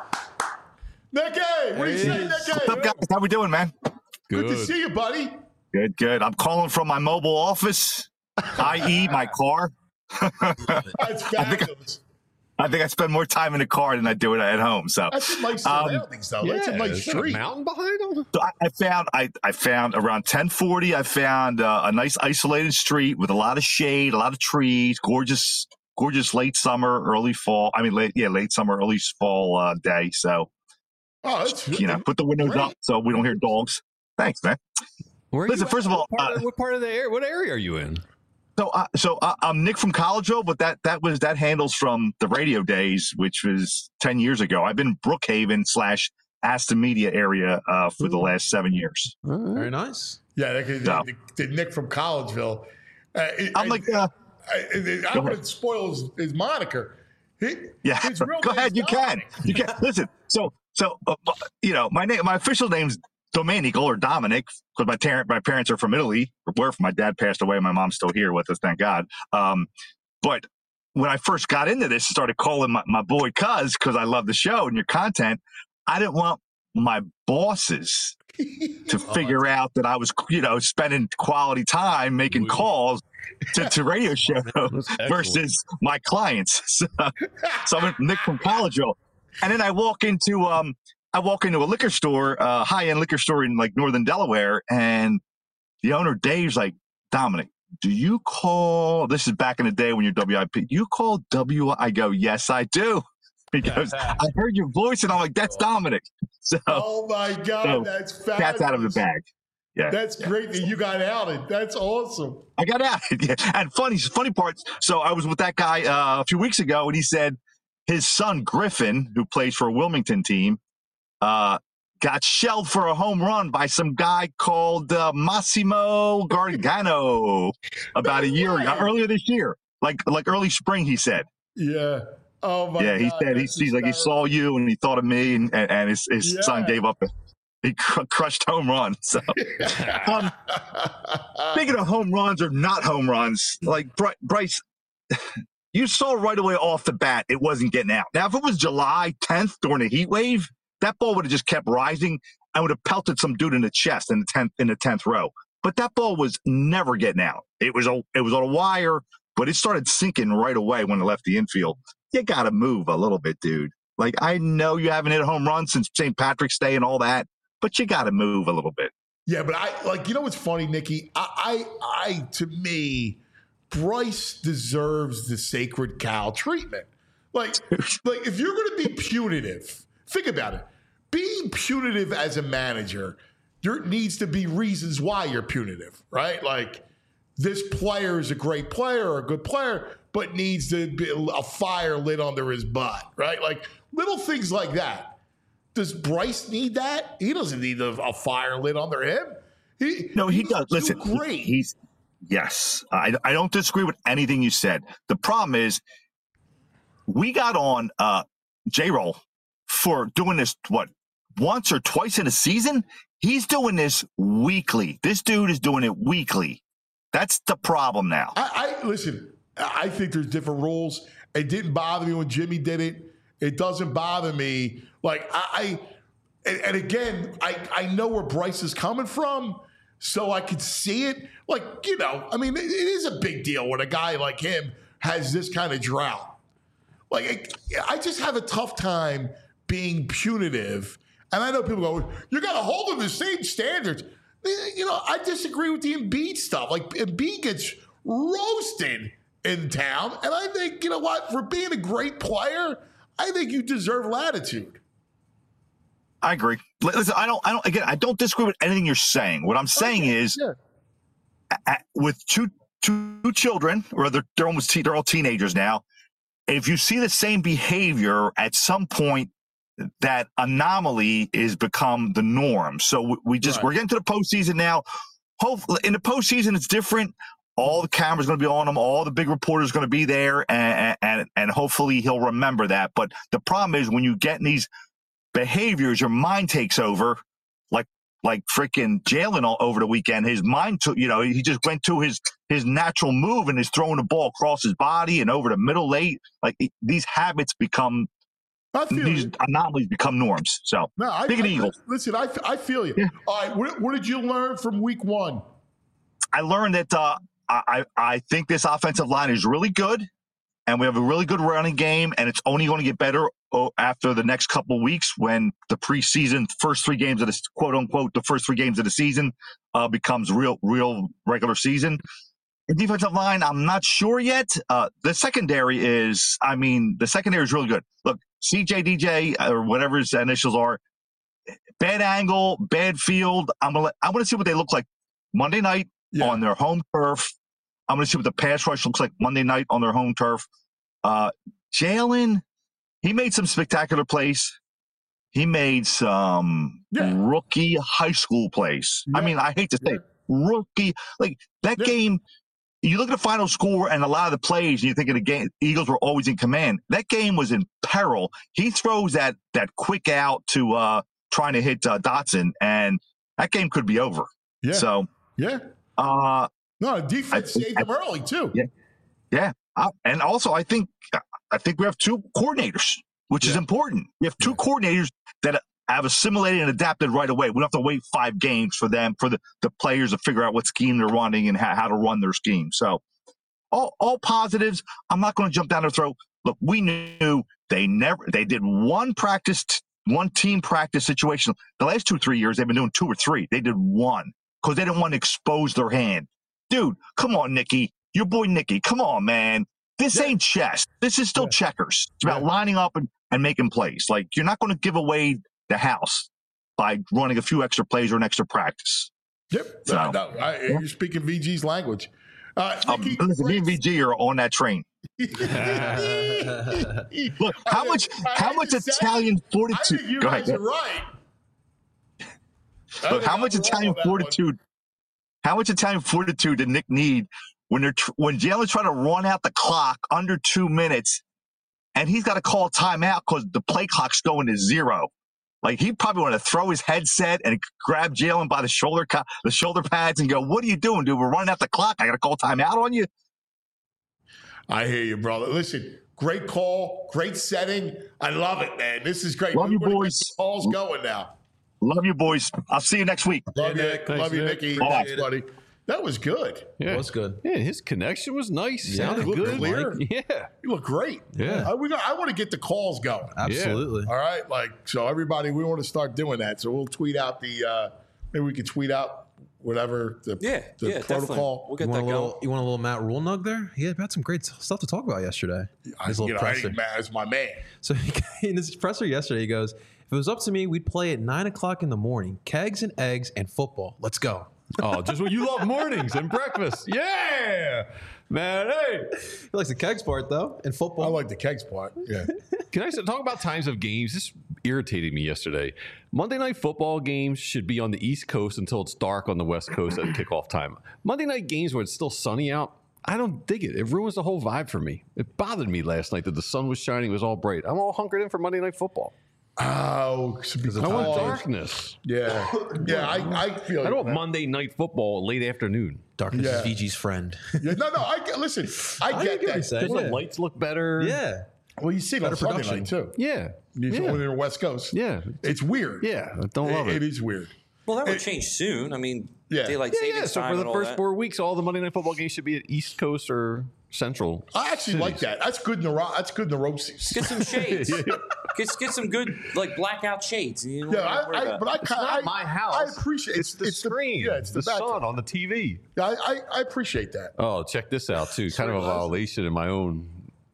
Nicky, what do you say, Nicky? What's up, guys? How we doing, man? Good to see you, buddy. Good. I'm calling from my mobile office, i.e. my car. That's fabulous. I think I spend more time in the car than I do at home. So That's a nice surroundings, though. That's a nice is that a street. mountain behind them? So I found around 1040. I found a nice isolated street with a lot of shade, a lot of trees, gorgeous late summer, early fall. I mean, late summer, early fall day. So, that's put the windows up so we don't hear dogs. Thanks, man. Listen, first of all, what part of the area? What area are you in? So I'm Nick from Collegeville, but that handles from the radio days, which was 10 years ago. I've been in Brookhaven / Aston Media area for the last 7 years. Very nice. Yeah, the Nick from Collegeville. I'm like, I wouldn't spoil his moniker. His real go ahead. You can. Listen. So my official name's Domenico or Dominic, because my parents are from Italy. My dad passed away. My mom's still here with us, thank God. But when I first got into this, I started calling my boy Cuz because I love the show and your content. I didn't want my bosses to figure out that I was, spending quality time making calls to radio show versus my clients. So I'm Nick from Collegeville, and then I walk into a liquor store, high-end liquor store in like northern Delaware, and the owner Dave's like, Dominic, do you call? This is back in the day when you're WIP. Do you call W? I go, yes, I do. Because I heard your voice, and I'm like, that's Dominic. So, oh my God, that's fabulous. Cat's out of the bag. Yeah, that's great that you got outed. That's awesome. I got outed. Yeah. And funny parts. So I was with that guy a few weeks ago, and he said his son Griffin, who plays for a Wilmington team, got shelled for a home run by some guy called Massimo Gargano about a year ago, earlier this year, like early spring. He said, "Yeah, oh my yeah." God, He said he saw you and he thought of me, and his son gave up He crushed home runs. So, speaking of home runs or not home runs, like Bryce, you saw right away off the bat it wasn't getting out. Now, if it was July 10th during the heat wave, that ball would have just kept rising and would have pelted some dude in the chest in the 10th row. But that ball was never getting out. It was on a wire, but it started sinking right away when it left the infield. You got to move a little bit, dude. Like, I know you haven't hit a home run since St. Patrick's Day and all that, but you got to move a little bit. Yeah, but you know what's funny, Nikki? To me, Bryce deserves the sacred cow treatment. Like if you're going to be punitive, think about it. Being punitive as a manager, there needs to be reasons why you're punitive, right? Like, this player is a great player or a good player, but needs to be a fire lit under his butt, right? Like, little things like that. Does Bryce need that? He doesn't need a fire lit under him. He does. Listen, great. Yes. I don't disagree with anything you said. The problem is we got on J-Roll for doing this, once or twice in a season? He's doing this weekly. This dude is doing it weekly. That's the problem now. Listen, I think there's different rules. It didn't bother me when Jimmy did it. It doesn't bother me. Like, and again, I know where Bryce is coming from, so I could see it. Like, I mean, it is a big deal when a guy like him has this kind of drought. Like, I just have a tough time being punitive. And I know people go, you got to hold them to the same standards. I disagree with the Embiid stuff. Like, Embiid gets roasted in town. And I think, you know what, for being a great player, I think you deserve latitude. I agree. Listen, I don't disagree with anything you're saying. What I'm saying is, with two children, or they're all teenagers now, if you see the same behavior at some point, that anomaly is become the norm. So we're getting to the postseason now. Hopefully, in the postseason, it's different. All the cameras going to be on him. All the big reporters going to be there, and hopefully he'll remember that. But the problem is when you get in these behaviors, your mind takes over. Like freaking Jalen all over the weekend, his mind took. He just went to his natural move and is throwing the ball across his body and over the middle late. Like, these habits become. These anomalies become norms. So, Eagles. Listen, I feel you. Yeah. All right, what did you learn from week one? I learned that I think this offensive line is really good, and we have a really good running game, and it's only going to get better after the next couple of weeks when the preseason first 3 games of this quote unquote the first 3 games of the season becomes real regular season. The defensive line, I'm not sure yet. The secondary is really good. Look, CJ, DJ, or whatever his initials are, bad angle, bad field. I want to see what they look like Monday night on their home turf. I'm going to see what the pass rush looks like Monday night on their home turf. Jalen, he made some spectacular plays. He made some rookie high school plays. Yeah. I mean, I hate to say rookie. Like, that game, you look at the final score and a lot of the plays, and you think of the game, Eagles were always in command. That game was in peril. He throws that quick out to trying to hit Dotson, and that game could be over. Yeah. So, no, defense saved them early too. Yeah. And also, I think we have 2 coordinators, which is important. We have 2 coordinators that have assimilated and adapted right away. We don't have to wait 5 games for the players to figure out what scheme they're running and how to run their scheme. So all positives. I'm not going to jump down their throat. Look, we knew they did one team practice situation. The last 2-3 years, they've been doing 2 or 3. They did 1 because they didn't want to expose their hand. Dude, come on, Nicky. Your boy Nicky. Come on, man. This ain't chess. This is still checkers. It's about lining up and making plays. Like, you're not going to give away the house by running a few extra plays or an extra practice. Yep. So, you're speaking VG's language. Me and VG are on that train. Look, how much Italian fortitude? I think you guys are right. Look, how much Italian fortitude? How much Italian fortitude did Nick need when Jalen's trying to run out the clock under 2 minutes, and he's got to call a timeout because the play clock's going to 0? Like he probably wanted to throw his headset and grab Jalen by the shoulder pads and go, "What are you doing, dude? We're running out the clock. I got to call timeout on you." I hear you, brother. Listen, great call, great setting. I love it, man. This is great. Love you, boys. Call's going now. Love you, boys. I'll see you next week. Love you, Nick. love you, Nicky. Thanks, buddy. That was good. Yeah. It was good. Yeah, his connection was nice. Yeah, Sounded looked good. clear. Yeah. You look great. Yeah. I want to get the calls going. Absolutely. All right, so everybody, we want to start doing that. So we'll tweet out maybe we can tweet out whatever the definitely. protocol. We'll get You that want, going. you want a little Matt Rule nug there? He had some great stuff to talk about yesterday. His little presser. It's my man. So in his presser yesterday, he goes, "If it was up to me, we'd play at 9 o'clock in the morning. Kegs and eggs and football. Let's go." Oh, just what you love mornings and breakfast. Yeah. Man, hey. He likes the kegs part, though, and football. I like the kegs part. Yeah. Can I talk about times of games? This irritated me yesterday. Monday Night Football games should be on the East Coast until it's dark on the West Coast at kickoff time. Monday night games where it's still sunny out, I don't dig it. It ruins the whole vibe for me. It bothered me last night that the sun was shining. It was all bright. I'm all hunkered in for Monday Night Football. Oh, I want darkness. Yeah. Yeah, I feel I don't want Monday Night Football late afternoon. Darkness is VG's friend. Yeah, no, listen, I get that. The lights look better. Yeah. Well, you see it on Sunday night, too. Yeah. When you're in the West Coast. Yeah. It's weird. Yeah, I don't love it. It is weird. Well, that would change soon. I mean, Yeah. daylight savings So time for the and all first that. 4 weeks, all the Monday Night Football games should be at East Coast or Central. I actually like that. That's good in the road season. Get some shades. Get some good blackout shades. You don't Yeah, have to worry about it. It's not my house. I appreciate it's the screen. it's the back- sun on the TV. Yeah, I appreciate that. Oh, check this out too. Kind of a violation in my own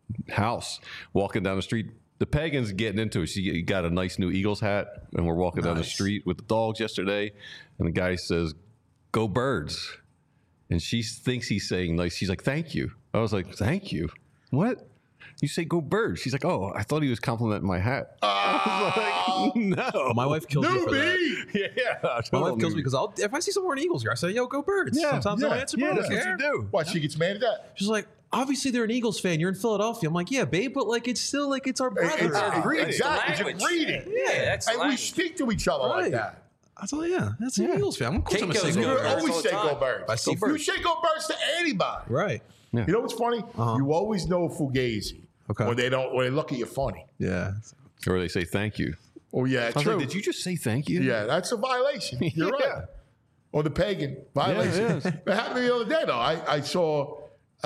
house. Walking down the street, the Pagan's getting into it. She got a nice new Eagles hat, and we're walking down the street with the dogs yesterday, and the guy says, "Go Birds," and she thinks he's saying nice. She's like, "Thank you." I was like, "Thank you? What?" You say "Go Birds." She's like, "Oh, I thought he was complimenting my hat." I was like, "No." My wife kills me for that. Yeah. My wife kills me because if I see someone wearing Eagles gear, I say, "Yo, go Birds." Yeah, Sometimes yeah, I'll answer, yeah, but I that's don't what care. you do. Why, she gets mad at that? She's like, "Obviously they're an Eagles fan. You're in Philadelphia." I'm like, "Yeah, babe, but like it's still like it's our brother." Exactly. It's a reading. Yeah, that's the And we language. speak to each other like that. I thought, yeah, that's an Eagles fan. Of course I'm Kate gonna say goes go Go You Birds. Birds. always all the say time. "Go Birds." I see You Birds. say "Go Birds" to anybody. Right. You know what's funny? You always know Fugazi when they look at you funny. Yeah. Or they say "Thank you." Oh yeah, I was true. like, "Did you just say thank you?" Yeah, that's a violation. You're Yeah. right. Or the Pagan violation. Yeah, It happened the other day, though. I saw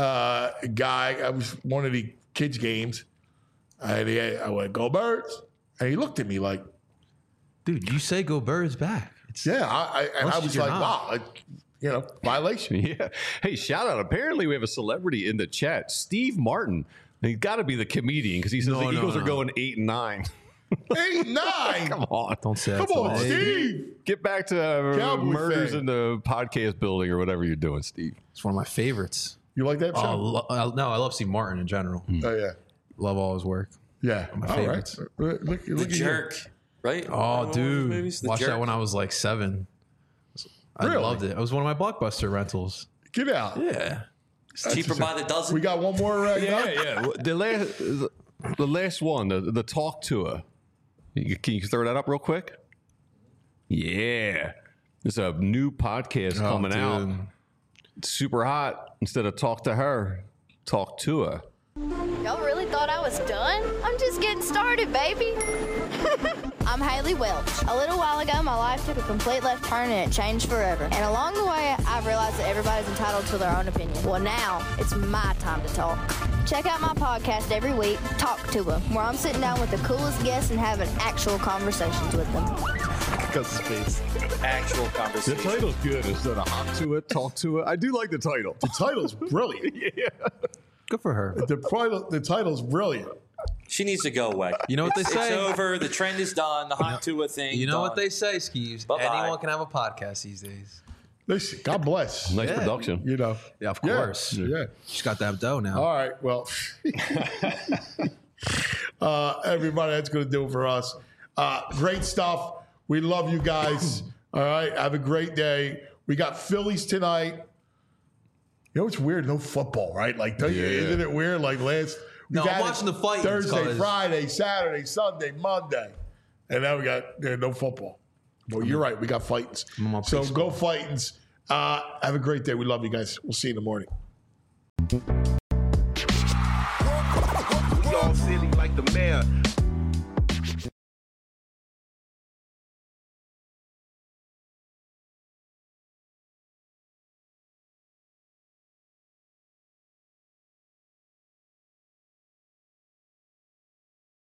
a guy, I was one of the kids' games, and I went, "Go Birds." And he looked at me like, Dude, you say go Birds back. yeah. I was you're like, not. wow, violation. Yeah. Hey, shout out. Apparently, we have a celebrity in the chat, Steve Martin. He's got to be the comedian because he says the Eagles are going 8-9. 8-9. Come on. Don't say Come that. on, Steve. Get back to Cowboy murders fan. in the podcast building or whatever you're doing, Steve. It's one of my favorites. You like that show? No, I love Steve Martin in general. Oh, yeah. Love all his work. Yeah. My All right. favorites. Look The at you. Jerk, right? Oh, One of those dude. movies? The Watched Jerk. that when I was like 7. I Really? loved it. It was one of my Blockbuster rentals. Get out. Yeah. It's cheaper by the dozen. We got one more. Yeah. The last one, the talk tour. Can you throw that up real quick? Yeah. There's a new podcast coming out. It's super hot. Instead of talk to her, talk to her. Y'all really thought I was done? I'm just getting started, baby. I'm Haley Welch. A little while ago, my life took a complete left turn and it changed forever. And along the way, I've realized that everybody's entitled to their own opinion. Well, now it's my time to talk. Check out my podcast every week, Talk to Her, where I'm sitting down with the coolest guests and having actual conversations with them. Actual The conversation. title's good instead of hop to it, talk to it. I do like the title. The title's brilliant. Yeah. Good for her. The title's brilliant. She needs to go away. You know what they say? It's over. The trend is done. The hot Tua thing. You know done. what they say, Skeeves? Bye-bye. Anyone can have a podcast these days. Listen, God bless. Nice Yeah. production. You know. Yeah, of course. Yeah. She's got that dough now. All right. Well, everybody, that's going to do it for us. Great stuff. We love you guys. All right. Have a great day. We got Phillies tonight. You know, it's weird. No football, right? Like, isn't it weird? Like, we No, I'm got it watching the fight. Thursday, Because- Friday, Saturday, Sunday, Monday. And now we got no football. Well, you're right. We got Fightins. So go Fightins. Have a great day. We love you guys. We'll see you in the morning. We all silly like the mayor.